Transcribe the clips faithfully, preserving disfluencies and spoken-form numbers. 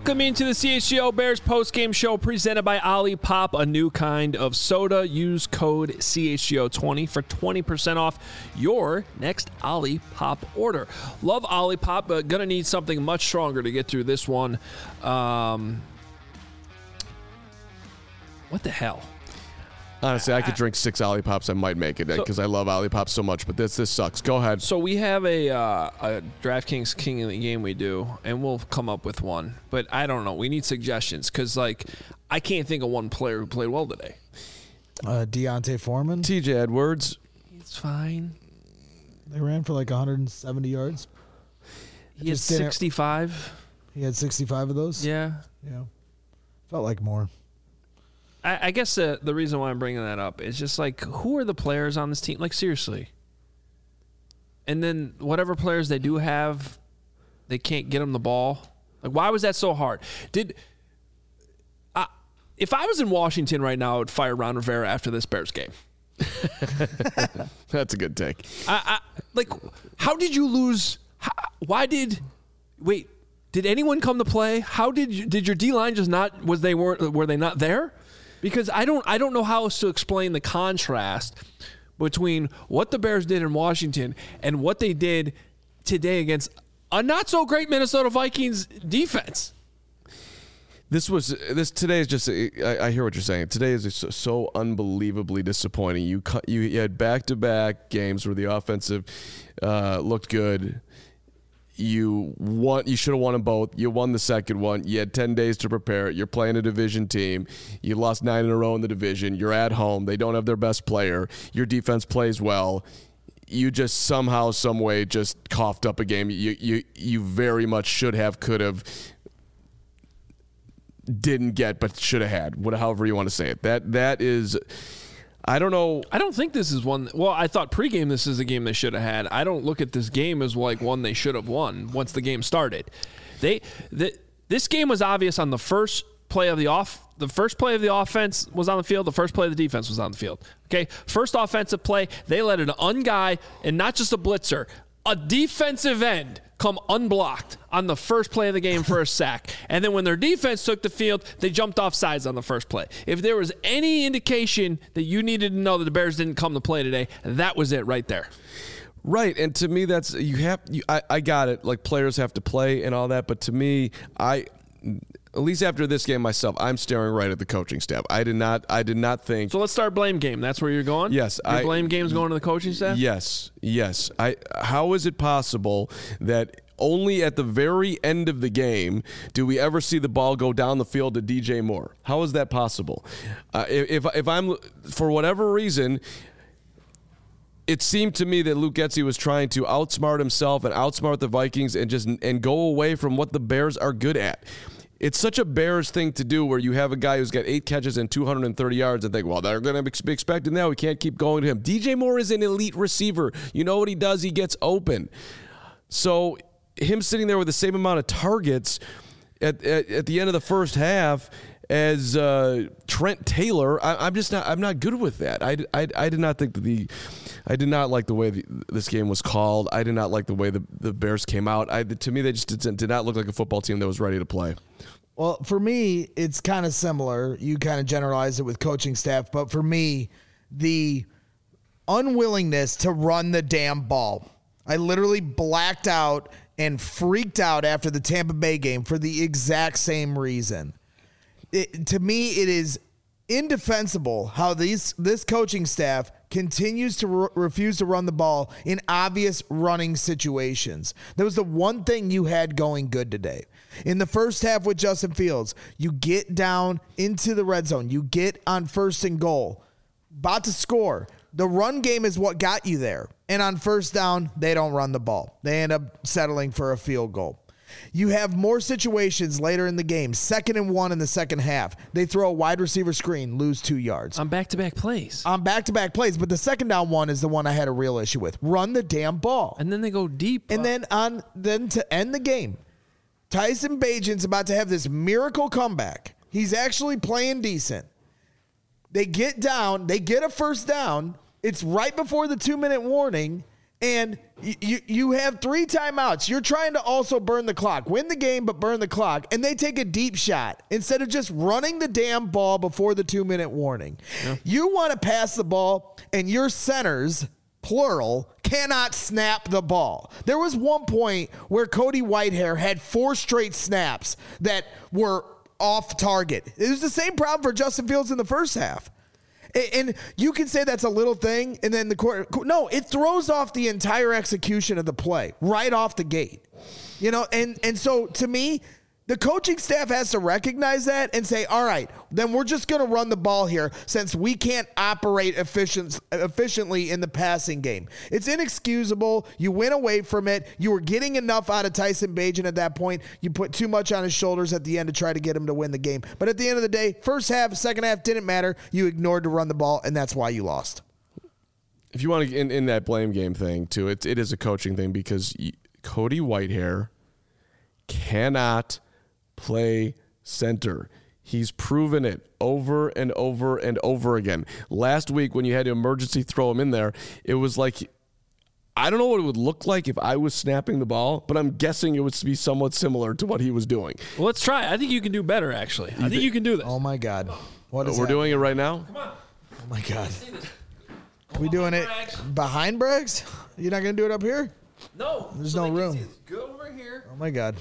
Welcome into the C H G O Bears postgame show presented by Olipop, a new kind of soda. Use code C H G O twenty for twenty percent off your next Olipop order. Love Olipop, but gonna need something much stronger to get through this one. Um, what the hell? Honestly, I could drink six Olipops. I might make it because so, I love Olipops so much. But this this sucks. Go ahead. So we have a, uh, a DraftKings King of the Game we do, and we'll come up with one. But I don't know. We need suggestions because, like, I can't think of one player who played well today. Uh, Deontay Foreman. T J Edwards. It's fine. They ran for like one hundred seventy yards. He had sixty-five. He had sixty-five of those? Yeah. Yeah. Felt like more. I guess the, the reason why I'm bringing that up is just like, who are the players on this team? Like, seriously. And then whatever players they do have, they can't get them the ball. Like, why was that so hard? Did I, if I was in Washington right now, I would fire Ron Rivera after this Bears game. That's a good take. I, I, like, how did you lose? How, why did wait? Did anyone come to play? How did you, did your D line just not? Was they weren't? Were they not there? Because I don't I don't know how else to explain the contrast between what the Bears did in Washington and what they did today against a not so great Minnesota Vikings defense. This was this today is just I, I hear what you're saying. Today is just so, so unbelievably disappointing. You you, you had back to back games where the offensive uh, looked good. You won. You should have won them both. You won the second one. You had ten days to prepare. You're playing a division team. You lost nine in a row in the division. You're at home. They don't have their best player. Your defense plays well. You just somehow, some way, just coughed up a game. You you you very much should have, could have, didn't get, but should have had. What, however you want to say it. That that is. I don't know. I don't think this is one. Well, I thought pregame this is a game they should have had. I don't look at this game as like one they should have won once the game started. They the, this game was obvious on the first play of the off. The first play of the offense was on the field. The first play of the defense was on the field. Okay, first offensive play, they let an unguy and not just a blitzer, a defensive end come unblocked on the first play of the game for a sack. And then when their defense took the field, they jumped off sides on the first play. If there was any indication that you needed to know that the Bears didn't come to play today, that was it right there. Right, and to me, that's you have. You, I, I got it. Like, players have to play and all that, but to me, I, at least after this game myself, I'm staring right at the coaching staff. I did not. I did not think. So let's start blame game. That's where you're going. Yes, Your I, blame game's going to the coaching staff. Yes, yes. I. How is it possible that only at the very end of the game do we ever see the ball go down the field to D J Moore? How is that possible? Uh, if if I'm for whatever reason. It seemed to me that Luke Getsy was trying to outsmart himself and outsmart the Vikings and just and go away from what the Bears are good at. It's such a Bears thing to do where you have a guy who's got eight catches and two hundred thirty yards and think, well, they're going to be expecting that. We can't keep going to him. D J Moore is an elite receiver. You know what he does? He gets open. So him sitting there with the same amount of targets at, at, at the end of the first half as uh, Trent Taylor, I, I'm just not. I'm not good with that. I, I, I did not think that the, I did not like the way the, this game was called. I did not like the way the, the Bears came out. I, to me, they just did, did not look like a football team that was ready to play. Well, for me, it's kind of similar. You kind of generalize it with coaching staff, but for me, the unwillingness to run the damn ball. I literally blacked out and freaked out after the Tampa Bay game for the exact same reason. It, to me, it is indefensible how these this coaching staff continues to re- refuse to run the ball in obvious running situations. That was the one thing you had going good today. In the first half with Justin Fields, you get down into the red zone. You get on first and goal. About to score. The run game is what got you there. And on first down, they don't run the ball. They end up settling for a field goal. You have more situations later in the game. Second and one in the second half. They throw a wide receiver screen, lose two yards. On back-to-back plays. On back-to-back plays. But the second down one is the one I had a real issue with. Run the damn ball. And then they go deep. And then on then to end the game, Tyson Bagent's about to have this miracle comeback. He's actually playing decent. They get down. They get a first down. It's right before the two-minute warning. And you you have three timeouts. You're trying to also burn the clock. Win the game, but burn the clock. And they take a deep shot instead of just running the damn ball before the two-minute warning. Yeah. You want to pass the ball, and your centers, plural, cannot snap the ball. There was one point where Cody Whitehair had four straight snaps that were off target. It was the same problem for Justin Fields in the first half. And you can say that's a little thing, and then the court. No, it throws off the entire execution of the play right off the gate. You know, and, and so to me, the coaching staff has to recognize that and say, all right, then we're just going to run the ball here since we can't operate efficient, efficiently in the passing game. It's inexcusable. You went away from it. You were getting enough out of Tyson Bagent at that point. You put too much on his shoulders at the end to try to get him to win the game. But at the end of the day, first half, second half didn't matter. You ignored to run the ball, and that's why you lost. If you want to, in, in that blame game thing, too, it, it is a coaching thing because Cody Whitehair cannot play center. He's proven it over and over and over again. Last week when you had to emergency throw him in there, it was like, I don't know what it would look like if I was snapping the ball, but I'm guessing it would be somewhat similar to what he was doing. Well, let's try. I think you can do better, actually. I think you can do this. Oh, my God. What is We're that? doing it right now? Come on. Oh, my God. Are we doing it behind Braggs? You're not going to do it up here? No. There's so no room. Go over here. Oh, my God.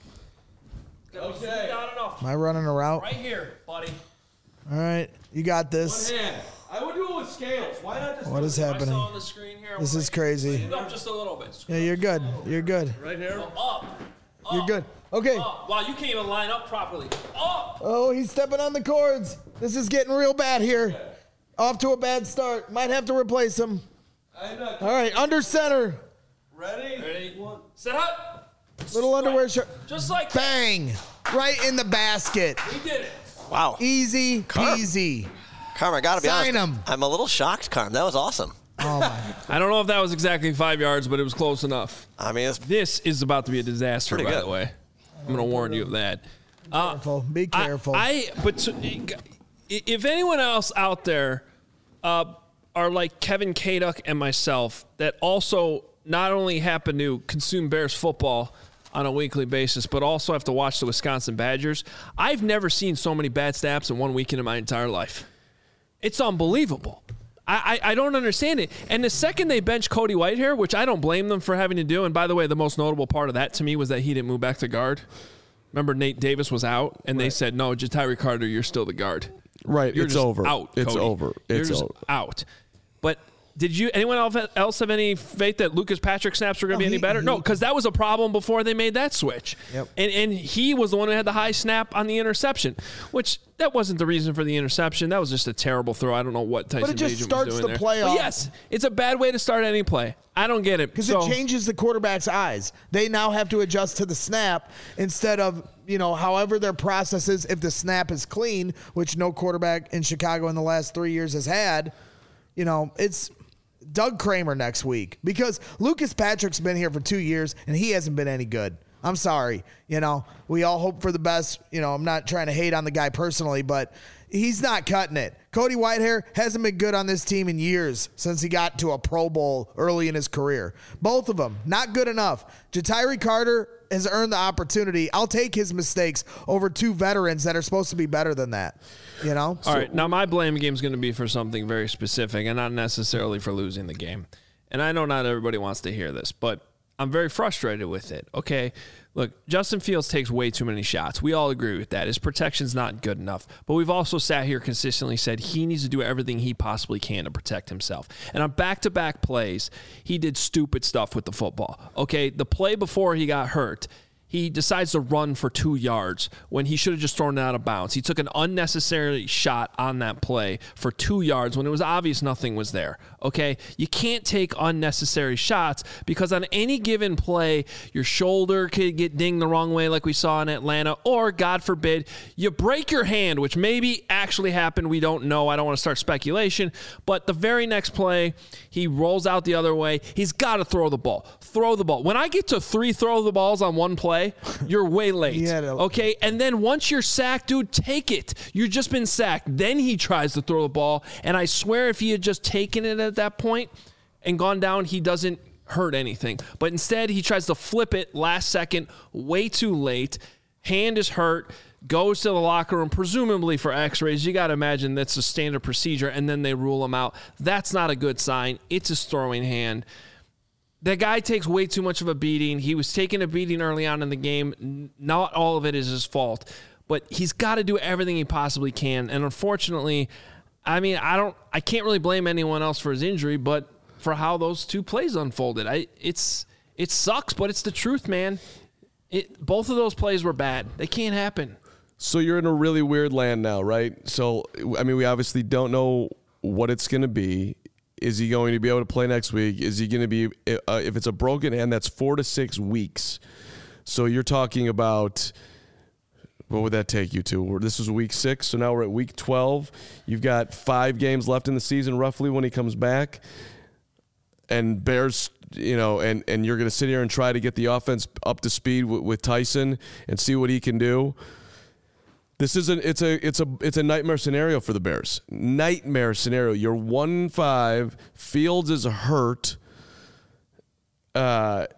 Okay. Am I running a route? Right here, buddy. All right. You got this. One hand. I would do it with scales. Why not just What is happening? I saw on the screen here. This is crazy. Up just a little bit. Yeah, you're good. You're good. right here? Up. Up. You're good. Okay. Up. Wow, you can't even line up properly. Up. Oh, he's stepping on the cords. This is getting real bad here. Off to a bad start. Might have to replace him. I'm not All right, under center. ready. Ready? One. Sit up. Little underwear shirt. Just like that. Bang. Right in the basket. We did it. Wow. Easy Carm. peasy. Carm, I got to be Sign honest. him. I'm a little shocked, Carm. That was awesome. Oh, my. I don't know if that was exactly five yards, but it was close enough. I mean, it's This is about to be a disaster, Pretty by good. the way. I'm going to warn you of that. Uh, Careful. Be I- careful. I, but so, if anyone else out there uh, are like Kevin Kaduk and myself that also not only happen to consume Bears football on a weekly basis, but also have to watch the Wisconsin Badgers, I've never seen so many bad snaps in one weekend in my entire life. It's unbelievable. I, I, I don't understand it. And the second they bench Cody Whitehair, which I don't blame them for having to do, and by the way, the most notable part of that to me was that he didn't move back to guard. Remember, Nate Davis was out, and right. they said, no, Ja'Tyre Carter, you're still the guard. Right, You're it's just over. out, It's Cody. over. You're It's just over. out. But did you anyone else have any faith that Lucas Patrick snaps were going to No, be any he- better? he- No, because that was a problem before they made that switch. Yep. And and he was the one who had the high snap on the interception, which that wasn't the reason for the interception. That was just a terrible throw. I don't know what Tyson But it just Bagent starts was the doing there. play But off. yes, it's a bad way to start any play. I don't get it. Because So- it changes the quarterback's eyes. They now have to adjust to the snap instead of, you know, however their process is if the snap is clean, which no quarterback in Chicago in the last three years has had. You know, it's Doug Kramer next week because Lucas Patrick's been here for two years and he hasn't been any good. I'm sorry. You know, we all hope for the best. You know, I'm not trying to hate on the guy personally, but he's not cutting it. Cody Whitehair hasn't been good on this team in years since he got to a Pro Bowl early in his career. Both of them, not good enough. Ja'Tyre Carter has earned the opportunity. I'll take his mistakes over two veterans that are supposed to be better than that. You know? All right. Now, my blame game is going to be for something very specific and not necessarily for losing the game. And I know not everybody wants to hear this, but I'm very frustrated with it. Okay. Look, Justin Fields takes way too many shots. We all agree with that. His protection's not good enough. But we've also sat here consistently said he needs to do everything he possibly can to protect himself. And on back-to-back plays, he did stupid stuff with the football. Okay, the play before he got hurt, he decides to run for two yards when he should have just thrown it out of bounds. He took an unnecessary shot on that play for two yards when it was obvious nothing was there. Okay? You can't take unnecessary shots because on any given play, your shoulder could get dinged the wrong way like we saw in Atlanta, or God forbid, you break your hand, which maybe actually happened. We don't know. I don't want to start speculation. But the very next play, he rolls out the other way. He's got to throw the ball. Throw the ball. When I get to three throw the balls on one play, you're way late. Yeah, okay? And then once you're sacked, dude, take it. You've just been sacked. Then he tries to throw the ball. And I swear if he had just taken it at that point and gone down, he doesn't hurt anything. But instead, he tries to flip it last second, way too late. Hand is hurt, goes to the locker room, presumably for x-rays. You got to imagine that's a standard procedure, and then they rule him out. That's not a good sign. It's his throwing hand. The guy takes way too much of a beating. He was taking a beating early on in the game. Not all of it is his fault, but he's got to do everything he possibly can. And unfortunately, I mean, I don't, I can't really blame anyone else for his injury, but for how those two plays unfolded, I, it's, it sucks, but it's the truth, man. It, both of those plays were bad. They can't happen. So you're in a really weird land now, right? So, I mean, we obviously don't know what it's going to be. Is he going to be able to play next week? Is he going to be, uh, if it's a broken hand, that's four to six weeks. So you're talking about, what would that take you to? This was week six, so now we're at week twelve. You've got five games left in the season, roughly, when he comes back. And Bears, you know, and, and you're going to sit here and try to get the offense up to speed with, with Tyson and see what he can do. This is a it's a it's a it's a nightmare scenario for the Bears. Nightmare scenario. You're one five. Fields is hurt. Uh,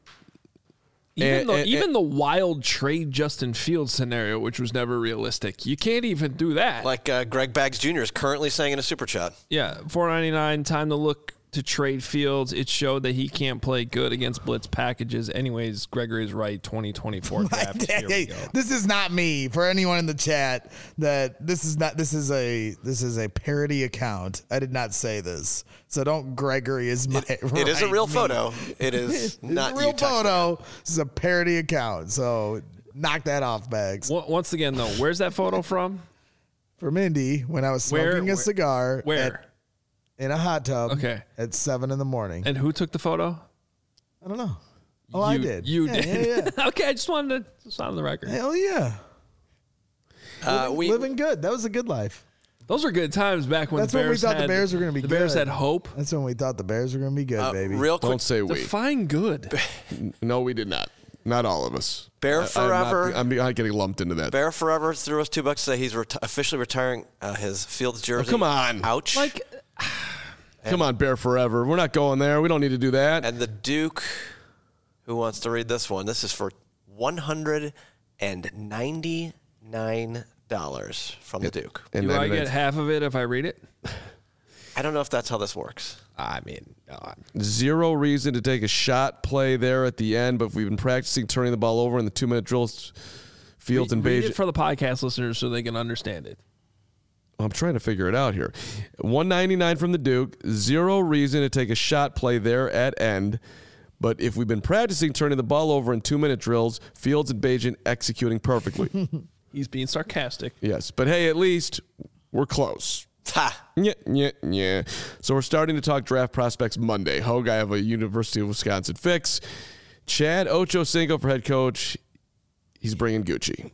even and, the and, even and, the wild trade Justin Fields scenario, which was never realistic. You can't even do that. Like uh, Greg Baggs Junior is currently saying in a super chat. Yeah, four ninety-nine. Time to look to trade Fields. It showed that he can't play good against blitz packages. Anyways, Gregory's right. twenty twenty-four draft. Here we go. This is not me. For anyone in the chat, that this is not. This is a this is a parody account. I did not say this, so don't. Gregory is my. It, right it is a real me. photo. It is not it's a real you photo. This is a parody account. So knock that off, Bags. Once again, though, where's that photo from? From Indy when I was smoking Where- a where- cigar. Where? At, in a hot tub. Okay. At seven in the morning. And who took the photo? I don't know. Oh, I You- did. You Yeah, did. Yeah, yeah. Okay, I just wanted to just on the record. Hell yeah. Uh, living, we living good. That was a good life. Those were good times back when That's the when we Bears thought the had, Bears were gonna be The Bears good. had hope. That's when we thought the Bears were going to be good, uh, baby. real quick. don't say we. Define good. No, we did not. Not all of us. Bear I- forever. I'm not, I'm not getting lumped into that. Bear Forever threw us two bucks to say he's reti- officially retiring uh, his Fields jersey. Oh, come on. Ouch. Like, Come on, Bear Forever. We're not going there. We don't need to do that. And the Duke, who wants to read this one? This is for one hundred ninety-nine dollars from the Duke. And do then I it's get half of it if I read it? I don't know if that's how this works. I mean, no, I'm- zero reason to take a shot play there at the end, but we've been practicing turning the ball over in the two-minute drills. Fields and read Beige. it for the podcast listeners so they can understand it. I'm trying to figure it out here. one ninety-nine from the Duke. Zero reason to take a shot play there at end. But if we've been practicing turning the ball over in two-minute drills, Fields and Bajan executing perfectly. He's being sarcastic. Yes, but hey, at least we're close. Ha! Yeah, yeah, yeah. So we're starting to talk draft prospects Monday. Hogue, I have a University of Wisconsin fix. Chad Ochocinco for head coach. He's bringing Gucci.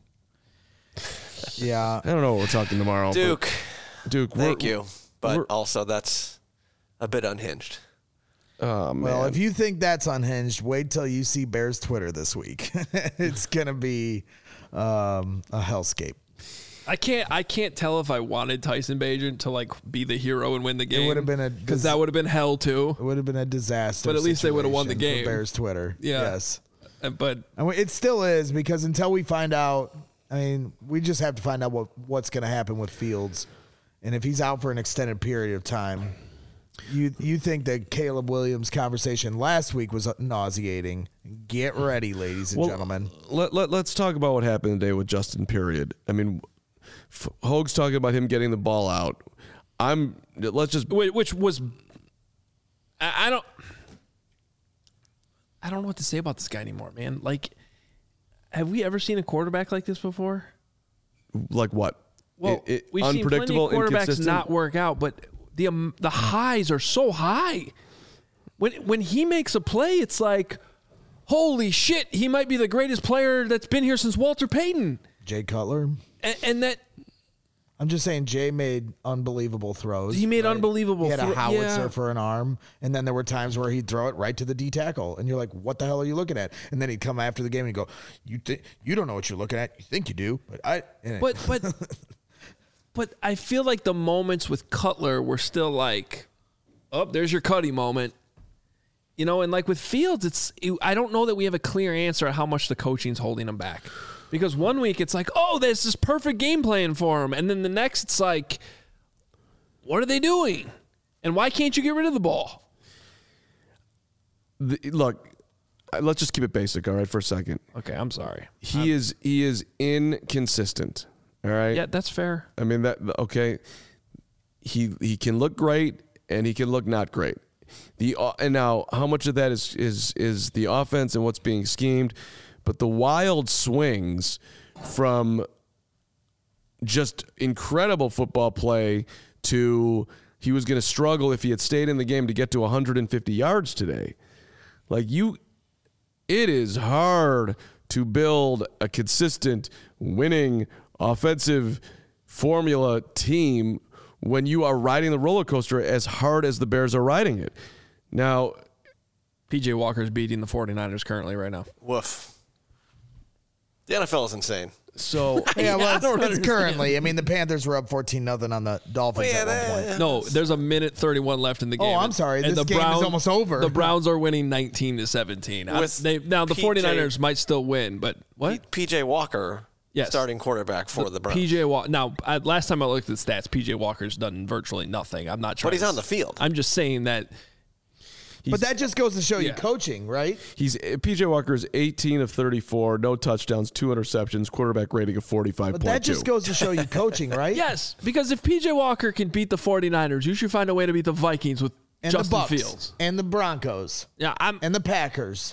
Yeah. I don't know what we're talking tomorrow. Duke, but Duke, thank we're- you. But we're- also, that's a bit unhinged. Oh, man. Well, if you think that's unhinged, wait till you see Bears Twitter this week. It's going to be um, a hellscape. I can't. I can't tell if I wanted Tyson Bagent to like be the hero and win the game. would have been a- because that would have been hell too. It would have been a disaster. But at least they would have won the situation for game. Bears Twitter. Yeah. Yes. Uh, But And we- it still is, because until we find out, I mean, we just have to find out what, what's going to happen with Fields. And if he's out for an extended period of time, you you think that Caleb Williams' conversation last week was nauseating. Get ready, ladies and Well, gentlemen. Let, let, let's talk about what happened today with Justin, period. I mean, F- Hogue's talking about him getting the ball out. I'm, let's just, whi- which was, I, I don't, I don't know what to say about this guy anymore, man. Like, have we ever seen a quarterback like this before? like what? Well, It- it- we've seen plenty unpredictable, of quarterbacks inconsistent? not work out, but the um, the highs are so high. When when he makes a play, it's like, holy shit, he might be the greatest player that's been here since Walter Payton. Jay Cutler. And, and that I'm just saying, Jay made unbelievable throws. He made unbelievable He had a thro- howitzer yeah. for an arm, and then there were times where he'd throw it right to the D tackle, and you're like, "What the hell are you looking at?" And then he'd come after the game and he'd go, "You think you don't know what you're looking at? You think you do, but I." And But but but I feel like the moments with Cutler were still like, oh, there's your Cuddy moment. You know, and like with Fields, it's I don't know that we have a clear answer at how much the coaching's holding him back. Because one week it's like, oh, this is perfect game plan for him. And then the next it's like, what are they doing? And why can't you get rid of the ball? The, look, let's just keep it basic, all right, for a second. Okay, I'm sorry. He I'm, is he is inconsistent, all right? Yeah, that's fair. I mean, that okay. He he can look great and he can look not great. The and now how much of that is is is the offense and what's being schemed, but the wild swings from just incredible football play to he was going to struggle if he had stayed in the game to get to one hundred fifty yards today. Like you, it is hard to build a consistent winning offensive formula team when you are riding the roller coaster as hard as the Bears are riding it. Now, P J Walker's beating the 49ers currently right now. Woof. The N F L is insane. so Yeah, well, I don't it's, it's understand. currently. I mean, the Panthers were up fourteen nothing on the Dolphins Well, yeah, at one that- point. No, there's a minute thirty-one left in the Oh, game. I'm sorry. And This the game is Browns, almost over. The Browns are winning nineteen to seventeen. I- With they, now, the P J 49ers might still win, but what? P J Walker, Yes. starting quarterback for the, Browns. P J Walker. Now, I, last time I looked at the stats, P J Walker's done virtually nothing. I'm not trying But he's to- on the field. I'm just saying that But that just goes to show you Yeah. coaching, right? he's P J Walker is eighteen of thirty-four, no touchdowns, two interceptions, quarterback rating of forty-five point But two. that just goes to show you coaching, right? yes, because if P J Walker can beat the 49ers, you should find a way to beat the Vikings with And Justin the Bucks Fields. and the Broncos Yeah, I'm and the Packers.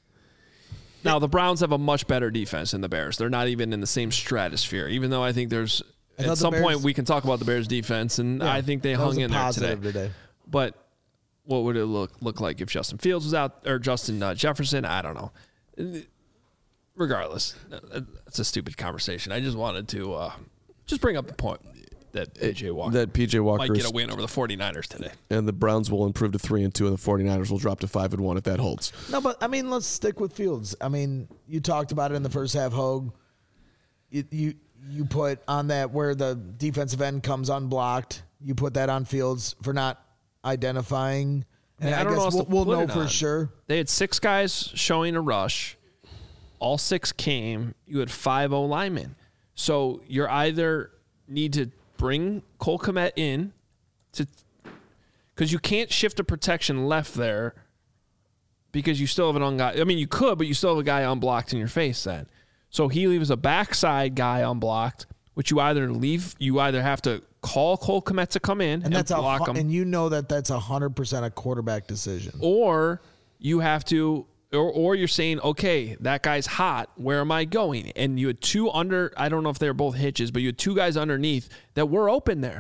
now the Browns have a much better defense than the Bears. They're not even in the same stratosphere. Even though I think there's I thought at the some Bears- point we can talk about the Bears defense, and Yeah, I think they that was hung a in there positive today. today. But what would it look look like if Justin Fields was out or Justin uh, Jefferson? I don't know. Regardless, it's a stupid conversation. I just wanted to uh, just bring up the point that P J Walker that P J Walker might get a win over the 49ers today. and the Browns will improve to three and two, and the 49ers will drop to five and one if that holds. No, but I mean, let's stick with Fields. I mean, you talked about it in the first half, Hogue. You you, you put on that where the defensive end comes unblocked. You put that on Fields for not identifying. And Yeah, I, I don't know guess what else we'll, to we'll put know it for on. sure. They had six guys showing a rush. All six came. You had five O linemen. So you're either need to bring Cole Kmet in to because you can't shift a protection left there because you still have an on guy. I mean, you could, but you still have a guy unblocked in your face then. So he leaves a backside guy unblocked, which you either leave, you either have to call Cole Kmet to come in and, And that's a block hu- him, and you know that that's a hundred percent a quarterback decision. or you have to or, or you're saying, okay, that guy's hot, where am I going? And you had two under, I don't know if they were both hitches, but you had two guys underneath that were open there.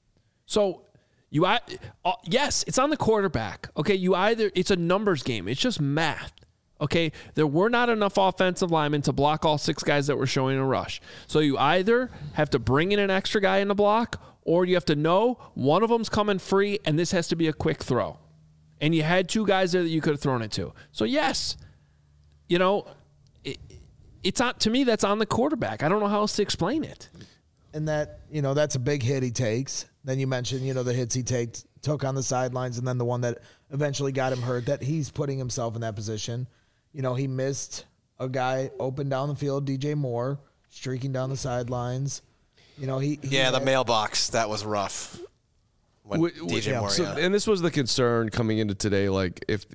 So you I uh, yes, it's on the quarterback. Okay, you either it's a numbers game. It's just math. Okay, there were not enough offensive linemen to block all six guys that were showing a rush. So you either have to bring in an extra guy in the block, or you have to know one of them's coming free, and this has to be a quick throw. And you had two guys there that you could have thrown it to. So yes, you know, it, it's on to me. That's on the quarterback. I don't know how else to explain it. And that, you know, that's a big hit he takes. Then you mentioned, you know, the hits he takes, took on the sidelines, and then the one that eventually got him hurt, that he's putting himself in that position. You know, he missed a guy open down the field, D J Moore, streaking down the sidelines. You know, he, he Yeah, the had- mailbox, that was rough. When W- w- D J yeah, Moore, So, yeah. and this was the concern coming into today. Like if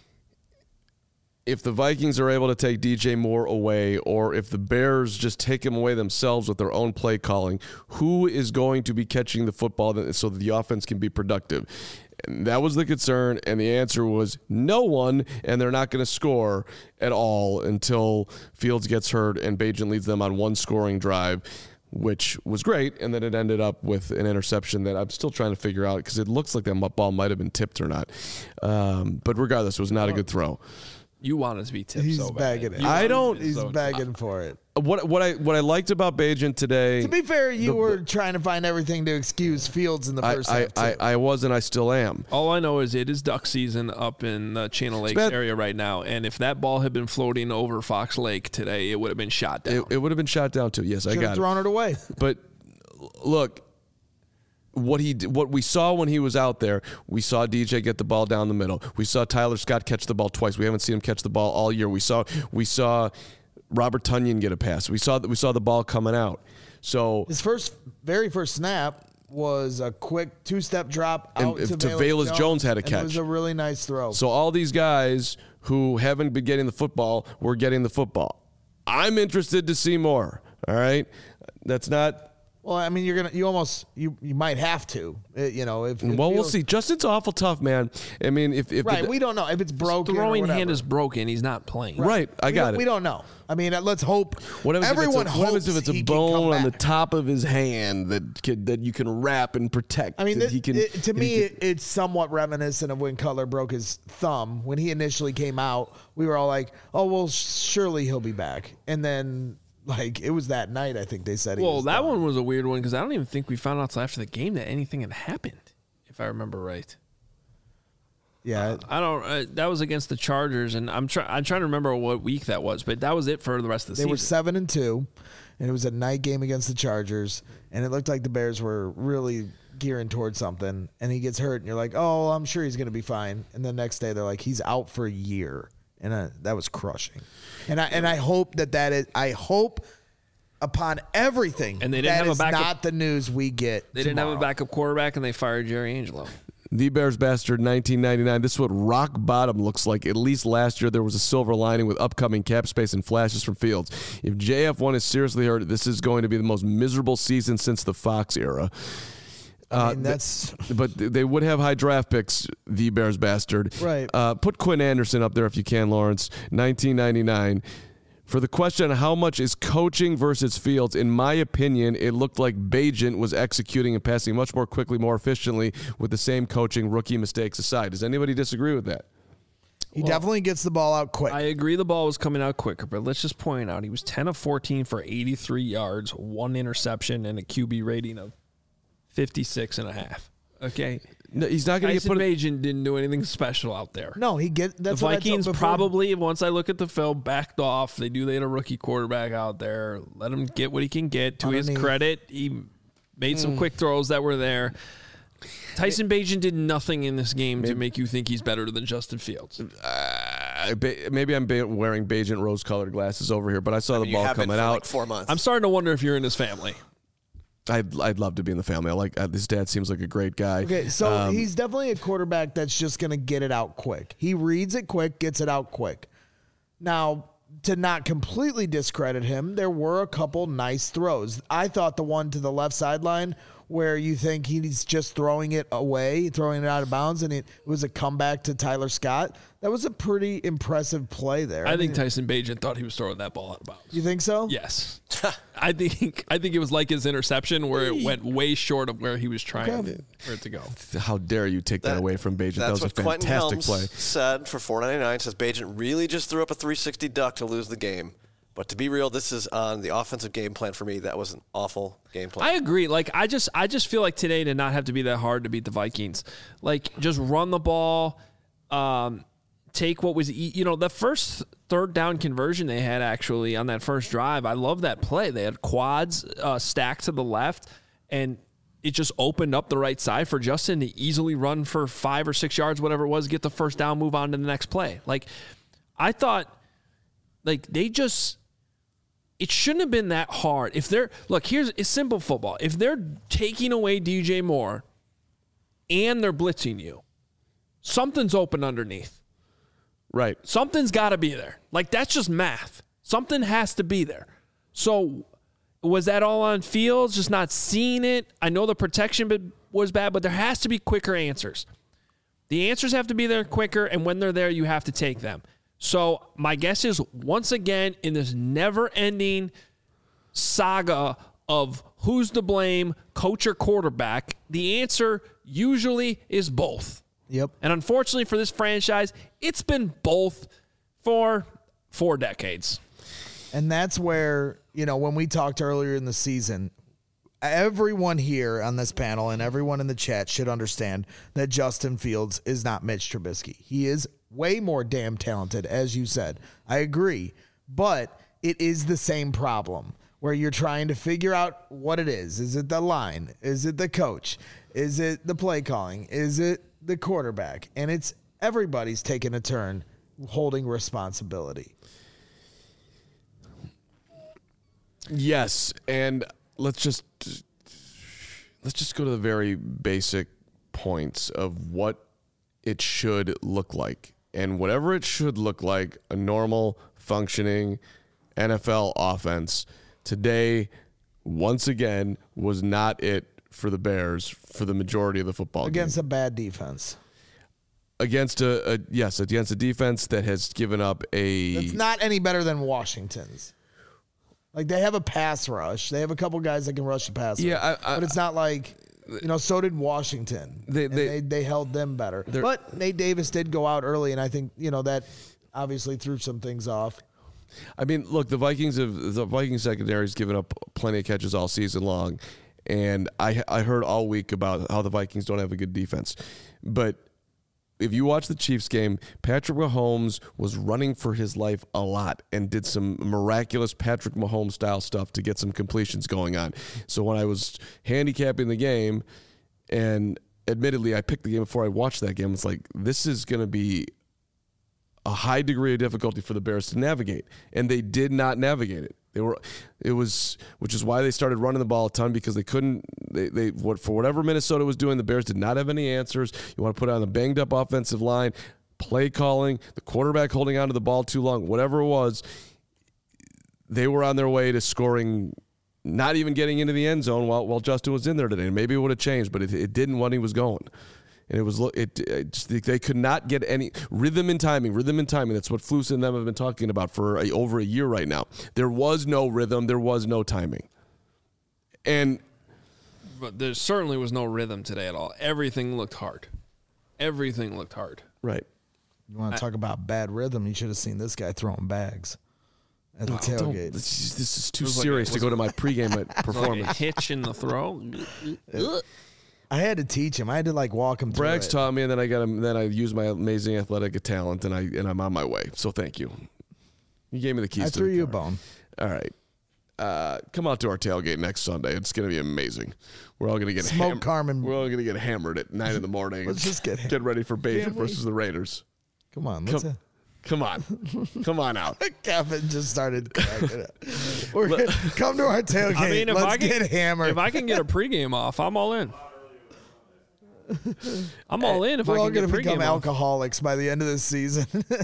if the Vikings are able to take D J Moore away, or if the Bears just take him away themselves with their own play calling, who is going to be catching the football that, so that the offense can be productive? And that was the concern, and the answer was no one, and they're not going to score at all until Fields gets hurt and Bajan leads them on one scoring drive, which was great, and then it ended up with an interception that I'm still trying to figure out because it looks like that ball might have been tipped or not. Um, but regardless, it was not a good throw. You want it to be tipped He's so bad. bagging it. You I want don't- it to be He's so- begging for it. What what I what I liked about Bajan today. To be fair, you the- were trying to find everything to excuse Fields in the I, first I, half, too. I, I was and I still am. All I know is it is duck season up in the Channel Lakes bad. area right now, and if that ball had been floating over Fox Lake today, it would have been shot down. It, it would have been shot down too. Yes, I Should have got it. thrown it away. But look, what he what we saw when he was out there, we saw D J get the ball down the middle. We saw Tyler Scott catch the ball twice. We haven't seen him catch the ball all year. We saw we saw Robert Tonyan get a pass. We saw we saw the ball coming out. So his first, very first snap was a quick two-step drop out and to to Velus Velus Jones, Jones had a and catch. It was a really nice throw. So all these guys who haven't been getting the football were getting the football. I'm interested to see more. All right, that's not. Well, I mean, you're gonna, you almost, you you might have to, uh, you know. If, if Well, we'll feels- see. Justin's awful tough, man. I mean, if if Right, the, we don't know if it's broken. Throwing or whatever. hand is broken. He's not playing. right, I We got don't- it. We don't know. I mean, uh, let's hope. What happens Everyone if it's a, hopes what happens if it's he a can come bone on the back. top of his hand that could, that you can wrap and protect? I mean, that it, he can, it- to that me, he can- it, it's somewhat reminiscent of when Cutler broke his thumb. When he initially came out, we were all like, "Oh, well, surely he'll be back." And then, like, it was that night. I think they said. He Well, was that done. one was a weird one because I don't even think we found out until after the game that anything had happened, if I remember right. Yeah, I don't. Uh, that was against the Chargers, and I'm trying. I'm trying to remember what week that was, but that was it for the rest of the they season. were seven and two, and it was a night game against the Chargers, and it looked like the Bears were really gearing towards something. And he gets hurt, and you're like, "Oh, I'm sure he's going to be fine." And the next day, they're like, "He's out for a year," and uh, that was crushing. And I and I hope that that is. I hope upon everything, And they didn't that have a is backup- not the news we get. They didn't have a tomorrow. backup quarterback, and they fired Jerry Angelo. The Bears Bastard nineteen ninety-nine. This is what rock bottom looks like. At least last year, there was a silver lining with upcoming cap space and flashes from Fields. If J F one is seriously hurt, this is going to be the most miserable season since the Fox era. I mean, that's But they would have high draft picks, the Bears Bastard. Right. Uh, put Quinn Anderson up there if you can, Lawrence. nineteen ninety-nine. For the question on how much is coaching versus Fields, in my opinion, it looked like Bagent was executing and passing much more quickly, more efficiently with the same coaching, rookie mistakes aside. Does anybody disagree with that? he definitely gets the ball out quick. I agree the ball was coming out quicker, but let's just point out he was ten of fourteen for eighty-three yards, one interception, and a Q B rating of fifty-six and a half. Okay. No, he's not going to get Tyson put. Bagent didn't do anything special out there. no, he get that's The what I told Vikings before. probably, once I look at the film, backed off. They do they had a rookie quarterback out there. Let him get what he can get. To his Underneath. credit, he made some Mm. quick throws that were there. Tyson Bagent did nothing in this game to make you think he's better than Justin Fields. Uh, ba- maybe I'm ba- wearing Bagent rose-colored glasses over here, but I saw the You ball have been coming for out. like four months. I'm starting to wonder if you're in his family. I'd, I'd love to be in the family. I like uh, his dad seems like a great guy. Okay, so Um, he's definitely a quarterback that's just going to get it out quick. He reads it quick, gets it out quick. Now, to not completely discredit him, there were a couple nice throws. I thought the one to the left sideline where you think he's just throwing it away, throwing it out of bounds, and it was a comeback to Tyler Scott. That was a pretty impressive play there. I think mean, Tyson Bagent thought he was throwing that ball out of bounds. you think so? Yes. I think I think it was like his interception where it went way short of where he was trying Okay. for it to go. how dare you take that, That- away from Bagent? That That's was a what Quentin fantastic Helms play. said for four ninety-nine. Says Bagent really just threw up a three sixty duck to lose the game. But to be real, this is on the offensive game plan for me. That was an awful game plan. I agree. Like I just I just feel like today did not have to be that hard to beat the Vikings. Like just run the ball, um, take what was e- you know the first third down conversion they had actually on that first drive. I love that play. They had quads uh, stacked to the left, and it just opened up the right side for Justin to easily run for five or six yards, whatever it was, get the first down, move on to the next play. Like I thought, like they just. It shouldn't have been that hard. If they're look, here's it's simple football. If they're taking away D J Moore and they're blitzing you, something's open underneath. Right. Something's got to be there. Like that's just math. Something has to be there. So was that all on Fields, just not seeing it? I know the protection was bad, but there has to be quicker answers. The answers have to be there quicker, and when they're there, you have to take them. So my guess is, once again, in this never-ending saga of who's to blame, coach or quarterback, the answer usually is both. Yep. And unfortunately for this franchise, it's been both for four decades. And that's where, you know, when we talked earlier in the season, everyone here on this panel and everyone in the chat should understand that Justin Fields is not Mitch Trubisky. He is way more damn talented, as you said. I agree. But it is the same problem where you're trying to figure out what it is. Is it the line? Is it the coach? Is it the play calling? Is it the quarterback? And it's everybody's taking a turn holding responsibility. Yes, and let's just let's just go to the very basic points of what it should look like. And whatever it should look like, a normal, functioning N F L offense, today, once again, was not it for the Bears for the majority of the football Against game. a bad defense. Against a, a yes, against a defense that has given up a... It's not any better than Washington's. Like, they have a pass rush. They have a couple guys that can rush the passer. Yeah, I, I, but it's not like, you know, so did Washington. They- And they- they, they held them better. But Nate Davis did go out early, and I think, you know, that obviously threw some things off. I mean, look, the Vikings have the Vikings secondary has given up plenty of catches all season long, and I I heard all week about how the Vikings don't have a good defense. But if you watch the Chiefs game, Patrick Mahomes was running for his life a lot and did some miraculous Patrick Mahomes style stuff to get some completions going on. So when I was handicapping the game, and admittedly I picked the game before I watched that game, it's like, this is going to be a high degree of difficulty for the Bears to navigate, and they did not navigate it. They were, it was, which is why they started running the ball a ton, because they couldn't. They, they, what for whatever Minnesota was doing, the Bears did not have any answers. You want to put on the banged up offensive line, play calling, the quarterback holding onto the ball too long, whatever it was. They were on their way to scoring, not even getting into the end zone while while Justin was in there today. Maybe it would have changed, but it, it didn't when he was going. And it was it, it just, they could not get any rhythm and timing, rhythm and timing. That's what Flus and them have been talking about for a, over a year right now. There was no rhythm, there was no timing, and But there certainly was no rhythm today at all. Everything looked hard. Everything looked hard. right. You want to talk about bad rhythm? You should have seen this guy throwing bags at the Oh, don't- tailgate. This is, this is too was like serious a- to go to my pregame Like a performance. hitch in the throw. I had to teach him. I had to like walk him through Braggs it. taught me, and then I got him. Then I used my amazing athletic talent, and I and I'm on my way. So thank you. You gave me the keys. I to threw the you a car. bone. All right. Uh, come out to our tailgate next Sunday. It's going to be amazing. We're all going to get Smoke ham- Carmen. We're all going to get hammered at nine in the morning. Let's just get ham- get ready for Bajan Can't we? versus the Raiders. Come on, let's. Come, come on, come on out. Kevin just started cracking up. We're gonna, come to our tailgate. I mean, if let's I can, get hammered. if I can get a pregame off, I'm all in. I'm all in if We're I all can going get to become pregame off. alcoholics by the end of this season.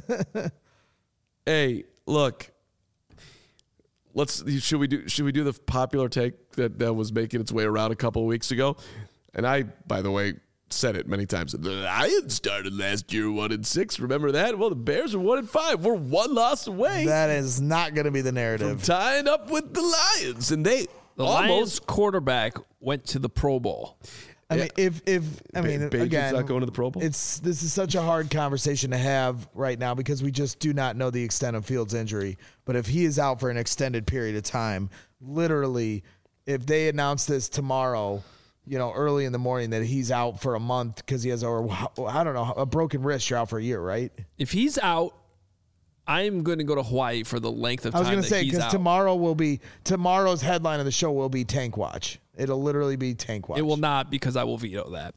Hey, look. Let's should we do should we do the popular take that, that was making its way around a couple of weeks ago? And I, by the way, said it many times. The Lions started last year one and six. Remember that? Well, the Bears are one and five. We're one loss away That is not going to be the from narrative. tying up with the Lions, and they The almost. Lions quarterback went to the Pro Bowl. I mean, if if I Ba- mean, Bajan's again, not going to the Pro Bowl? It's this is such a hard conversation to have right now because we just do not know the extent of Fields' injury. But if he is out for an extended period of time, literally, if they announce this tomorrow, you know, early in the morning that he's out for a month because he has a I don't know a broken wrist, you're out for a year, right? If he's out, I'm going to go to Hawaii for the length of I time was going that to say he's because out. tomorrow will be tomorrow's headline of the show will be Tank Watch. It'll literally be Tank Watch. It will not, because I will veto that.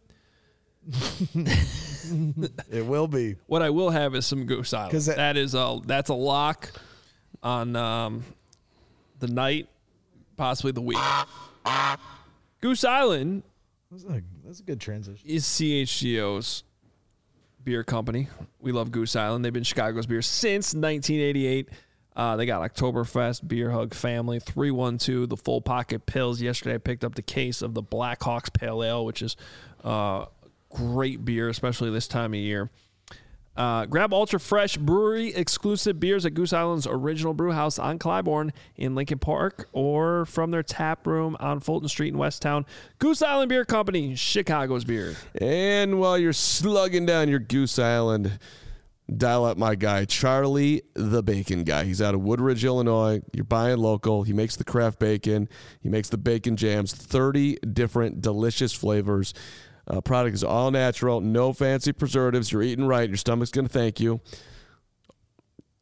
It will be. What I will have is some Goose Island. 'Cause that- that is a that's a lock on um, the night, possibly the week. Goose Island That's a, that's a good transition. is C H G O's beer company. We love Goose Island. They've been Chicago's beer since nineteen eighty-eight. Uh, they got Oktoberfest, Beer Hug Family, three one two, the Full Pocket Pills. Yesterday I picked up the case of the Blackhawks Pale Ale, which is uh, great beer, especially this time of year. Uh, grab Ultra Fresh Brewery exclusive beers at Goose Island's original brew house on Clybourne in Lincoln Park, or from their tap room on Fulton Street in Westtown. Goose Island Beer Company, Chicago's beer. And while you're slugging down your Goose Island, dial up my guy, Charlie the Bacon Guy. He's out of Woodridge, Illinois. You're buying local. He makes the craft bacon. He makes the bacon jams, thirty different delicious flavors. Uh, product is all natural, no fancy preservatives. You're eating right. Your stomach's going to thank you.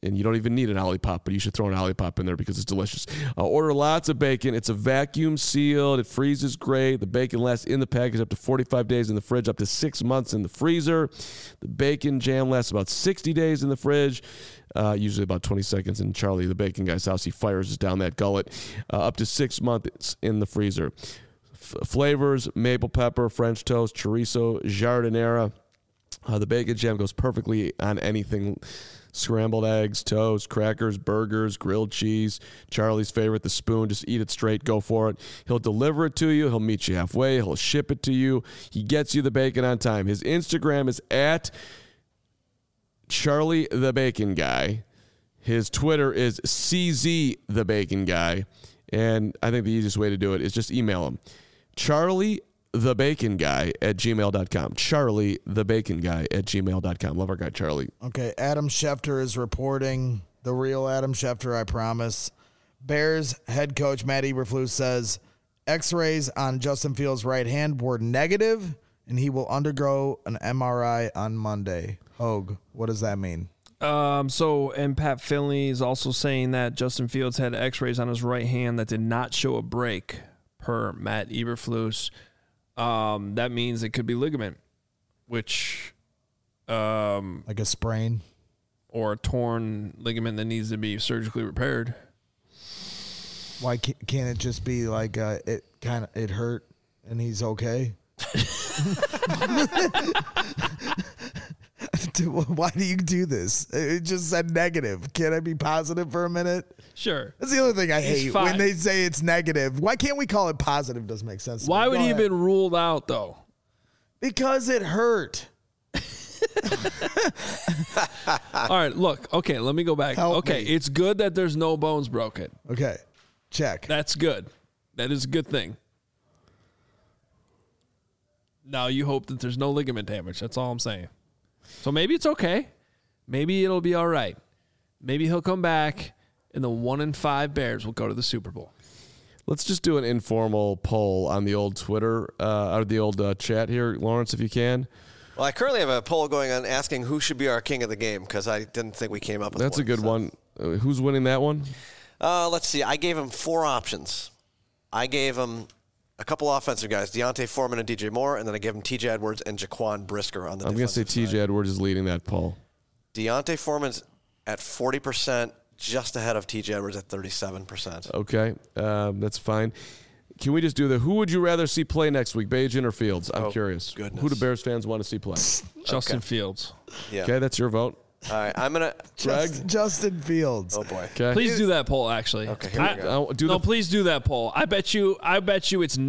And you don't even need an Olipop, but you should throw an Olipop in there because it's delicious. Uh, order lots of bacon. It's a vacuum sealed. It freezes great. The bacon lasts in the package up to forty-five days in the fridge, up to six months in the freezer. The bacon jam lasts about sixty days in the fridge, uh, usually about twenty seconds. In Charlie, the bacon guy's house, he fires us down that gullet. Uh, up to six months in the freezer. F- flavors, maple pepper, French toast, chorizo, jardinera. Uh, the bacon jam goes perfectly on anything. Scrambled eggs, toast, crackers, burgers, grilled cheese. Charlie's favorite, the spoon. Just eat it straight. Go for it. He'll deliver it to you. He'll meet you halfway. He'll ship it to you. He gets you the bacon on time. His Instagram is at Charlie the Bacon Guy. His Twitter is C Z the Bacon Guy. And I think the easiest way to do it is just email him. Charlie the Bacon Guy at gmail dot com. Charlie the Bacon Guy at gmail dot com. Love our guy, Charlie. Okay, Adam Schefter is reporting, the real Adam Schefter, I promise. Bears head coach Matt Eberflus says x-rays on Justin Fields' right hand were negative, and he will undergo an M R I on Monday. Hogue, what does that mean? Um, so, and Pat Finley is also saying that Justin Fields had x-rays on his right hand that did not show a break, per Matt Eberflus. Um, that means it could be ligament, which, um, Like a sprain? or a torn ligament that needs to be surgically repaired. Why can't, can't it just be like uh, it kind of it hurt and he's okay? Why do you do this? It just said negative. Can I be positive for a minute? Sure. That's the other thing I He's hate fine. when they say it's negative. Why can't we call it positive? Doesn't make sense. to Why me. would Go he have ahead. been ruled out, though? Because it hurt. All right, look. Okay, let me go back. Help okay, me. it's good that there's no bones broken. Okay, check. That's good. That is a good thing. Now you hope that there's no ligament damage. That's all I'm saying. So maybe it's okay. Maybe it'll be all right. Maybe he'll come back, and the one in five Bears will go to the Super Bowl. Let's just do an informal poll on the old Twitter, uh, or the old uh, chat here, Lawrence, if you can. Well, I currently have a poll going on asking who should be our king of the game because I didn't think we came up with That's one, a good so. one. Uh, who's winning that one? Uh, let's see. I gave him four options. I gave him a couple offensive guys, Deontay Foreman and D J Moore, and then I gave him T J Edwards and Jaquan Brisker on the I'm going to say defensive T J side. Edwards is leading that poll. Deontay Foreman's at forty percent, just ahead of T J Edwards at thirty-seven percent. Okay, um, that's fine. Can we just do the who would you rather see play next week, Bajan or Fields? I'm Oh, curious. goodness. Who do Bears fans want to see play? Justin Okay. Fields. Yeah. Okay, that's your vote. All right. I'm going to. Greg? Just, Justin Fields. Oh, boy. Okay. Please do that poll. Actually, Okay, here we I- go. I'll do no, the, please do that poll. I bet you. I bet you it's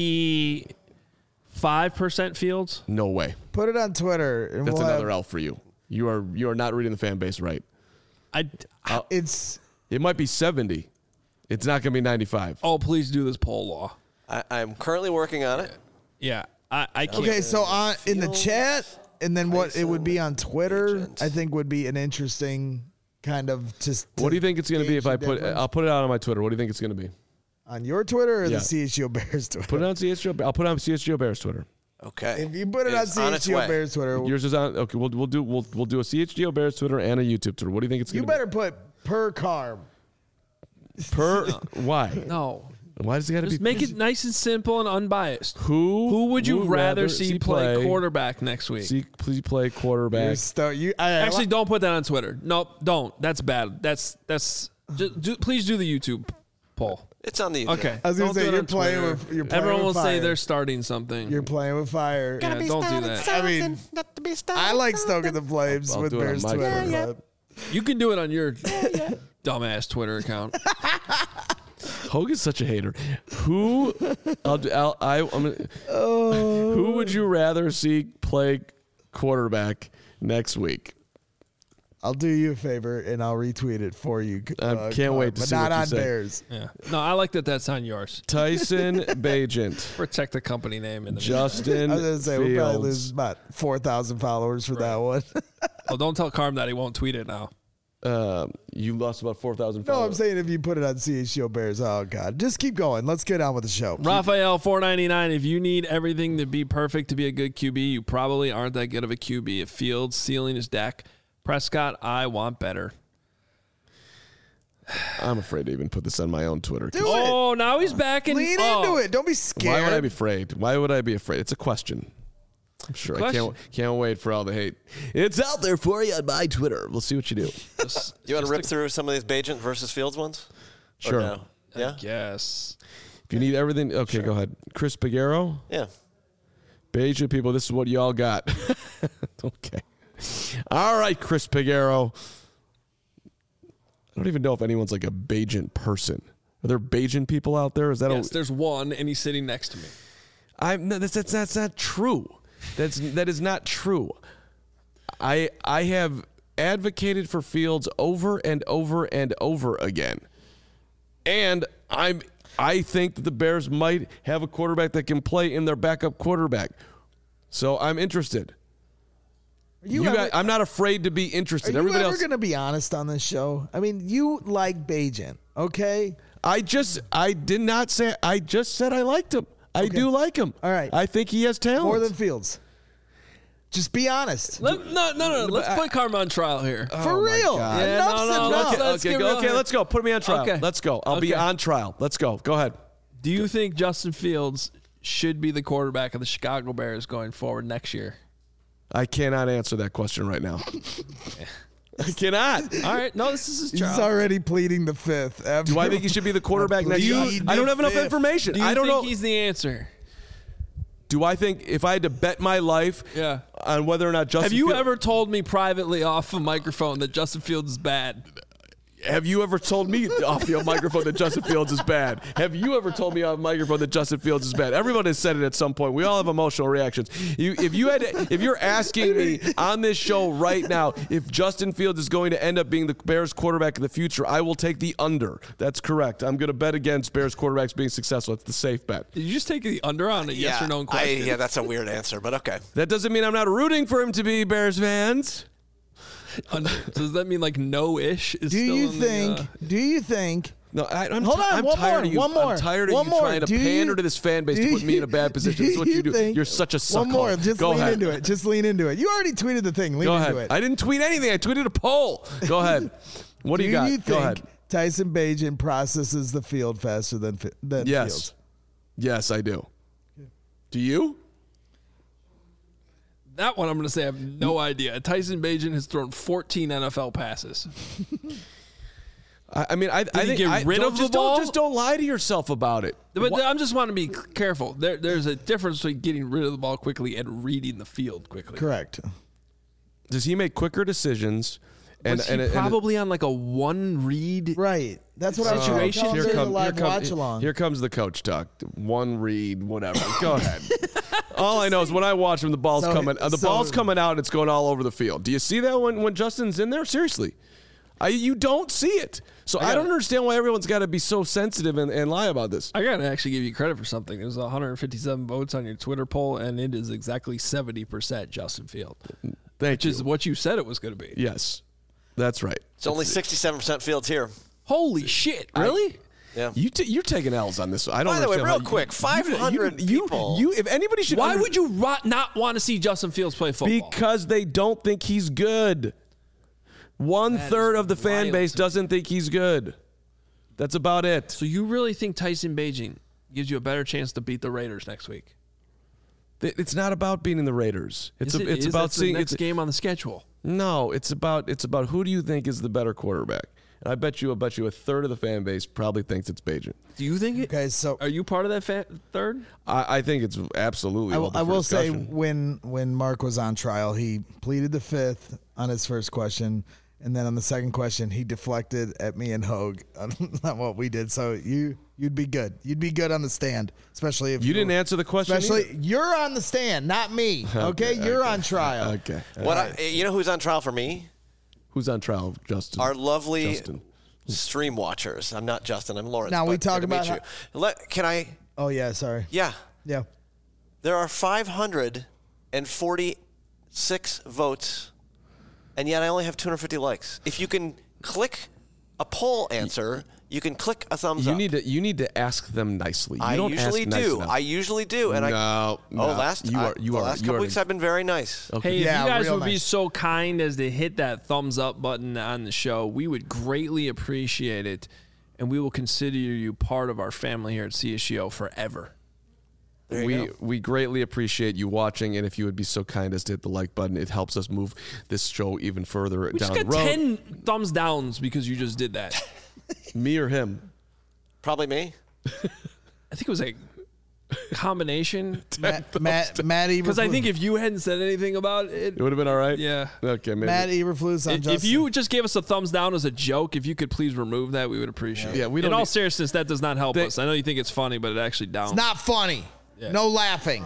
ninety-five percent Fields. no way. Put it on Twitter. And That's we'll another have, L for you. You are you are not reading the fan base right. I. It's It might be seventy. It's not going to be ninety-five. Oh, please do this poll, Law. I, I'm currently working on it. Yeah, I. I can't. okay. So on in the Fields, chat, and then what it would be on Twitter, Agent. I think would be an interesting kind of just. What do you think it's going to be if gauge I the put? difference. I'll put it out on my Twitter. What do you think it's going to be? On your Twitter or Yeah. the C H G O Bears Twitter? Put it on C H G O. I'll put it on C H G O Bears Twitter. Okay. If you put it, on It's C on H its G O way. Bears Twitter, Yours is on. Okay, we'll we'll do we'll we'll do a C H G O Bears Twitter and a YouTube Twitter. What do you think it's you going to better put per carb. be? Per why? No. Why does it got to be? Just make it nice and simple and unbiased. Who Who would you rather see play, play quarterback next week? See, please play You're quarterback. sto- you, I, Actually, don't put that on Twitter. Nope, don't. That's bad. That's that's. Just do, please do the YouTube poll. It's on the. Okay. I was gonna Don't say, do it you're on playing Twitter. with- you're playing Everyone with will say fire. they're starting something. You're playing with fire. yeah, don't do that. I mean, I like stoking the flames I'll with do it on Bears my Twitter. Twitter. but- You can do it on your dumbass Twitter account. Hogan's such a hater. Who? I'll, do- I'll I I'm gonna, Who would you rather see play quarterback next week? I'll do you a favor and I'll retweet it for you. I uh, can't wait to but see not what you on say. Bears. Yeah. No, I like that. That's on yours. Tyson Bagent, Protect the company name in the Justin I was gonna say we'll probably lose Fields. about four thousand followers for that one. Oh, don't tell Carm that he won't tweet it now. Um, you lost about four thousand No, I'm followers. saying if you put it on C H G O Bears, oh god, just keep going. Let's get on with the show. Raphael four ninety-nine. If you need everything to be perfect to be a good Q B, you probably aren't that good of a Q B. If Fields ceiling is Dak Prescott, I want better. I'm afraid to even put this on my own Twitter. Do it. Oh, now he's back and Lean oh. into it. Don't be scared. Why would I be afraid? Why would I be afraid? It's a question. I'm sure. Question. I can't can't wait for all the hate. It's out there for you on my Twitter. We'll see what you do. Just, You want to just rip a- through some of these Bajent versus Fields ones? Or Sure. no? Yeah? Yes. If you need everything, okay, go ahead. Chris Pagero, Yeah. Beijing people, this is what y'all got. Okay. All right, Chris Pagero. I don't even know if anyone's like a Bajan person. Are there Bajan people out there? Is that Yes, a, there's one, and he's sitting next to me. I'm no, that's, that's that's not true. That's that is not true. I I have advocated for Fields over and over and over again, and I'm I think that the Bears might have a quarterback that can play in their backup quarterback. So I'm interested. Are you You ever, guys, I'm not afraid to be are interested. you Everybody ever else. going to be honest on this show? I mean, you like Bajan, okay? I just I did not say I just said I liked him. I Okay. do like him. All right. I think he has talent. More than Fields. Just be honest. Let, no, no, no. Let's put Karma on trial here. For Oh, my real. God. Yeah, Enough's no, no, enough. let's- Okay, give go, it okay, a- let's go. Put me on trial. Okay. Let's go. I'll be Okay. on trial. Let's go. Go ahead. Do you think Justin Fields should be the quarterback of the Chicago Bears going forward next year? I cannot answer that question right now. I cannot. All right. No, this is his He's trial. already pleading the fifth. After Do I think he should be the quarterback next year? Plead I don't the have enough fifth. information. Do you I don't think know. he's the answer? Do I think if I had to bet my life Yeah. on whether or not Justin Have you Fields- ever told me privately off a microphone that Justin Fields is bad? Have you ever told me off the microphone that Justin Fields is bad? Have you ever told me off microphone that Justin Fields is bad? Everyone has said it at some point. We all have emotional reactions. You, if you had, to, if you're asking me on this show right now if Justin Fields is going to end up being the Bears quarterback in the future, I will take the under. That's correct. I'm going to bet against Bears quarterbacks being successful. It's the safe bet. Did you just take the under on a yes yeah, or no I, question? yeah, that's a weird answer, but okay. That doesn't mean I'm not rooting for him to be Bears fans. Under- Does that mean like no-ish? Is Do still you in think? The, uh, do you think? No, I, I'm, Hold ti- on, I'm one tired more, of you. one more, I'm tired of one you more. trying to Do pander you- to this fan base do to put me in a bad position. That's what you do. think- You're such a suckhole. One more. Just Go lean ahead. into it. Just lean into it. You already tweeted the thing. Lean Go into ahead. it. I didn't tweet anything. I tweeted a poll. Go ahead. What do, do you got? you Go think ahead. Tyson Bagent processes the field faster than Fi- than Yes. Fields? Yes, I do. Do you? that one, I'm going to say I have no idea. Tyson Bagent has thrown fourteen N F L passes. I, I mean, I, I he think get I, rid don't, of the just ball? Don't, just don't lie to yourself about it. But Wha- I'm just want to be careful. There, there's a difference between getting rid of the ball quickly and reading the field quickly. Correct. Does he make quicker decisions? And, Was and, he and- probably on like a one read? Right. That's what I was Situation. trying to here, tell him. come, There's a here, live come, watch along. here comes the coach talk. One read, whatever. Go ahead. All I know is when I watch him, the ball's So- coming. Uh, the so- ball's coming out. And it's going all over the field. Do you see that when, when Justin's in there? Seriously, I you don't see it. So I, I don't got it. understand why everyone's got to be so sensitive and, and lie about this. I got to actually give you credit for something. There's one hundred fifty-seven votes on your Twitter poll, and it is exactly seventy percent Justin Field, Thank which you. is what you said it was going to be. Yes, that's right. It's only sixty-seven percent Fields here. Holy shit! Really? Yeah. You t- you're taking L's on this. I don't. By the way, understand real how you- quick, you- five hundred you, people. You, if anybody should, Why under- would you ro- not want to see Justin Fields play football? Because they don't think he's good. One That third is of the fan wild base to me. doesn't think he's good. That's about it. So you really think Tyson Bagent gives you a better chance to beat the Raiders next week? Th- It's not about beating the Raiders. It's Is a, it- it's is about that's seeing. the next It's, game on the schedule. no, it's about it's about who do you think is the better quarterback? And I bet you, I bet you, a third of the fan base probably thinks it's Bagent. Do you think it? Okay, so Are you part of that fa- third? I, I think it's absolutely. I will, open I for will say discussion. when when Mark was on trial, he pleaded the fifth on his first question, and then on the second question, he deflected at me and Hogue on, on what we did. So you you'd be good. You'd be good on the stand, especially if you didn't answer the question. Especially either? you're on the stand, not me. Okay, you're on trial. Okay. What I, you know who's on trial for me? Who's on trial? Justin. Our lovely Justin. stream watchers. I'm not Justin. I'm Lawrence. Now we but talk good to meet about you. Let, can I? Oh yeah, sorry. Yeah. Yeah. There are five hundred forty-six votes, and yet I only have two hundred fifty likes. If you can click a poll answer, you can click a thumbs you up. need to you need to ask them nicely. You I don't usually ask nice do. enough. I usually do. And no, I no. oh last you I, are you the are last you couple are weeks I've been very nice. okay. Hey, if Yeah, you guys real would be nice. so kind as to hit that thumbs up button on the show, we would greatly appreciate it, and we will consider you part of our family here at C S G O forever. There you we go. we greatly appreciate you watching, and if you would be so kind as to hit the like button, it helps us move this show even further We down just the got road. ten thumbs downs because you just did that. Me or him? Probably me. I think it was a combination. Matt, Matt, Matt Because I Eberflus- think if you hadn't said anything about it, It would have been all right. yeah. Okay, maybe. Matt Eberflus on If, Justin. if you just gave us a thumbs down as a joke, if you could please remove that, we would appreciate it. Yeah, we don't In all need- seriousness, that does not help They- us. I know you think it's funny, but it actually downs. It's not funny. No laughing.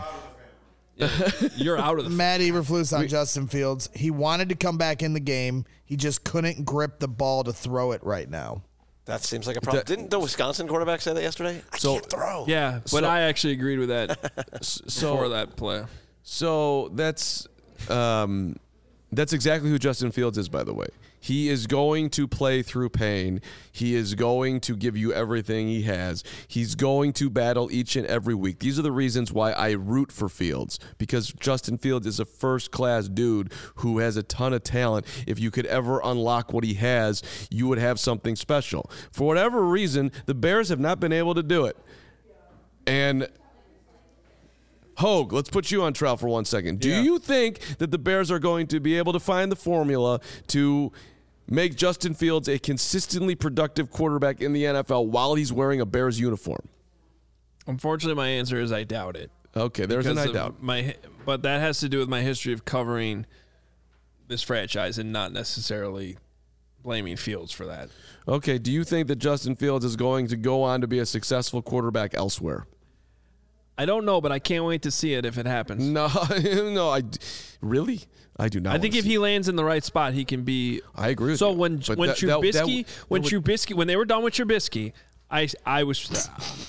You're out of the. Matt Eberflus on Justin Fields. He wanted to come back in the game. He just couldn't grip the ball to throw it right now. That seems like a problem. That- Didn't the Wisconsin quarterback say that yesterday? I So- can't throw. Yeah, but So- I actually agreed with that so before that play. So that's um, that's exactly who Justin Fields is, by the way. He is going to play through pain. He is going to give you everything he has. He's going to battle each and every week. These are the reasons why I root for Fields, because Justin Fields is a first-class dude who has a ton of talent. If you could ever unlock what he has, you would have something special. For whatever reason, the Bears have not been able to do it. And Hogue, let's put you on trial for one second. Do Yeah. you think that the Bears are going to be able to find the formula to make Justin Fields a consistently productive quarterback in the N F L while he's wearing a Bears uniform? Unfortunately, my answer is I doubt it. Okay, there's an Because I of doubt. My, but that has to do with my history of covering this franchise and not necessarily blaming Fields for that. Okay, do you think that Justin Fields is going to go on to be a successful quarterback elsewhere? I don't know, but I can't wait to see it if it happens. No, no, I really, I do not. I think wanna if see- he lands in the right spot, he can be. I agree with so you, when but when that- that- Trubisky that- when that would- Trubisky when they were done with Trubisky, I I was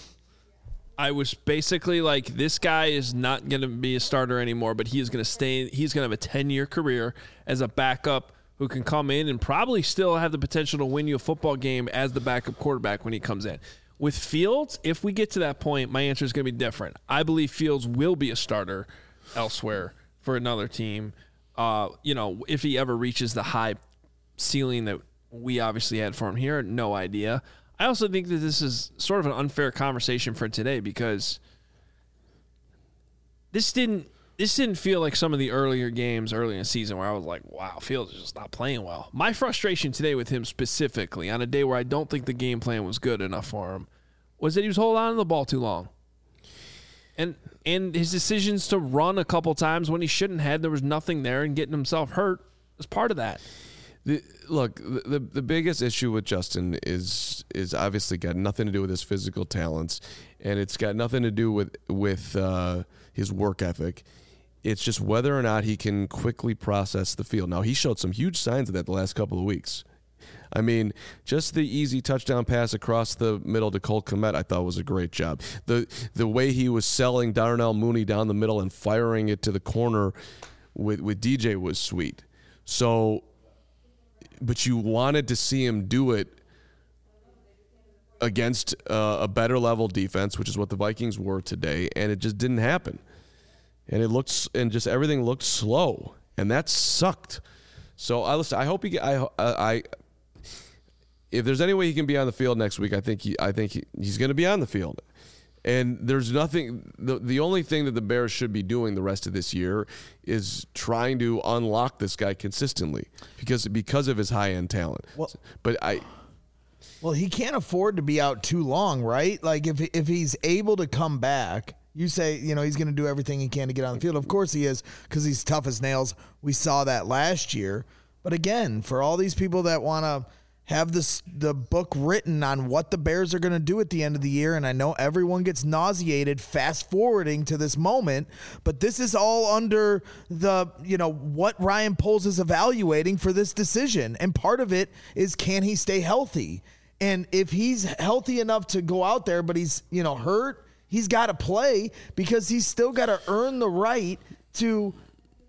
I was basically like, this guy is not going to be a starter anymore, but he is going to stay. He's going to have a ten year career as a backup who can come in and probably still have the potential to win you a football game as the backup quarterback when he comes in. With Fields, if we get to that point, my answer is going to be different. I believe Fields will be a starter elsewhere for another team. Uh, you know, if he ever reaches the high ceiling that we obviously had for him here, no idea. I also think that this is sort of an unfair conversation for today because this didn't this didn't feel like some of the earlier games early in the season where I was like, wow, Fields is just not playing well. My frustration today with him specifically on a day where I don't think the game plan was good enough for him was that he was holding on to the ball too long. And and his decisions to run a couple times when he shouldn't have, there was nothing there, and getting himself hurt was part of that. The, look, the, the the biggest issue with Justin is is obviously got nothing to do with his physical talents, and it's got nothing to do with with uh, his work ethic. It's just whether or not he can quickly process the field. Now, he showed some huge signs of that the last couple of weeks. I mean, just the easy touchdown pass across the middle to Colt Kmet, I thought was a great job. The the way he was selling Darnell Mooney down the middle and firing it to the corner with with D J was sweet. So, but you wanted to see him do it against uh, a better level defense, which is what the Vikings were today, and it just didn't happen. And it looks and just everything looked slow, and that sucked. So I listen. I hope he. I. I. If there's any way he can be on the field next week, I think he. I think he, he's going to be on the field. And there's nothing. The the only thing that the Bears should be doing the rest of this year is trying to unlock this guy consistently because because of his high end talent. Well- but I. Well, he can't afford to be out too long, right? Like if if he's able to come back, you say, you know, he's going to do everything he can to get on the field. Of course he is, because he's tough as nails. We saw that last year. But again, for all these people that want to have this the book written on what the Bears are going to do at the end of the year, and I know everyone gets nauseated fast forwarding to this moment, but this is all under the, you know, what Ryan Poles is evaluating for this decision. And part of it is, can he stay healthy? And if he's healthy enough to go out there, but he's, you know, hurt, he's got to play because he's still got to earn the right to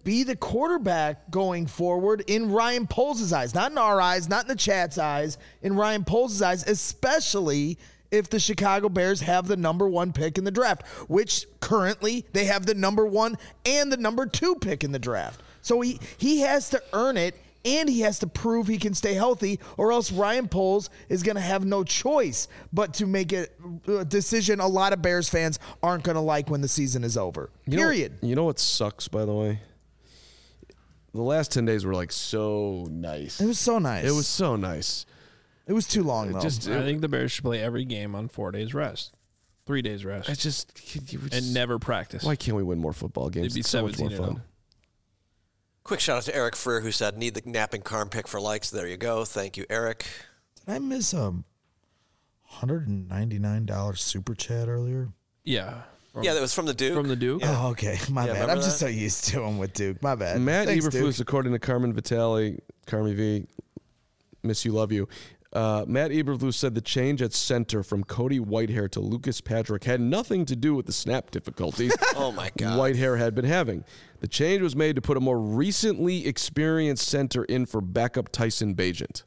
be the quarterback going forward in Ryan Poles' eyes, not in our eyes, not in the chat's eyes, in Ryan Poles' eyes, especially if the Chicago Bears have the number one pick in the draft, which currently they have the number one and the number two pick in the draft. So he, he has to earn it, and he has to prove he can stay healthy, or else Ryan Poles is going to have no choice but to make a, a decision a lot of Bears fans aren't going to like when the season is over. You Period. Know, you know what sucks, by the way? The last ten days were like so nice. It was so nice. It was so nice. It was too long, though. Just, I think the Bears should play every game on four days rest, three days rest, I just, you just and never practice. Why can't we win more football games? It'd be It's so much more seventeen and fun. oh. Quick shout out to Eric Freer, who said, need the napping Carm pick for likes. There you go. Thank you, Eric. Did I miss a one hundred ninety-nine dollars super chat earlier? Yeah. From, Yeah, that was from the Duke. from the Duke. Oh, okay. My Yeah, bad. remember I'm just that? so used to him with Duke. My bad. Matt Thanks, Eberflus, Duke. according to Carmen Vitale, Carmi V, miss you, love you. Uh, Matt Eberflus said the change at center from Cody Whitehair to Lucas Patrick had nothing to do with the snap difficulties Oh, my God. Whitehair had been having. The change was made to put a more recently experienced center in for backup Tyson Bagent.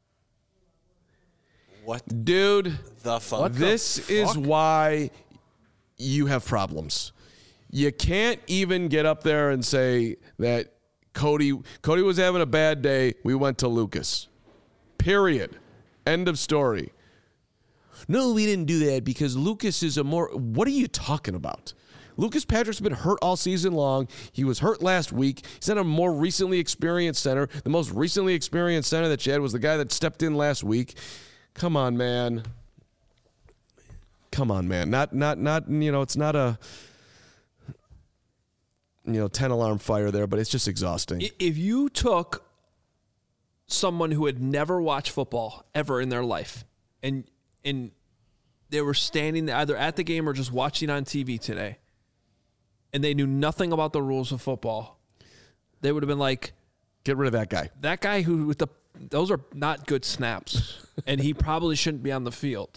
What Dude, the fuck? this is why you have problems. You can't even get up there and say that Cody Cody was having a bad day. We went to Lucas. Period. End of story. No, we didn't do that because Lucas is a more. What are you talking about? Lucas Patrick's been hurt all season long. He was hurt last week. He's not a more recently experienced center. The most recently experienced center that you had was the guy that stepped in last week. Come on, man. Come on, man. Not, not, not. You know, it's not a, you know, ten alarm fire there, but it's just exhausting. I- If you took someone who had never watched football ever in their life, and and they were standing either at the game or just watching on T V today, and they knew nothing about the rules of football, they would have been like, Get rid of that guy. that guy who with the those are not good snaps, and he probably shouldn't be on the field.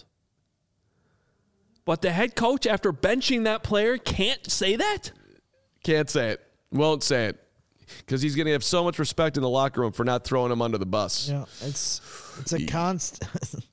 But the head coach, after benching that player, can't say that? Can't say it. Won't say it. Because he's going to have so much respect in the locker room for not throwing him under the bus. Yeah, it's it's a constant.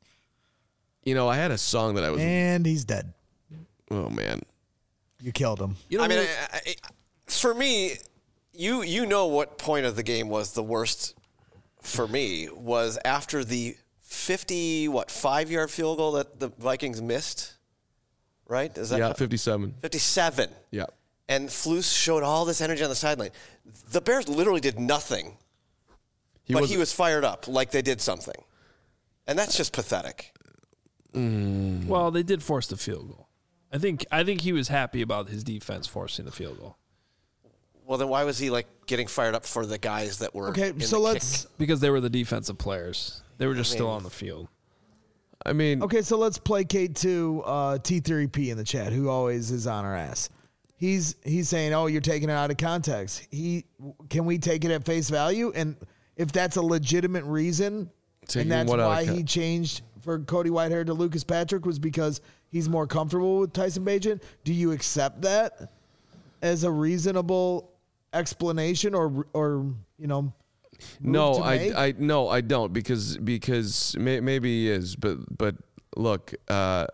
You know, I had a song that I was. And he's dead. Oh, man. You killed him. You know, I mean, I, I, for me, you you know what point of the game was the worst for me was after the fifty what five yard field goal that the Vikings missed, right? Is that Yeah, fifty-seven. fifty-seven? Yeah. And Flus showed all this energy on the sideline. The Bears literally did nothing, He but was, he was fired up like they did something, and that's just pathetic. well, they did force the field goal. I think I think he was happy about his defense forcing the field goal Well, then why was he like getting fired up for the guys that were Okay, in so the let's kick? because they were the defensive players. They were just still on the field. I mean, Okay, so let's placate to uh, T three P in the chat, who always is on our ass. He's he's saying, "Oh, you're taking it out of context." He can we take it at face value? And if that's a legitimate reason, Taking and that's what out of why con- he changed for Cody Whitehair to Lucas Patrick was because he's more comfortable with Tyson Bagent. Do you accept that as a reasonable explanation, or or you know? move no, to I, make? I, no, I don't because because may, maybe he is, but but look, uh,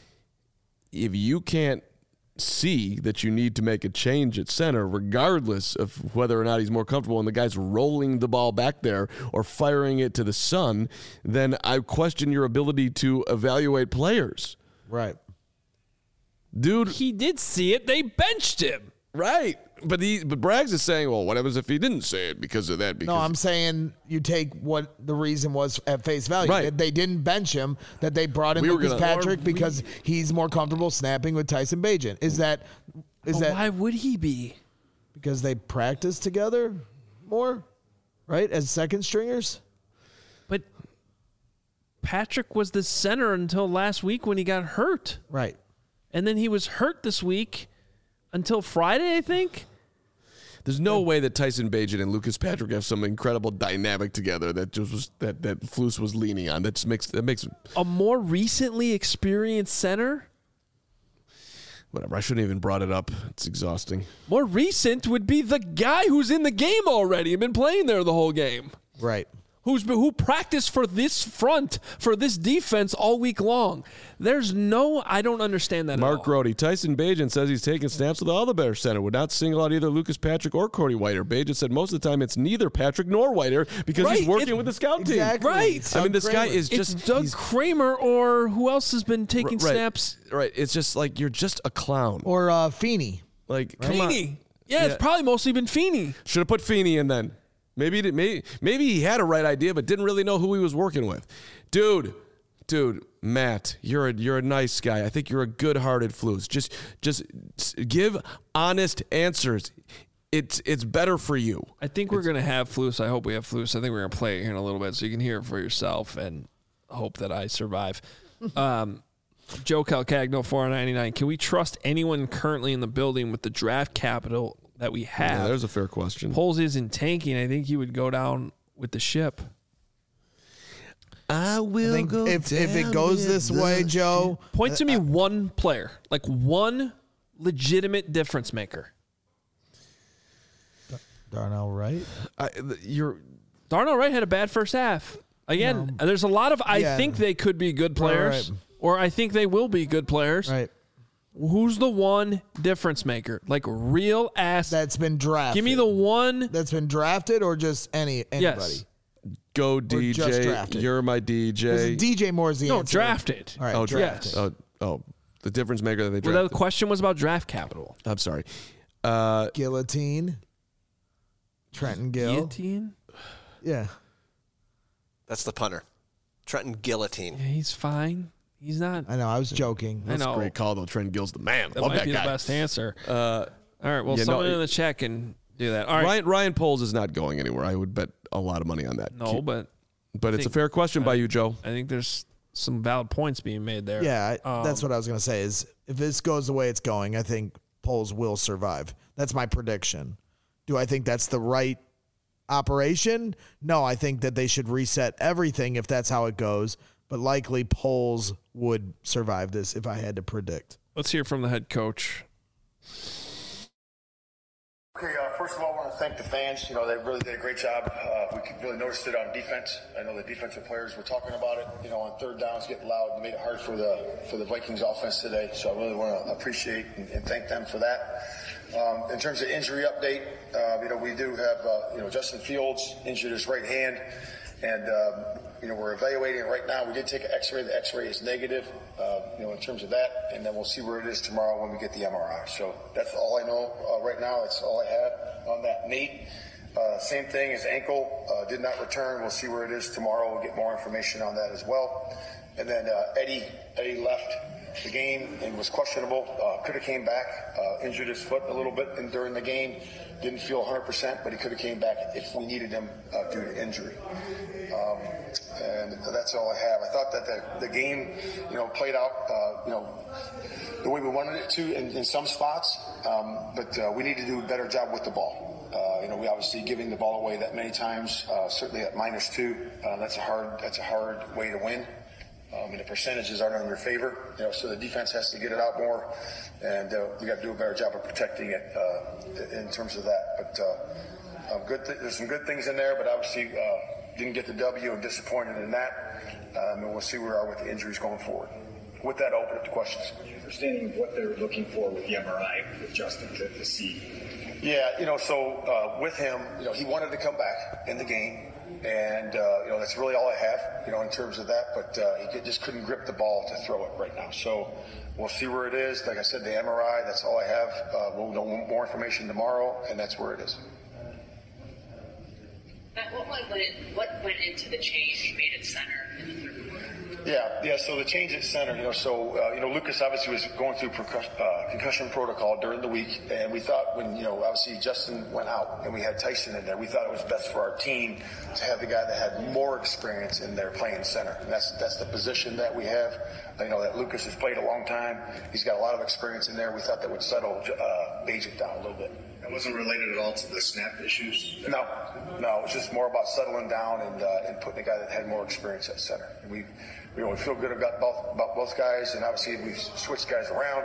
if you can't see that you need to make a change at center, regardless of whether or not he's more comfortable and the guy's rolling the ball back there or firing it to the sun, then I question your ability to evaluate players. Right. Dude, He did see it. They benched him. right. But he but Braggs is saying, well, what happens if he didn't say it because of that? Because No, I'm saying you take what the reason was at face value. Right. That they didn't bench him, that they brought in We were Lucas gonna- Patrick Or we- because he's more comfortable snapping with Tyson Bagent. Is that is But that why would he be? because they practice together more, right? As second stringers? But Patrick was the center until last week when he got hurt. Right. And then he was hurt this week until Friday, I think. there's no way that Tyson Bagent and Lucas Patrick have some incredible dynamic together that just was that that Flus was leaning on. That just makes that makes A more recently experienced center? Whatever. I shouldn't even brought it up. It's exhausting. More recent would be the guy who's in the game already and been playing there the whole game. Right. Who's been, who practiced for this front, for this defense all week long. There's no, I don't understand that Mark at all. Grody. Tyson Bagent says he's taking snaps with all the Bears center. Would not single out either Lucas Patrick or Cody Whiter. Bagent said most of the time it's neither Patrick nor Whiter because Right, he's working it- with the scout Exactly. Right. Doug team. I mean, this guy Kramer. is It's just Doug he's- Kramer or who else has been taking right, snaps? Right. It's just like you're just a clown. Or uh, Feeney. Like, come on. Feeney. Yeah, Yeah. it's probably mostly been Feeney. Should have put Feeney in then. Maybe, he did- maybe maybe he had a right idea, but didn't really know who he was working with. Dude, dude, Matt, you're a you're a nice guy. I think you're a good-hearted Flus. Just just give honest answers. It's it's better for you. I think we're going to have Flus. I hope we have Flus. I think we're going to play it here in a little bit so you can hear it for yourself and hope that I survive. Um, Joe Calcagno, four ninety-nine. Can we trust anyone currently in the building with the draft capital that we have? Yeah, there's a fair question. Poles isn't tanking. I think he would go down with the ship. I I will think if, if it goes this way, Joe, Point to me one player, like one legitimate difference maker. Darnell Wright. I, you're Darnell Wright had a bad first half. Again, there's a lot of I Yeah. think they could be good players, right. or I think they will be good players. Right. Who's the one difference maker? Like real ass. That's been drafted. Give me the one. That's been drafted or just any anybody? Yes. go just D J. drafted. You're my D J. D J Moore is the No, answer. drafted. All right, Oh, drafted. Yes. Oh, oh, the difference maker that they Well, drafted. the question was about draft capital. I'm sorry. Uh, Guillotine. Trenton Gill. Guillotine? Yeah. That's the punter. Trenton Guillotine. Yeah, he's fine. He's not. I know. I was joking. I that's know. a great call, though. Trent Gill's the man. That Love might that be guy. the best answer. Uh, All right. Well, yeah, no, someone it- in the chat can do that. All right. Ryan, Ryan Poles is not going anywhere. I would bet a lot of money on that. No, but but it's a think- fair question by you, Joe. I think there's some valid points being made there. Yeah, I, Um, that's what I was going to say is if this goes the way it's going, I think Poles will survive. That's my prediction. Do I think that's the right operation? No, I think that they should reset everything if that's how it goes, but likely Poles would survive this if I had to predict. Let's hear from the head coach. Okay, uh, first of all, I want to thank the fans. You know, they really did a great job. Uh, we could really notice it on defense. I know the defensive players were talking about it. You know, on third downs, getting loud, made it hard for the for the Vikings offense today. So I really want to appreciate and, and thank them for that. Um, in terms of injury update, uh, you know, we do have uh, you know Justin Fields injured his right hand, and um, you know we're evaluating it right now. We did take an X-ray. The X-ray is negative. Uh, you know, in terms of that, and then we'll see where it is tomorrow when we get the M R I. So that's all I know uh, right now. That's all I have on that. Nate, uh, same thing. His ankle uh, did not return. We'll see where it is tomorrow. We'll get more information on that as well. And then uh, Eddie, Eddie left the game and was questionable. Uh, could have came back, uh, injured his foot a little bit in, during the game. Didn't feel one hundred percent, but he could have came back if we needed him uh, due to injury. Um, and that's all I have. I thought that the, the game, you know, played out, uh, you know, the way we wanted it to in, in some spots, um, but uh, we need to do a better job with the ball. Uh, you know, we obviously giving the ball away that many times, uh, certainly at minus two. Uh, that's a hard, that's a hard way to win. Um, and the percentages aren't in your favor, you know, so the defense has to get it out more, and uh, we got to do a better job of protecting it uh, in terms of that. But uh, um, good, th- there's some good things in there, but obviously uh, didn't get the W and disappointed in that. Um, and we'll see where we are with the injuries going forward. With that, I'll open up to questions. Understanding what they're looking for with the M R I with Justin to, to see. Yeah, you know, so uh, with him, you know, he wanted to come back in the game. And, uh, you know, that's really all I have, you know, in terms of that. But uh, he just couldn't grip the ball to throw it right now. So we'll see where it is. Like I said, the M R I, that's all I have. Uh, we'll know more information tomorrow, and that's where it is. Matt, what went, it, what went into the change made at center in the third quarter? Yeah, yeah. So the change at center, you know, so uh, you know, Lucas obviously was going through percuss- uh, concussion protocol during the week, and we thought when you know, obviously Justin went out and we had Tyson in there, we thought it was best for our team to have the guy that had more experience in there playing center. And that's that's the position that we have. You know, that Lucas has played a long time. He's got a lot of experience in there. We thought that would settle uh, Bajik down a little bit. That wasn't related at all to the snap issues? No, no, it was just more about settling down and uh, and putting a guy that had more experience at center. And we, you know, we feel good about both about both guys, and obviously we've switched guys around.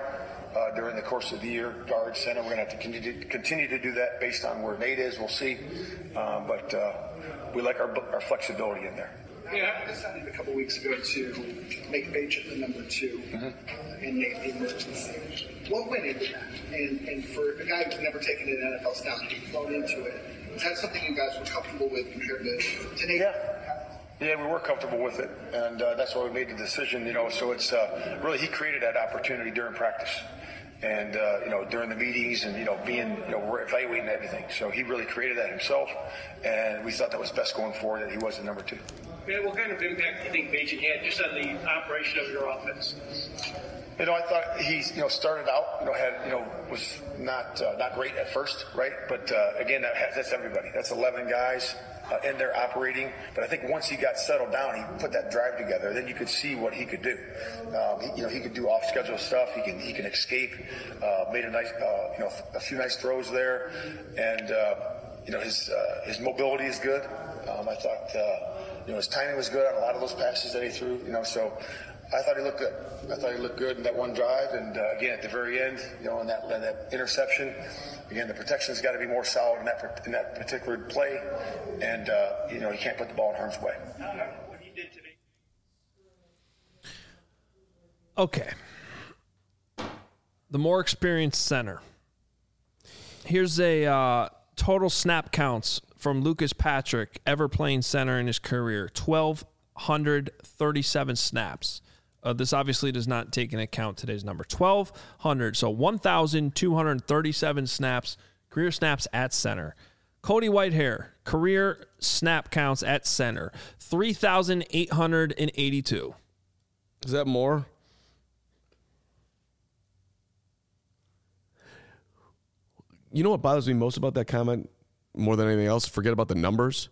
uh, during the course of the year. Guard, center, we're going to have to continue, continue to do that based on where Nate is. We'll see. Um, but uh, we like our, our flexibility in there. Yeah, I decided a couple weeks ago to make Bajent the number two mm-hmm. uh, and Nate the emergency. What went into that? And, and for a guy who's never taken an N F L snap and thrown into it, is that something you guys were comfortable with compared to, to Nate? Yeah. Yeah, we were comfortable with it, and uh, that's why we made the decision, you know, so it's uh, really, he created that opportunity during practice and, uh, you know, during the meetings and, you know, being, you know, we're evaluating everything. So he really created that himself, and we thought that was best going forward, that he was the number two. Yeah, what kind of impact do you think Bajent had just on the operation of your offense? You know, I thought he, you know, started out, you know, had, you know, was not uh, not great at first, right? But uh, again, that has, that's everybody. That's eleven guys uh, in there operating. But I think once he got settled down, he put that drive together. Then you could see what he could do. Um, he, you know, he could do off-schedule stuff. He can he can escape. Uh, made a nice, uh, you know, a few nice throws there, and uh, you know, his uh, his mobility is good. Um, I thought, uh, you know, his timing was good on a lot of those passes that he threw. You know, so. I thought he looked good. I thought he looked good in that one drive, and uh, again at the very end, you know, in that in that interception, again the protection's got to be more solid in that in that particular play, and uh, you know, you can't put the ball in harm's way. What he did today. Okay, the more experienced center. Here's a uh, total snap counts from Lucas Patrick ever playing center in his career: twelve hundred thirty-seven snaps. Uh, this obviously does not take into account today's number. twelve hundred, so one thousand two hundred thirty-seven snaps, career snaps at center. Cody Whitehair, career snap counts at center, three thousand eight hundred eighty-two. Is that more? You know what bothers me most about that comment, more than anything else? Forget about the numbers.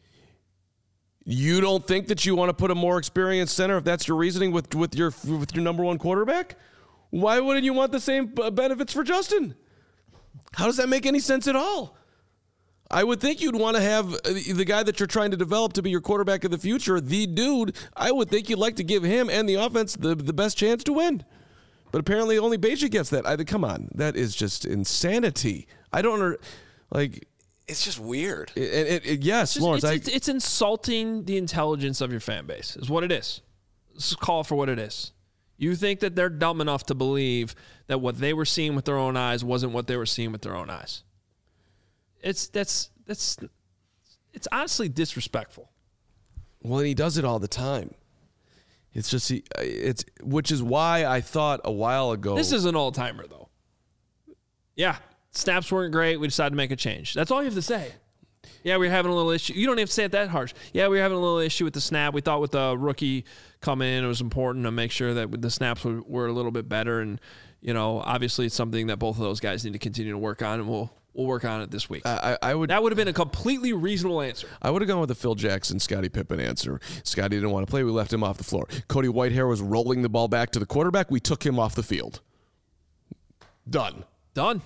You don't think that you want to put a more experienced center if that's your reasoning with, with your with your number one quarterback? Why wouldn't you want the same benefits for Justin? How does that make any sense at all? I would think you'd want to have the guy that you're trying to develop to be your quarterback of the future, the dude. I would think you'd like to give him and the offense the, the best chance to win. But apparently only Bajent gets that. I think, come on, that is just insanity. I don't under, like... It's just weird. It, it, it, yes, it's just, Lawrence. It's, I, it's, it's insulting the intelligence of your fan base, is what it is. Let's call it for what it is. You think that they're dumb enough to believe that what they were seeing with their own eyes wasn't what they were seeing with their own eyes. It's that's that's it's honestly disrespectful. Well, and he does it all the time. It's just he, it's which is why I thought a while ago. This is an all-timer, though. Yeah. Snaps weren't great. We decided to make a change. That's all you have to say. Yeah, we we're having a little issue. You don't have to say it that harsh. Yeah, we were having a little issue with the snap. We thought with the rookie coming in, it was important to make sure that the snaps were, were a little bit better. And, you know, obviously it's something that both of those guys need to continue to work on, and we'll we'll work on it this week. I, I would That would have been a completely reasonable answer. I would have gone with the Phil Jackson, Scottie Pippen answer. Scottie didn't want to play. We left him off the floor. Cody Whitehair was rolling the ball back to the quarterback. We took him off the field. Done. Done.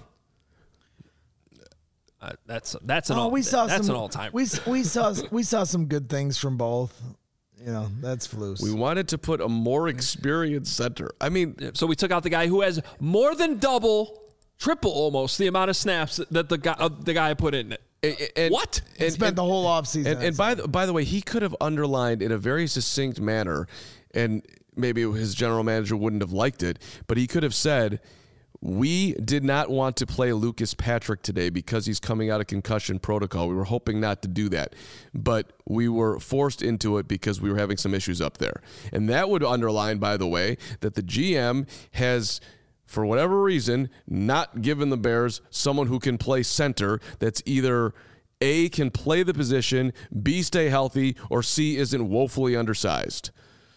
Uh, that's that's an oh, all, we saw that's some, an all timer. We we saw we saw some good things from both. You know, that's Flus. We wanted to put a more experienced center. I mean, so we took out the guy who has more than double, triple almost the amount of snaps that the guy uh, the guy put in it. And, and, what? He and, spent and, the whole offseason. And, and by the by the way, he could have underlined in a very succinct manner, and maybe his general manager wouldn't have liked it, but he could have said, we did not want to play Lucas Patrick today because he's coming out of concussion protocol. We were hoping not to do that, but we were forced into it because we were having some issues up there. And that would underline, by the way, that the G M has, for whatever reason, not given the Bears someone who can play center that's either A, can play the position, B, stay healthy, or C, isn't woefully undersized.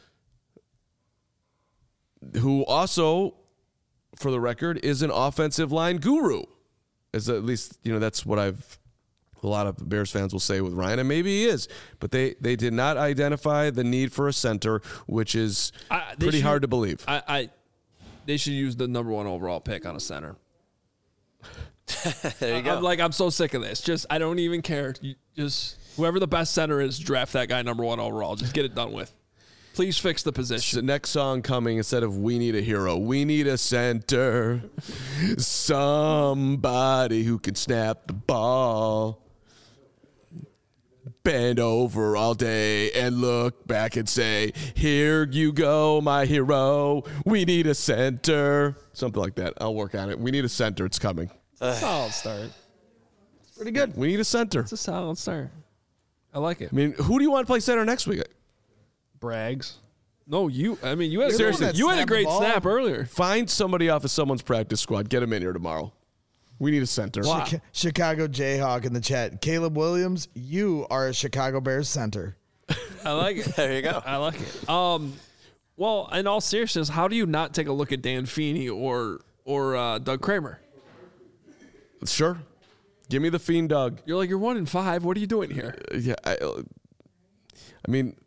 Who also, for the record, is an offensive line guru. As at least, you know, that's what I've, a lot of Bears fans will say with Ryan, and maybe he is. But they, they did not identify the need for a center, which is I, pretty should, hard to believe. I, I They should use the number one overall pick on a center. There you go. I'm like, I'm so sick of this. Just, I don't even care. You just, whoever the best center is, draft that guy number one overall. Just get it done with. Please fix the The position. next song coming, instead of "We Need a Hero," we need a center, somebody who can snap the ball, bend over all day and look back and say, "Here you go, my hero. We need a center," something like that. I'll work on it. We need a center. It's coming. Solid start. Pretty good. We need a center. It's a solid start. I like it. I mean, who do you want to play center next week? Brags. No, you. I mean, you had, You're the one seriously, that you had a snapped the great ball. snap earlier. Find somebody off of someone's practice squad. Get them in here tomorrow. We need a center. Wow. Chi- Chicago Jayhawk in the chat. Caleb Williams, you are a Chicago Bears center. I like it. There you go. I like it. Um, well, in all seriousness, how do you not take a look at Dan Feeney or or uh, Doug Kramer? Sure. Give me the Fiend Doug. You're like, you're one in five. What are you doing here? Yeah, I, I mean,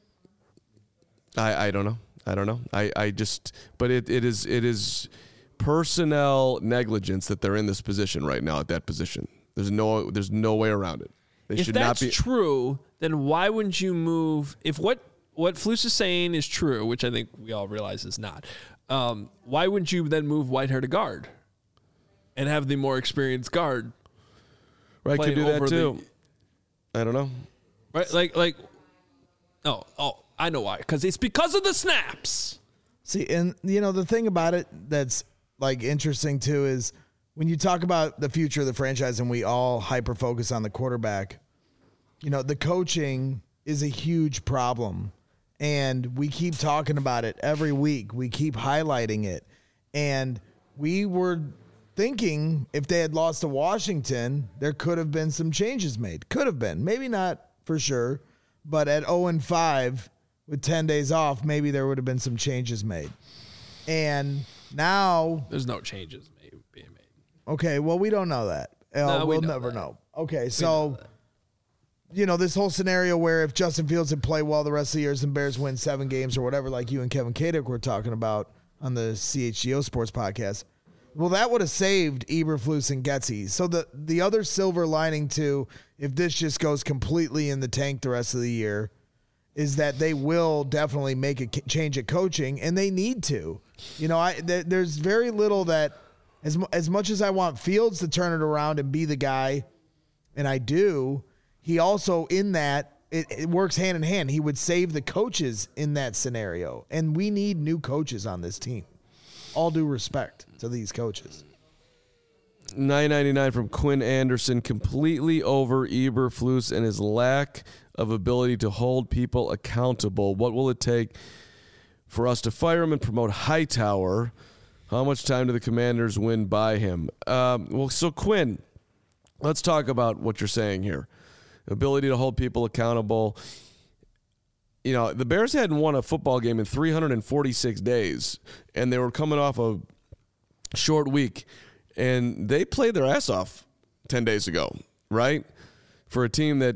I I don't know. I don't know. I, I just, but it, it is it is personnel negligence that they're in this position right now at that position. There's no there's no way around it. They If should that's not be. true, then why wouldn't you move? If what what Flus is saying is true, which I think we all realize is not, um, why wouldn't you then move Whitehair to guard and have the more experienced guard? Right, could playing do that over too. the- I don't know. Right, like like. Oh, oh, I know why. Because it's because of the snaps. See, and you know the thing about it that's like interesting too is when you talk about the future of the franchise and we all hyper focus on the quarterback, you know, the coaching is a huge problem. And we keep talking about it every week. We keep highlighting it. And we were thinking if they had lost to Washington, there could have been some changes made. Could have been. Maybe not for sure. But at oh and five with ten days off, maybe there would have been some changes made. And now, There's no changes made, being made. okay, well, we don't know that. Uh, No, we we'll know never that. know. Okay, so, you know, this whole scenario where if Justin Fields had played well the rest of the years and Bears win seven games or whatever, like you and Kevin Kadick were talking about on the C H G O Sports podcast, well, that would have saved Eberflus and Getsy. So the, the other silver lining to if this just goes completely in the tank the rest of the year is that they will definitely make a k- change at coaching, and they need to. You know, I th- there's very little that as mu- as much as I want Fields to turn it around and be the guy, and I do, he also in that it, it works hand in hand. He would save the coaches in that scenario, and we need new coaches on this team. All due respect to these coaches. nine ninety-nine from Quinn Anderson, completely over Eberflus and his lack of ability to hold people accountable. What will it take for us to fire him and promote Hightower? How much time do the Commanders win by him? Um, well, so Quinn, let's talk about what you're saying here. Ability to hold people accountable. You know, the Bears hadn't won a football game in three hundred forty-six days, and they were coming off a short week, and they played their ass off ten days ago, right? For a team that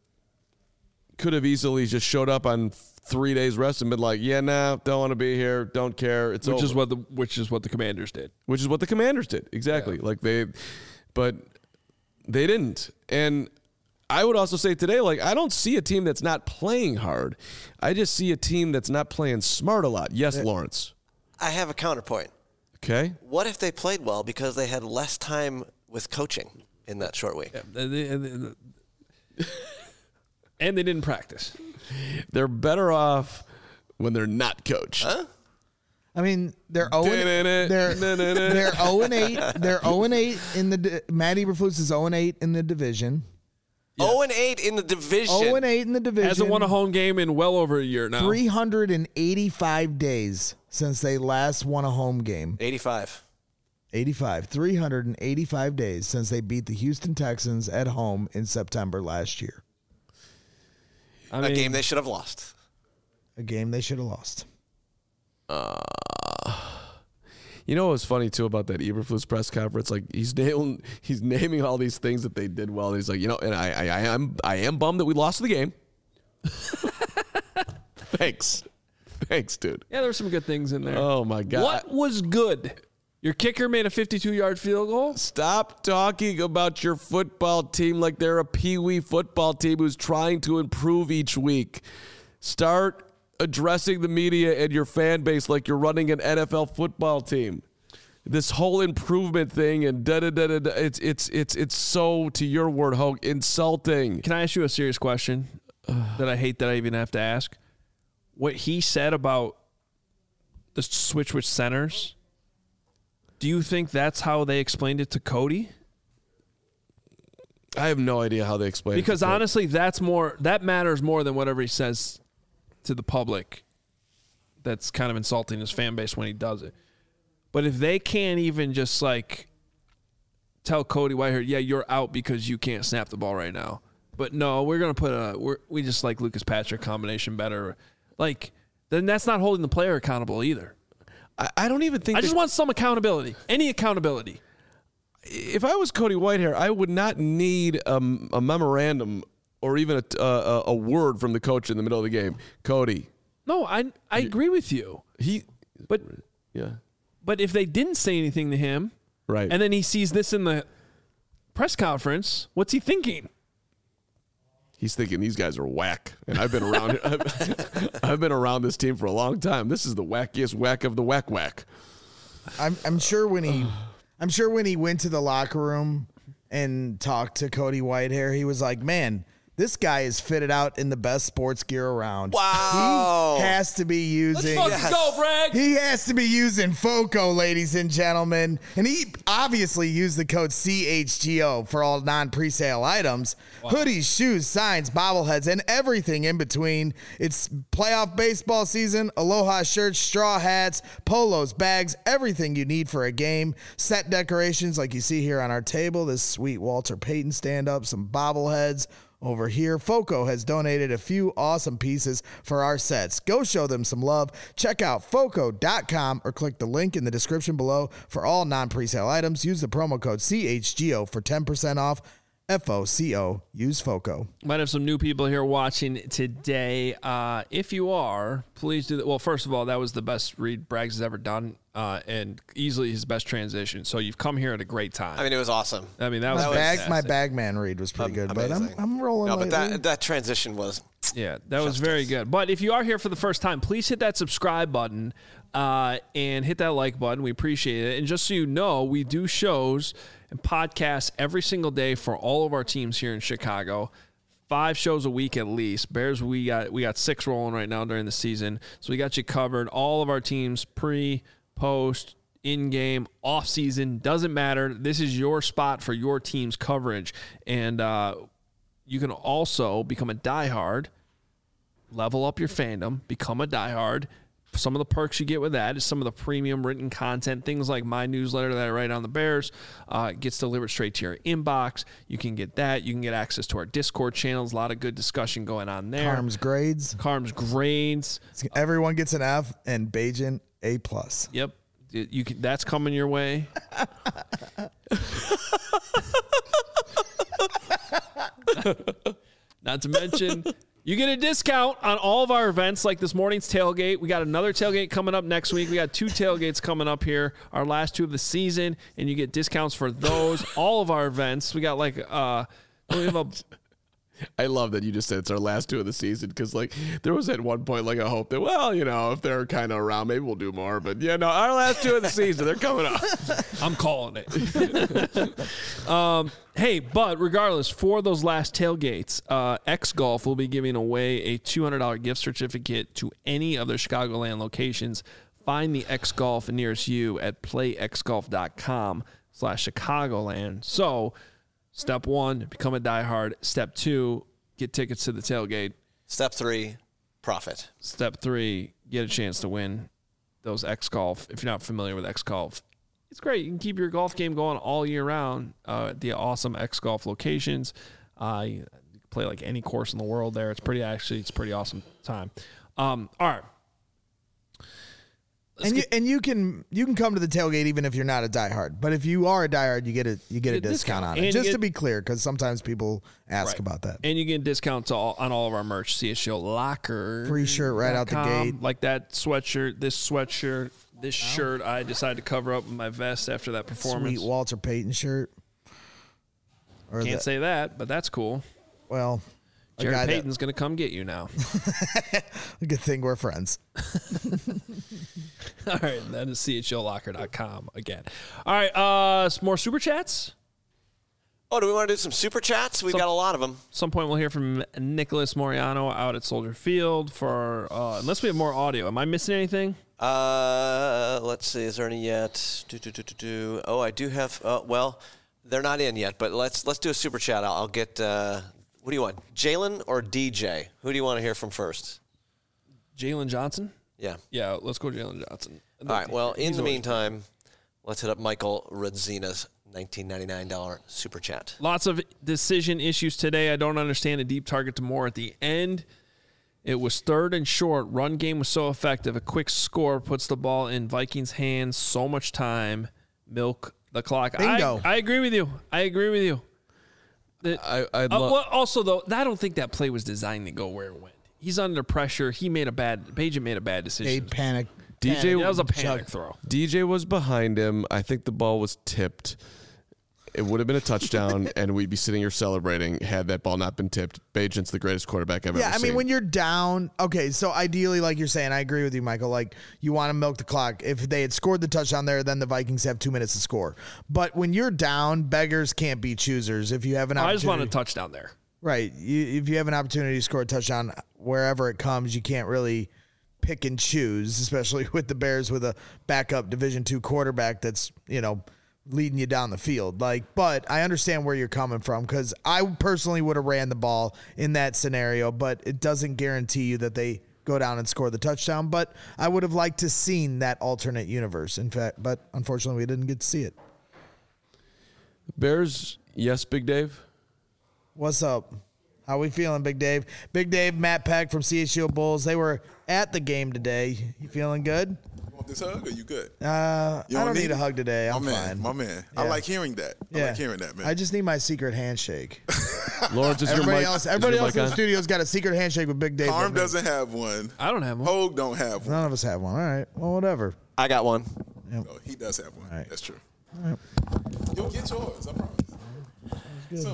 could have easily just showed up on three days rest and been like, yeah, nah, don't want to be here, don't care, it's Which over. is what the which is what the Commanders did. Which is what the Commanders did, exactly. Yeah. Like they, but they didn't. And I would also say today, like, I don't see a team that's not playing hard. I just see a team that's not playing smart a lot. Yes, Lawrence. I have a counterpoint. Okay. What if they played well because they had less time with coaching in that short week? Yeah, and, they, and, they, and they didn't practice. They're better off when they're not coached. Huh? I mean, they're zero and they're they're zero and eight. They're zero and eight in the di- Matt Eberflus is zero and eight in the division. Oh and eight in the division. zero and eight in the division. Hasn't won a home game in well over a year now. three hundred eighty-five days since they last won a home game. eighty-five. eighty-five. three hundred eighty-five days since they beat the Houston Texans at home in September last year. I A mean, game they should have lost. A game they should have lost. You know what was funny too about that Eberflus press conference? Like he's nailing, he's naming all these things that they did well. And he's like, you know, and I, I, I am, I am bummed that we lost the game. Thanks, thanks, dude. yeah, there were some good things in there. Oh my god, What was good? Your kicker made a fifty-two-yard field goal. Stop talking about your football team like they're a peewee football team who's trying to improve each week. Start addressing the media and your fan base like you're running an N F L football team. This whole improvement thing and da da da da. da it's it's it's it's so, to your word, Hogue, insulting. Can I ask you a serious question that I hate that I even have to ask? What he said about the switch with centers, do you think that's how they explained it to Cody? I have no idea how they explain it. Because honestly, that's more that matters more than whatever he says to the public. That's kind of insulting his fan base when he does it. But if they can't even just like tell Cody Whitehair, yeah, you're out because you can't snap the ball right now. But no, we're gonna put a we're, we just like Lucas Patrick combination better. Like, then that's not holding the player accountable either. I, I don't even think I just want some accountability. Any accountability. If I was Cody Whitehair, I would not need a, a memorandum or even a, a, a word from the coach in the middle of the game. Cody. No, I I agree with you. He, but yeah. But if they didn't say anything to him, right, and then he sees this in the press conference, what's he thinking? He's thinking these guys are whack, and I've been around. I've, I've been around this team for a long time. This is the wackiest whack of the whack whack. I'm I'm sure when he, I'm sure when he went to the locker room and talked to Cody Whitehair, he was like, "Man, this guy is fitted out in the best sports gear around. Wow. He has to be using. Let's fucking go, Bragg. He has to be using FOCO, ladies and gentlemen. And he obviously used the code C H G O for all non-presale items. Wow. Hoodies, shoes, signs, bobbleheads, and everything in between. It's playoff baseball season. Aloha shirts, straw hats, polos, bags, everything you need for a game. Set decorations like you see here on our table. This sweet Walter Payton stand-up, some bobbleheads. Over here, FOCO has donated a few awesome pieces for our sets. Go show them some love. Check out foco dot com or click the link in the description below for all non-presale items. Use the promo code C H G O for ten percent off. F O C O. Use FOCO. Might have some new people here watching today. Uh, if you are, please do that. Well, first of all, that was the best read Braggs has ever done, uh, and easily his best transition. So you've come here at a great time. I mean, it was awesome. I mean, that was my bag. fantastic. My Bagman read was pretty Um, good, but I'm, I'm rolling. No, but lately. that that transition was. Yeah, that was very good. But if you are here for the first time, please hit that subscribe button uh, and hit that like button. We appreciate it. And just so you know, we do shows and podcasts every single day for all of our teams here in Chicago. Five shows a week at least. Bears, we got we got six rolling right now during the season. So we got you covered. All of our teams, pre, post, in-game, off-season, doesn't matter. This is your spot for your team's coverage. And uh, you can also become a diehard, level up your fandom, become a diehard. Some of the perks you get with that is some of the premium written content, things like my newsletter that I write on the Bears uh, gets delivered straight to your inbox. You can get that. You can get access to our Discord channels. A lot of good discussion going on there. Carm's grades. Carm's grades. Everyone gets an F and Bajan A plus. Yep. You can, that's coming your way. Not to mention, you get a discount on all of our events, like this morning's tailgate. We got another tailgate coming up next week. We got two tailgates coming up here, our last two of the season, and you get discounts for those. All of our events. We got like, uh, we have a. I love that you just said it's our last two of the season because, like, there was at one point, like, a hope that, well, you know, if they're kind of around, maybe we'll do more. But, yeah, no, our last two of the season, they're coming up. I'm calling it. um, hey, but regardless, for those last tailgates, uh, X Golf will be giving away a two hundred dollars gift certificate to any of their Chicagoland locations. Find the X Golf nearest you at playxgolf.com slash Chicagoland. So, step one, become a diehard. Step two, get tickets to the tailgate. Step three, profit. Step three, get a chance to win those X Golf. If you're not familiar with X Golf, it's great. You can keep your golf game going all year round uh, at the awesome X Golf locations. Uh, you can play like any course in the world there. It's pretty, actually, it's a pretty awesome time. Um, all right. Let's and you get, and you can you can come to the tailgate even if you're not a diehard. But if you are a diehard, you get a you get a, a discount, discount. on And it. you Just get- to be clear, because sometimes people ask Right. about that. and you get discounts all, on all of our merch. C S G O Locker. Free shirt right out the gate. Like that sweatshirt, this sweatshirt, this shirt I decided to cover up with my vest after that performance. Sweet Walter Payton shirt. Or Can't the, say that, but that's cool. well, A Jared guy that- Payton's going to come get you now. Good thing we're friends. All right, that is C H L locker dot com again. All right, uh, some more super chats. Oh, do we want to do some super chats? We've Some- got a lot of them. Some point we'll hear from Nicholas Moriano out at Soldier Field for uh, unless we have more audio. Am I missing anything? Uh, let's see. Is there any yet? Do, do, do, do, do. Oh, I do have. Uh, well, they're not in yet, but let's let's do a super chat. I'll, I'll get. Uh, what do you want, Jalen or D J? Who do you want to hear from first? Jalen Johnson. Yeah. Yeah, let's go Jalen Johnson. All right. Well, in He's the always- meantime, let's hit up Michael Radzina's nineteen ninety-nine dollars super chat. Lots of decision issues today. I don't understand a deep target to Moore at the end. It was third and short. Run game was so effective. A quick score puts the ball in Vikings' hands. So much time. Milk the clock. Bingo. I, I agree with you. I agree with you. That- I, I'd uh, lo- well, also, though, I don't think that play was designed to go where it went. He's under pressure. He made a bad – Pageant made a bad A decision. panic. D J That was a Chuck. panic throw. D J was behind him. I think the ball was tipped. It would have been a touchdown, and we'd be sitting here celebrating had that ball not been tipped. Bajent's the greatest quarterback I've Yeah, ever I seen. mean, when you're down, okay, so ideally, like you're saying, I agree with you, Michael. Like, you want to milk the clock. If they had scored the touchdown there, then the Vikings have two minutes to score. But when you're down, beggars can't be choosers. If you have an I opportunity, just want a touchdown there. right? You, if you have an opportunity to score a touchdown wherever it comes, you can't really pick and choose, especially with the Bears with a backup Division two quarterback that's, you know, leading you down the field. Like, but I understand where you're coming from, because I personally would have ran the ball in that scenario, but it doesn't guarantee you that they go down and score the touchdown. But I would have liked to seen that alternate universe. In fact, but unfortunately we didn't get to see it. Bears, yes, Big Dave? What's up? How we feeling, Big Dave? Big Dave, Matt Peck from C H L Bulls. They were at the game today. You feeling good? You want this hug or you good? Uh, You I don't need need a it? hug today. I'm my man, fine. My man. I Yeah. like hearing that. I Yeah. like hearing that, man. I just need my secret handshake. Lawrence, is your Everybody mic, else, is everybody your else mic in the on? studio's got a secret handshake with Big Dave. but Carm me. doesn't have one. I don't have one. Hogue don't have one. None of us have one. All right. Well, whatever. I got one. No, he does have one. All right. That's true. You'll get yours, I promise. Soon.